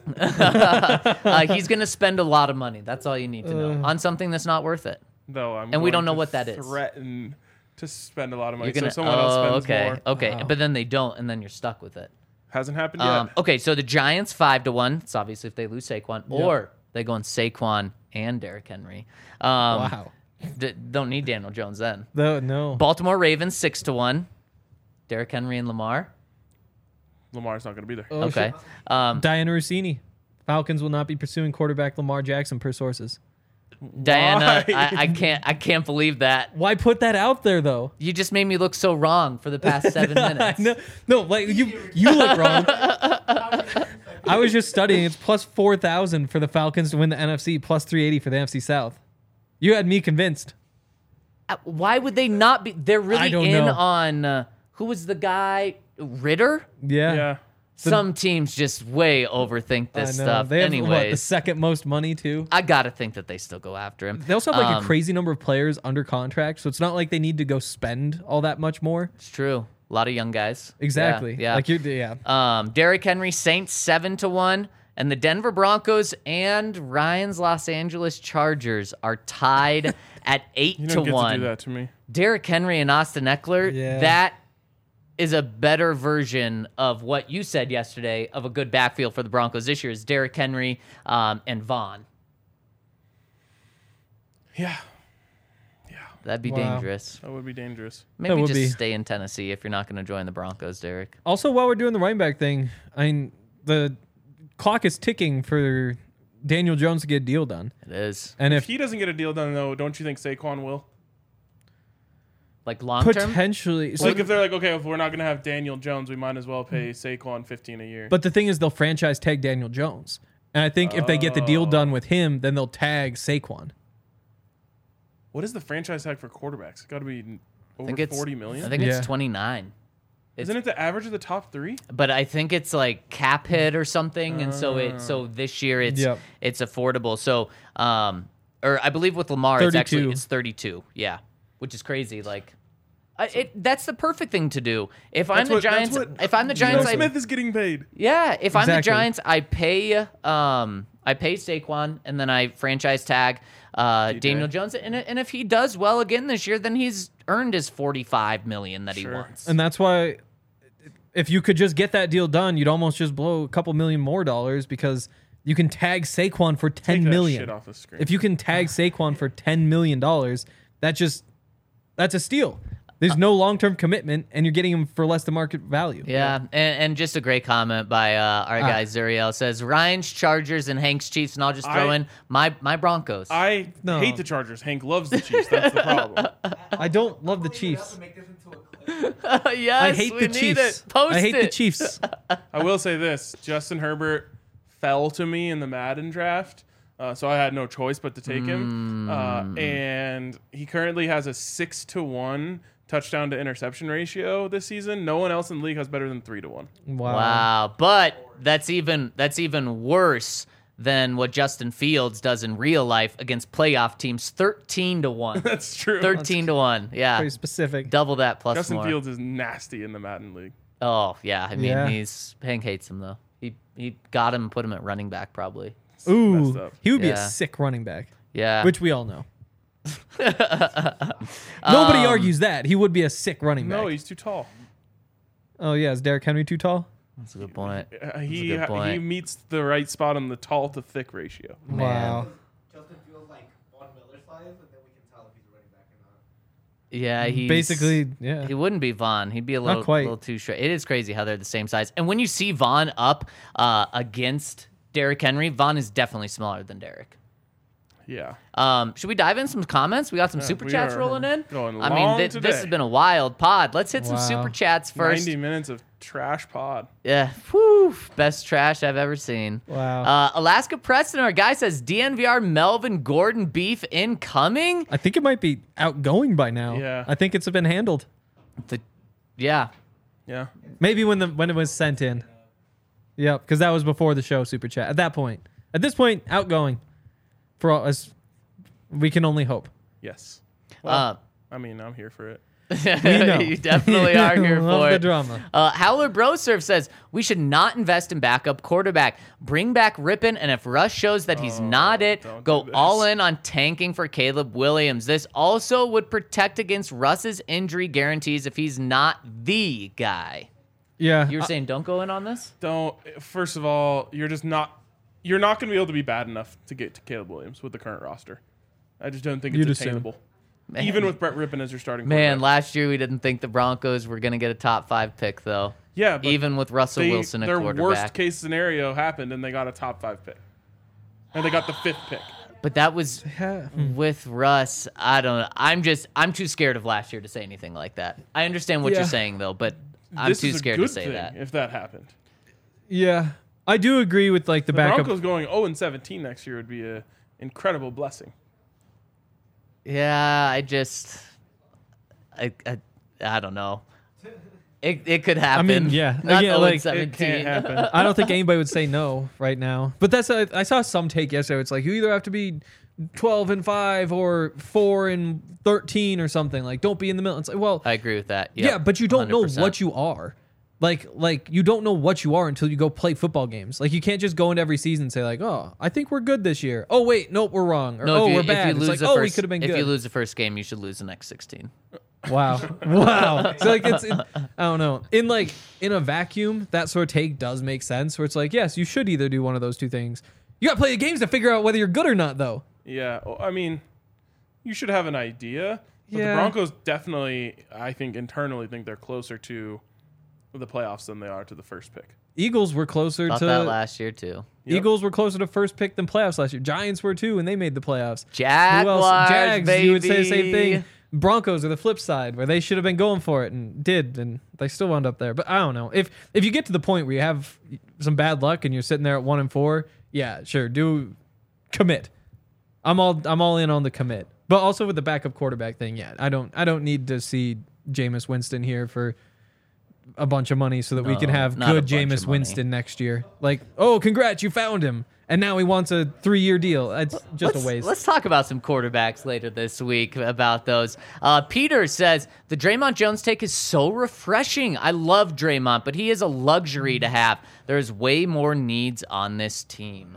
Speaker 4: Uh, he's gonna spend a lot of money. That's all you need to know on something that's not worth it.
Speaker 2: Though I'm
Speaker 4: And we
Speaker 2: going
Speaker 4: don't know
Speaker 2: to
Speaker 4: what that is.
Speaker 2: Threaten to spend a lot of money,
Speaker 4: You're gonna.
Speaker 2: so someone else
Speaker 4: oh,
Speaker 2: spends
Speaker 4: okay,
Speaker 2: more.
Speaker 4: okay,
Speaker 3: Wow.
Speaker 4: but then they don't, and then you're stuck with it.
Speaker 2: Hasn't happened yet.
Speaker 4: Um, okay, so the Giants five to one. It's obviously if they lose Saquon, or they go on Saquon and Derrick Henry. Um,
Speaker 3: Wow.
Speaker 4: d- don't need Daniel Jones then.
Speaker 3: No, no.
Speaker 4: Baltimore Ravens six to one. Derrick Henry and Lamar.
Speaker 2: Lamar's not going to be there.
Speaker 3: Oh,
Speaker 4: Okay.
Speaker 3: shit.
Speaker 4: Um,
Speaker 3: Diana Rossini. Falcons will not be pursuing quarterback Lamar Jackson per sources.
Speaker 4: Diana,
Speaker 2: Why?
Speaker 4: I, I can't. I can't believe that.
Speaker 3: Why put that out there though?
Speaker 4: You just made me look so wrong for the past seven minutes.
Speaker 3: no, no, like you, you look wrong. I was just studying. It's plus four thousand for the Falcons to win the N F C, plus three eighty for the N F C South. You had me convinced.
Speaker 4: Uh, Why would they not be? They're really
Speaker 3: I don't
Speaker 4: in
Speaker 3: know.
Speaker 4: on uh, who was the guy? Ritter.
Speaker 3: Yeah.
Speaker 2: Yeah.
Speaker 4: Some teams just way overthink
Speaker 3: I know.
Speaker 4: this stuff.
Speaker 3: They have what, the
Speaker 4: Anyways,
Speaker 3: second most money too.
Speaker 4: I gotta think that they still go after him.
Speaker 3: They also have like
Speaker 4: Um,
Speaker 3: a crazy number of players under contract, so it's not like they need to go spend all that much more.
Speaker 4: It's true. A lot of young guys.
Speaker 3: Exactly.
Speaker 4: Yeah. yeah.
Speaker 3: Like you're, yeah.
Speaker 4: Um, Derrick Henry, Saints seven to one, and the Denver Broncos and Ryan's Los Angeles Chargers are tied at eight
Speaker 2: You
Speaker 4: to
Speaker 2: don't get
Speaker 4: one.
Speaker 2: to do that to me.
Speaker 4: Derrick Henry and Austin Eckler.
Speaker 3: Yeah.
Speaker 4: That is a better version of what you said yesterday of a good backfield for the Broncos this year is Derrick Henry um, and Vaughn.
Speaker 2: Yeah,
Speaker 4: That'd be
Speaker 3: Wow.
Speaker 4: dangerous.
Speaker 2: that would be dangerous.
Speaker 4: Maybe
Speaker 3: would
Speaker 4: just
Speaker 3: be.
Speaker 4: stay in Tennessee if you're not going to join the Broncos, Derek.
Speaker 3: Also, while we're doing the running back thing, I mean, the clock is ticking for Daniel Jones to get a deal done.
Speaker 4: It is.
Speaker 3: And
Speaker 2: If
Speaker 3: if
Speaker 2: he doesn't get a deal done, though, don't you think Saquon will?
Speaker 4: Like long term.
Speaker 3: potentially, so,
Speaker 2: like if they're like, okay, if we're not going to have Daniel Jones, we might as well pay Saquon fifteen a year.
Speaker 3: but the thing is, they'll franchise tag Daniel Jones, And I think if they get the deal done with him, then they'll tag Saquon.
Speaker 2: What is the franchise tag for quarterbacks? It's got to be
Speaker 4: I
Speaker 2: over
Speaker 4: think it's
Speaker 2: forty million.
Speaker 4: I think
Speaker 3: Yeah.
Speaker 4: it's twenty-nine.
Speaker 2: Isn't it the average of the top three?
Speaker 4: But I think it's like cap hit or something, and so it so this year it's
Speaker 3: Yep.
Speaker 4: it's affordable. So um, or I believe with Lamar it's actually
Speaker 3: thirty-two.
Speaker 4: it's thirty-two. Yeah, which is crazy. Like, I, it that's the perfect thing to do. If I'm
Speaker 2: That's
Speaker 4: the
Speaker 2: what- that's
Speaker 4: Giants,
Speaker 2: what
Speaker 4: if I'm the
Speaker 2: Geno
Speaker 4: Giants, I,
Speaker 2: Smith is getting paid.
Speaker 4: yeah. If I'm the
Speaker 3: Exactly.
Speaker 4: Giants, I pay um I pay Saquon and then I franchise tag uh,
Speaker 2: D J.
Speaker 4: Daniel Jones, and and if he does well again this year, then he's earned his forty-five million that he
Speaker 2: Sure.
Speaker 4: wants.
Speaker 3: And that's why if you could just get that deal done, you'd almost just blow a couple million more dollars because you can tag Saquon for
Speaker 2: Take
Speaker 3: ten
Speaker 2: that
Speaker 3: million.
Speaker 2: shit off the screen.
Speaker 3: If you can tag Saquon for ten million dollars, that just that's a steal. There's no long-term commitment, and you're getting him for less than market value.
Speaker 4: Yeah, and, and just a great comment by uh, our
Speaker 3: Ah.
Speaker 4: guy Zuriel says Ryan's Chargers and Hank's Chiefs, and I'll just throw
Speaker 2: I-
Speaker 4: in my my Broncos.
Speaker 2: I
Speaker 3: No.
Speaker 2: hate the Chargers. Hank loves the Chiefs. That's the problem.
Speaker 3: I don't love the
Speaker 5: Leave it up
Speaker 3: Chiefs.
Speaker 5: and make this into a clip.
Speaker 4: yes,
Speaker 3: I hate
Speaker 4: we
Speaker 3: the
Speaker 4: need
Speaker 3: Chiefs.
Speaker 4: It. Post
Speaker 3: I hate
Speaker 4: it.
Speaker 3: the Chiefs.
Speaker 2: I will say this: Justin Herbert fell to me in the Madden draft, uh, so I had no choice but to take him. Uh, and he currently has a six to one touchdown to interception ratio this season. No one else in the league has better than three to one.
Speaker 3: Wow.
Speaker 4: Wow, but that's even that's even worse than what Justin Fields does in real life against playoff teams, thirteen to one.
Speaker 2: That's true.
Speaker 4: thirteen to one. Yeah,
Speaker 3: Pretty specific.
Speaker 4: double that plus
Speaker 2: Justin
Speaker 4: more.
Speaker 2: Fields is nasty in the Madden league.
Speaker 4: Oh yeah, I mean
Speaker 3: Yeah.
Speaker 4: he's Hank hates him though. He he got him and put him at running back probably.
Speaker 2: messed
Speaker 3: Ooh,
Speaker 2: up.
Speaker 3: he would be
Speaker 4: Yeah.
Speaker 3: a sick running back,
Speaker 4: Yeah,
Speaker 3: which we all know. Nobody
Speaker 4: Um,
Speaker 3: argues that. He would be a sick running back.
Speaker 2: No, he's too tall.
Speaker 3: Oh, yeah. Is Derrick Henry too tall?
Speaker 4: that's a good point.
Speaker 2: Uh, he
Speaker 4: good point.
Speaker 2: he meets the right spot on the tall to thick ratio.
Speaker 3: Wow.
Speaker 5: Justin Fields like Von Miller size, and then we can tell if he's a running back or not.
Speaker 4: Yeah, he's
Speaker 3: Basically, yeah.
Speaker 4: He wouldn't be Vaughn. He'd be a little,
Speaker 3: quite.
Speaker 4: little too short. It is crazy how they're the same size. And when you see Vaughn up uh, against Derrick Henry, Vaughn is definitely smaller than Derrick.
Speaker 2: Yeah.
Speaker 4: Um, should we dive in some comments? We got some
Speaker 2: Yeah,
Speaker 4: super
Speaker 2: we
Speaker 4: chats
Speaker 2: are
Speaker 4: rolling in.
Speaker 2: going
Speaker 4: I mean,
Speaker 2: long
Speaker 4: thi- this
Speaker 2: today.
Speaker 4: has been a wild pod. Let's hit some
Speaker 3: Wow.
Speaker 4: super chats first.
Speaker 2: ninety minutes of trash pod.
Speaker 4: Yeah, whew, best trash I've ever seen.
Speaker 3: Wow.
Speaker 4: Uh, Alaska Preston, our guy says D N V R Melvin Gordon beef incoming.
Speaker 3: I think it might be outgoing by now.
Speaker 2: Yeah.
Speaker 3: I think it's been handled.
Speaker 4: The, yeah,
Speaker 2: Yeah.
Speaker 3: Maybe when the when it was sent in. Yep, because that was before the show super chat. At that point, at this point, outgoing. For all us, we can only hope.
Speaker 2: Yes. Well,
Speaker 4: uh,
Speaker 2: I mean, I'm here for it.
Speaker 3: know.
Speaker 4: you definitely are here
Speaker 3: Love
Speaker 4: for
Speaker 3: the
Speaker 4: it.
Speaker 3: drama.
Speaker 4: Uh, Howler Brosurf says we should not invest in backup quarterback. Bring back Rippon, and if Russ shows that he's not it,
Speaker 2: don't
Speaker 4: go
Speaker 2: do this.
Speaker 4: all in on tanking for Caleb Williams. This also would protect against Russ's injury guarantees if he's not the guy.
Speaker 3: Yeah.
Speaker 4: You were
Speaker 3: I-
Speaker 4: saying don't go in on this?
Speaker 2: Don't. First of all, you're just not. You're not going to be able to be bad enough to get to Caleb Williams with the current roster. I just don't think it's
Speaker 3: You'd assume.
Speaker 2: attainable.
Speaker 4: Man.
Speaker 2: Even with Brett Rippon as your starting
Speaker 4: Man,
Speaker 2: quarterback.
Speaker 4: last year we didn't think the Broncos were going to get a top five pick, though.
Speaker 2: Yeah, but
Speaker 4: Even with Russell
Speaker 2: they,
Speaker 4: Wilson at
Speaker 2: their
Speaker 4: quarterback.
Speaker 2: worst case scenario happened, and they got a top five pick, and they got the fifth pick.
Speaker 4: But that was
Speaker 3: Yeah.
Speaker 4: with Russ. I don't know. I'm just I'm too scared of last year to say anything like that. I understand what
Speaker 3: Yeah.
Speaker 4: you're saying though, but I'm
Speaker 2: this
Speaker 4: too
Speaker 2: is a
Speaker 4: scared
Speaker 2: good
Speaker 4: to say
Speaker 2: thing
Speaker 4: that.
Speaker 2: if that happened.
Speaker 3: Yeah. I do agree with like the,
Speaker 2: The
Speaker 3: backup.
Speaker 2: Broncos going oh and seventeen next year would be an incredible blessing.
Speaker 4: Yeah, I just I I, I don't know. It it could happen.
Speaker 3: mean, yeah.
Speaker 4: Not
Speaker 3: Again,
Speaker 4: oh and
Speaker 3: like, it
Speaker 2: It
Speaker 4: seventeen.
Speaker 2: can't happen.
Speaker 3: I don't think anybody would say no right now. But that's a, I saw some take yesterday. It's like you either have to be twelve and five or four and thirteen or something. Like don't be in the middle. It's like, well,
Speaker 4: I agree with that. Yep,
Speaker 3: yeah, but you don't
Speaker 4: one hundred percent.
Speaker 3: know what you are. Like like you don't know what you are until you go play football games. Like you can't just go into every season and say like, oh, I think we're good this year. Oh wait, nope, we're wrong. Or
Speaker 4: No,
Speaker 3: oh,
Speaker 4: if you,
Speaker 3: we're
Speaker 4: if
Speaker 3: bad.
Speaker 4: you
Speaker 3: It's
Speaker 4: lose
Speaker 3: like,
Speaker 4: the
Speaker 3: oh,
Speaker 4: first,
Speaker 3: we could have been
Speaker 4: if
Speaker 3: good.
Speaker 4: you lose the first game, you should lose the next sixteen.
Speaker 3: Wow. Wow. So like it's it, I don't know. In like in a vacuum, that sort of take does make sense where it's like, yes, you should either do one of those two things. You got to play the games to figure out whether you're good or not though.
Speaker 2: Yeah, well, I mean, you should have an idea. But
Speaker 3: Yeah.
Speaker 2: the Broncos definitely, I think, internally think they're closer to the playoffs than they are to the first pick.
Speaker 3: Eagles were closer
Speaker 4: Thought
Speaker 3: to
Speaker 4: that last year too.
Speaker 2: Yep.
Speaker 3: Eagles were closer to first pick than playoffs last year. Giants were too, and they made the playoffs. Who
Speaker 4: Jaguars,
Speaker 3: else? Jags,
Speaker 4: baby.
Speaker 3: you would say the same thing. Broncos are the flip side, where they should have been going for it and did, and they still wound up there. But I don't know. If if you get to the point where you have some bad luck and you're sitting there at one and four, yeah, sure, do commit. I'm all I'm all in on the commit, but also with the backup quarterback thing. Yeah, I don't I don't need to see Jameis Winston here for a bunch of money so that we can
Speaker 4: No,
Speaker 3: have
Speaker 4: not a
Speaker 3: good
Speaker 4: bunch of
Speaker 3: Jameis
Speaker 4: money.
Speaker 3: Winston next year. Like, oh, congrats, you found him, and now he wants a three-year deal. It's just
Speaker 4: let's,
Speaker 3: a waste.
Speaker 4: Let's talk about some quarterbacks later this week about those. Uh, Peter says, the Draymond Jones take is so refreshing. I love Draymond, but he is a luxury to have. There's way more needs on this team.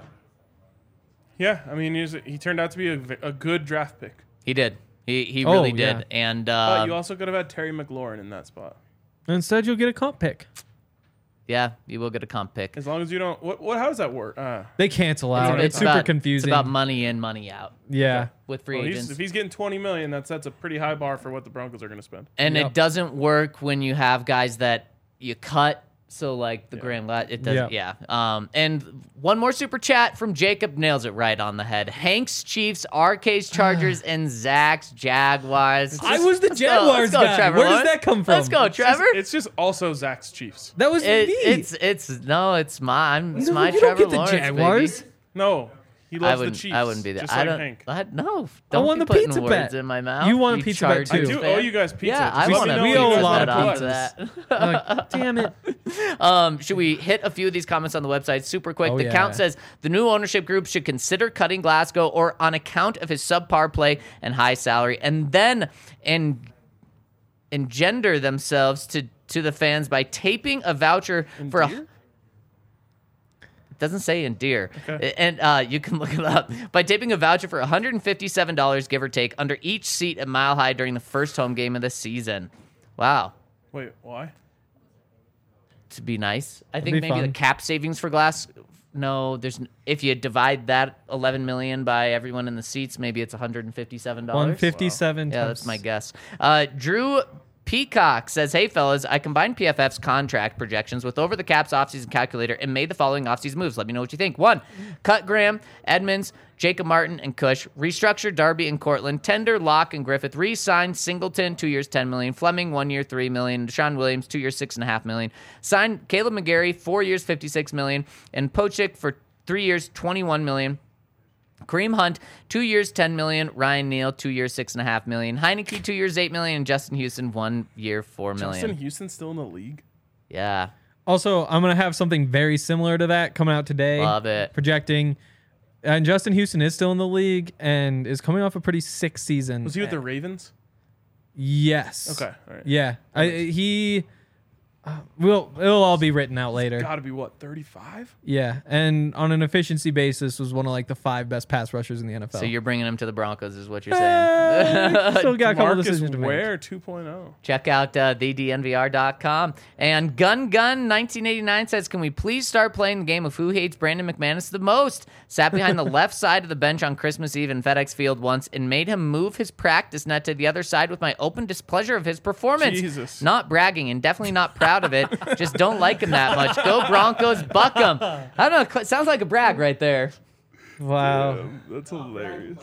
Speaker 2: Yeah, I mean, he's, he turned out to be a, v- a good draft pick.
Speaker 4: He did. He he
Speaker 3: Oh,
Speaker 4: really
Speaker 3: yeah.
Speaker 4: did. And
Speaker 2: But
Speaker 4: uh,
Speaker 2: you also could have had Terry McLaurin in that spot.
Speaker 3: Instead, you'll get a comp pick.
Speaker 4: yeah, you will get a comp pick.
Speaker 2: As long as you don't. What? What? How does that work? Uh,
Speaker 3: They cancel out. It's, super
Speaker 4: about,
Speaker 3: confusing.
Speaker 4: It's about money in, money out
Speaker 3: yeah.
Speaker 4: with free
Speaker 2: well,
Speaker 4: agents.
Speaker 2: he's, if he's getting twenty million, that's that's a pretty high bar for what the Broncos are going to spend.
Speaker 4: And
Speaker 3: Yep.
Speaker 4: it doesn't work when you have guys that you cut. So like the Grand Lat, it doesn't.
Speaker 3: Yep.
Speaker 4: Yeah. Um. And one more super chat from Jacob nails it right on the head. Hank's Chiefs, R K's Chargers, and Zach's Jaguars.
Speaker 3: I was the
Speaker 4: Let's go,
Speaker 3: Jaguars
Speaker 4: let's go,
Speaker 3: guy.
Speaker 4: Trevor
Speaker 3: Where does
Speaker 4: Lawrence.
Speaker 3: that come from?
Speaker 4: Let's go,
Speaker 2: It's just-
Speaker 4: Trevor.
Speaker 2: It's just also Zach's Chiefs.
Speaker 3: That was
Speaker 4: It-
Speaker 3: me.
Speaker 4: it's it's no, it's my I'm, it's
Speaker 3: No,
Speaker 4: my
Speaker 3: you
Speaker 4: Trevor
Speaker 3: don't get the
Speaker 4: Lawrence,
Speaker 3: Jaguars.
Speaker 4: baby.
Speaker 2: No, he
Speaker 4: I
Speaker 2: loves the
Speaker 4: wouldn't.
Speaker 2: Chiefs.
Speaker 4: I wouldn't be there.
Speaker 2: Just
Speaker 4: I
Speaker 2: like
Speaker 4: don't.
Speaker 2: Hank.
Speaker 4: I, no, don't
Speaker 3: won
Speaker 4: be
Speaker 3: the
Speaker 4: putting
Speaker 3: pizza
Speaker 4: words
Speaker 3: bet.
Speaker 4: in my mouth.
Speaker 3: You won a pizza bet,
Speaker 4: Chargers
Speaker 3: too.
Speaker 2: I do
Speaker 4: fan.
Speaker 2: owe you guys pizza.
Speaker 4: Yeah, I
Speaker 2: Just
Speaker 4: want
Speaker 2: let
Speaker 4: to.
Speaker 2: me
Speaker 3: We
Speaker 2: know
Speaker 3: owe
Speaker 2: when
Speaker 3: a
Speaker 2: you
Speaker 3: lot
Speaker 2: guys
Speaker 3: of
Speaker 2: have
Speaker 3: pizzas.
Speaker 2: pizzas.
Speaker 3: Like, damn it.
Speaker 4: Um, should we hit a few of these comments on the website super quick?
Speaker 3: Oh,
Speaker 4: the
Speaker 3: yeah.
Speaker 4: count says the new ownership group should consider cutting Glasgow or on account of his subpar play and high salary, and then en- engender themselves to to the fans by taping a voucher for a.
Speaker 2: Endear?
Speaker 4: It doesn't say endear.
Speaker 2: Okay.
Speaker 4: And uh, you can look it up. By taping a voucher for one hundred fifty-seven dollars, give or take, under each seat at Mile High during the first home game of the season. Wow.
Speaker 2: Wait, why?
Speaker 4: To be nice. I think
Speaker 3: be
Speaker 4: maybe the
Speaker 3: fun.
Speaker 4: cap savings for Glass. No, there's n- if you divide that eleven million by everyone in the seats, maybe it's one hundred fifty-seven dollars.
Speaker 3: one fifty-seven.
Speaker 4: Yeah,
Speaker 3: times-
Speaker 4: that's my guess. Uh, Drew Peacock says, "Hey fellas, I combined P F F's contract projections with Over the Cap's offseason calculator and made the following offseason moves. Let me know what you think. One, cut Graham, Edmonds, Jacob Martin, and Cush. Restructure Darby and Cortland. Tender Locke and Griffith. Re-sign Singleton, two years, ten million. Fleming, one year, three million. Deshaun Williams, two years, six and a half million. Sign Caleb McGarry, four years, fifty-six million. And Pochik for three years, twenty-one million. Kareem Hunt, two years, ten million. Ryan Neal, two years, six and a half million. Heineke, two years, eight million. And Justin Houston, one year, four million.
Speaker 2: Justin Houston's still in the league.
Speaker 4: Yeah,
Speaker 3: Also, I'm going to have something very similar to that coming out today.
Speaker 4: Love it.
Speaker 3: Projecting. And Justin Houston is still in the league and is coming off a pretty sick season.
Speaker 2: Was he with the Ravens?
Speaker 3: Yes.
Speaker 2: Okay, all right.
Speaker 3: Yeah. I, he. Uh, will it'll all be written out later.
Speaker 2: Got to be what, thirty-five?
Speaker 3: Yeah, and on an efficiency basis, was one of like the five best pass rushers in the N F L.
Speaker 4: so you're bringing him to the Broncos, is what you're saying.
Speaker 3: Eh, still got a couple
Speaker 2: Marcus
Speaker 3: decisions to make.
Speaker 2: Ware two point oh.
Speaker 4: Check out uh, the D N V R dot com. And Gun Gun nineteen eighty-nine says, "Can we please start playing the game of who hates Brandon McManus the most? Sat behind the left side of the bench on Christmas Eve in FedEx Field once and made him move his practice net to the other side with my open displeasure of his performance.
Speaker 2: Jesus.
Speaker 4: Not bragging and definitely not proud of it. Just don't like him that much. Go Broncos, buck 'em." I don't know. Sounds like a brag right there.
Speaker 3: Wow.
Speaker 2: Um, that's hilarious.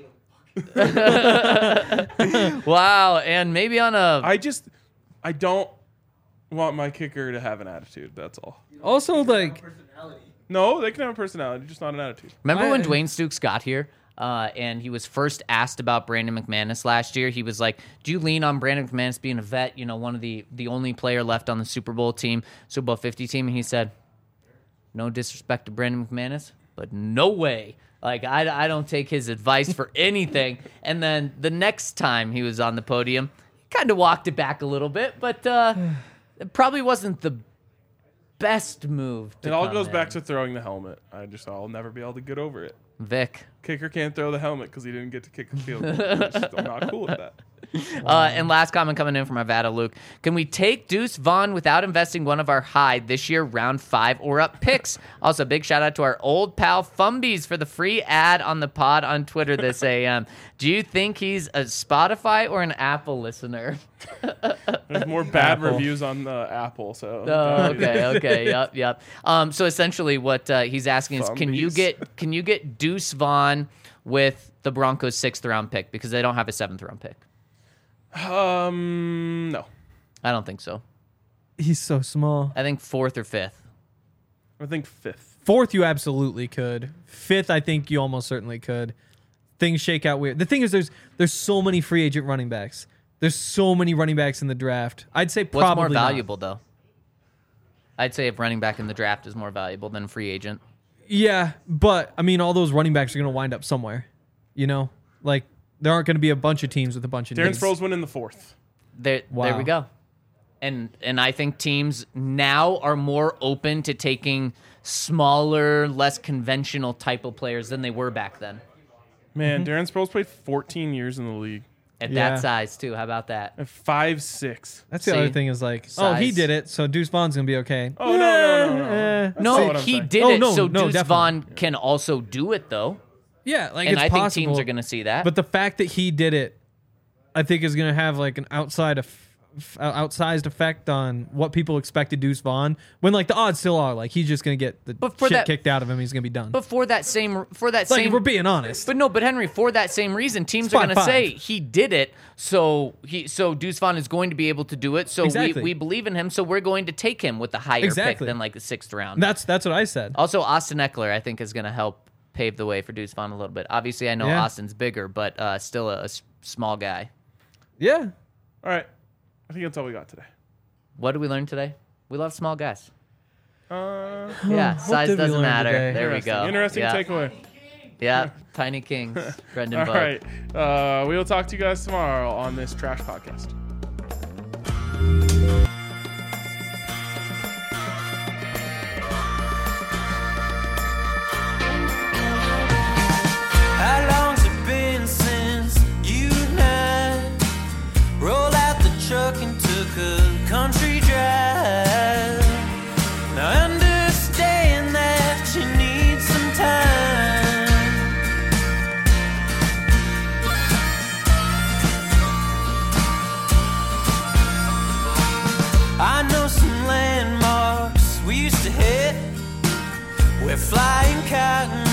Speaker 4: Wow. And maybe on a
Speaker 2: I just, I don't want my kicker to have an attitude. That's all.
Speaker 3: Also, like,
Speaker 5: Personality.
Speaker 2: No, they can have a personality, just not an attitude.
Speaker 4: Remember when
Speaker 3: I-
Speaker 4: Dwayne Stukes got here uh, and he was first asked about Brandon McManus last year? He was like, "Do you lean on Brandon McManus being a vet, you know, one of the, the only player left on the Super Bowl team, Super Bowl fifty team?" And he said, "No disrespect to Brandon McManus, but no way. Like, I, I don't take his advice for anything." And then the next time he was on the podium, he kind of walked it back a little bit, but uh, it probably wasn't the best move. To
Speaker 2: It all
Speaker 4: come
Speaker 2: goes
Speaker 4: in.
Speaker 2: back to throwing the helmet. I just, I'll never be able to get over it.
Speaker 4: Vic.
Speaker 2: Kicker can't throw the helmet because he didn't get to kick the field goal. I'm just- I'm not cool with that.
Speaker 4: Uh, and last comment coming in from Avada Luke. "Can we take Deuce Vaughn without investing one of our high this year round five or up picks?" Also, big shout out to our old pal Fumbies for the free ad on the pod on Twitter this A M. Do you think he's a Spotify or an Apple listener?
Speaker 2: There's more bad
Speaker 3: Apple.
Speaker 2: reviews on the Apple, so.
Speaker 4: Oh, okay, okay, yep, yep. Um, so essentially, what uh, he's asking is, can you
Speaker 2: Fumbies.
Speaker 4: get can you get Deuce Vaughn with the Broncos' sixth round pick because they don't have a seventh round pick?
Speaker 2: Um, no.
Speaker 4: I don't think so.
Speaker 3: he's so small.
Speaker 4: I think fourth or fifth.
Speaker 2: I think fifth.
Speaker 3: Fourth, you absolutely could. Fifth, I think you almost certainly could. Things shake out weird. The thing is, there's there's so many free agent running backs. There's so many running backs in the draft. I'd say probably
Speaker 4: What's more
Speaker 3: not.
Speaker 4: valuable, though? I'd say if running back in the draft is more valuable than free agent.
Speaker 3: Yeah, but I mean, all those running backs are going to wind up somewhere. You know, like there aren't going to be a bunch of teams with a bunch of.
Speaker 2: Darren
Speaker 3: names.
Speaker 2: Sproles went in the fourth.
Speaker 4: There,
Speaker 3: Wow.
Speaker 4: there we go. And and I think teams now are more open to taking smaller, less conventional type of players than they were back then.
Speaker 2: Man, Darren Sproles played fourteen years in the league.
Speaker 4: At
Speaker 3: Yeah.
Speaker 4: that size too. How about that?
Speaker 2: At five six.
Speaker 3: That's the
Speaker 4: See?
Speaker 3: other thing is like, oh, he
Speaker 4: Size.
Speaker 3: did it, so Deuce Vaughn's going to be okay.
Speaker 2: Oh, no, no, no, no.
Speaker 3: Eh,
Speaker 2: That's not
Speaker 4: No,
Speaker 2: what I'm
Speaker 4: he
Speaker 2: saying.
Speaker 4: did
Speaker 3: Oh,
Speaker 4: it,
Speaker 3: no,
Speaker 4: so
Speaker 3: no,
Speaker 4: Deuce
Speaker 3: definitely.
Speaker 4: Vaughn can also do it though.
Speaker 3: Yeah, like
Speaker 4: And
Speaker 3: it's
Speaker 4: I think
Speaker 3: possible.
Speaker 4: teams are going to see that.
Speaker 3: But the fact that he did it, I think, is going to have like an outside of outsized effect on what people expected Deuce Vaughn. When like the odds still are like he's just going to get the
Speaker 4: But for
Speaker 3: shit
Speaker 4: that-
Speaker 3: kicked out of him. He's going to be done.
Speaker 4: But for that same, for that
Speaker 3: like if
Speaker 4: same,
Speaker 3: we're being honest.
Speaker 4: but no, but Henry, for that same reason, teams
Speaker 3: It's
Speaker 4: are going to
Speaker 3: five,
Speaker 4: say
Speaker 3: five.
Speaker 4: he did it, so he, so Deuce Vaughn is going to be able to do it. So
Speaker 3: Exactly.
Speaker 4: we, we believe in him, so we're going to take him with the higher pick
Speaker 3: Exactly.
Speaker 4: than like the sixth round.
Speaker 3: that's that's what I said.
Speaker 4: Also, Austin Eckler, I think, is going to help pave the way for Deuce Vaughn a little bit. Obviously, I know
Speaker 3: Yeah.
Speaker 4: Austin's bigger, but uh, still a, a s- small guy.
Speaker 3: Yeah.
Speaker 2: All right. I think that's all we got today.
Speaker 4: What did we learn today? We love small guys.
Speaker 2: Uh,
Speaker 4: Yeah,
Speaker 3: what
Speaker 4: size
Speaker 3: did we
Speaker 4: doesn't
Speaker 3: learn
Speaker 4: matter.
Speaker 3: today?
Speaker 4: There we
Speaker 2: interesting.
Speaker 4: go.
Speaker 2: Interesting
Speaker 4: yeah.
Speaker 2: takeaway.
Speaker 4: Yeah, Tiny Kings, Brendan
Speaker 2: All
Speaker 4: Bug.
Speaker 2: right. Uh, we will talk to you guys tomorrow on this Trash Podcast.
Speaker 1: How long's it been since you and I rolled out the truck and took a country drive? Now I understand that you need some time. I know some landmarks we used to hit where flying cotton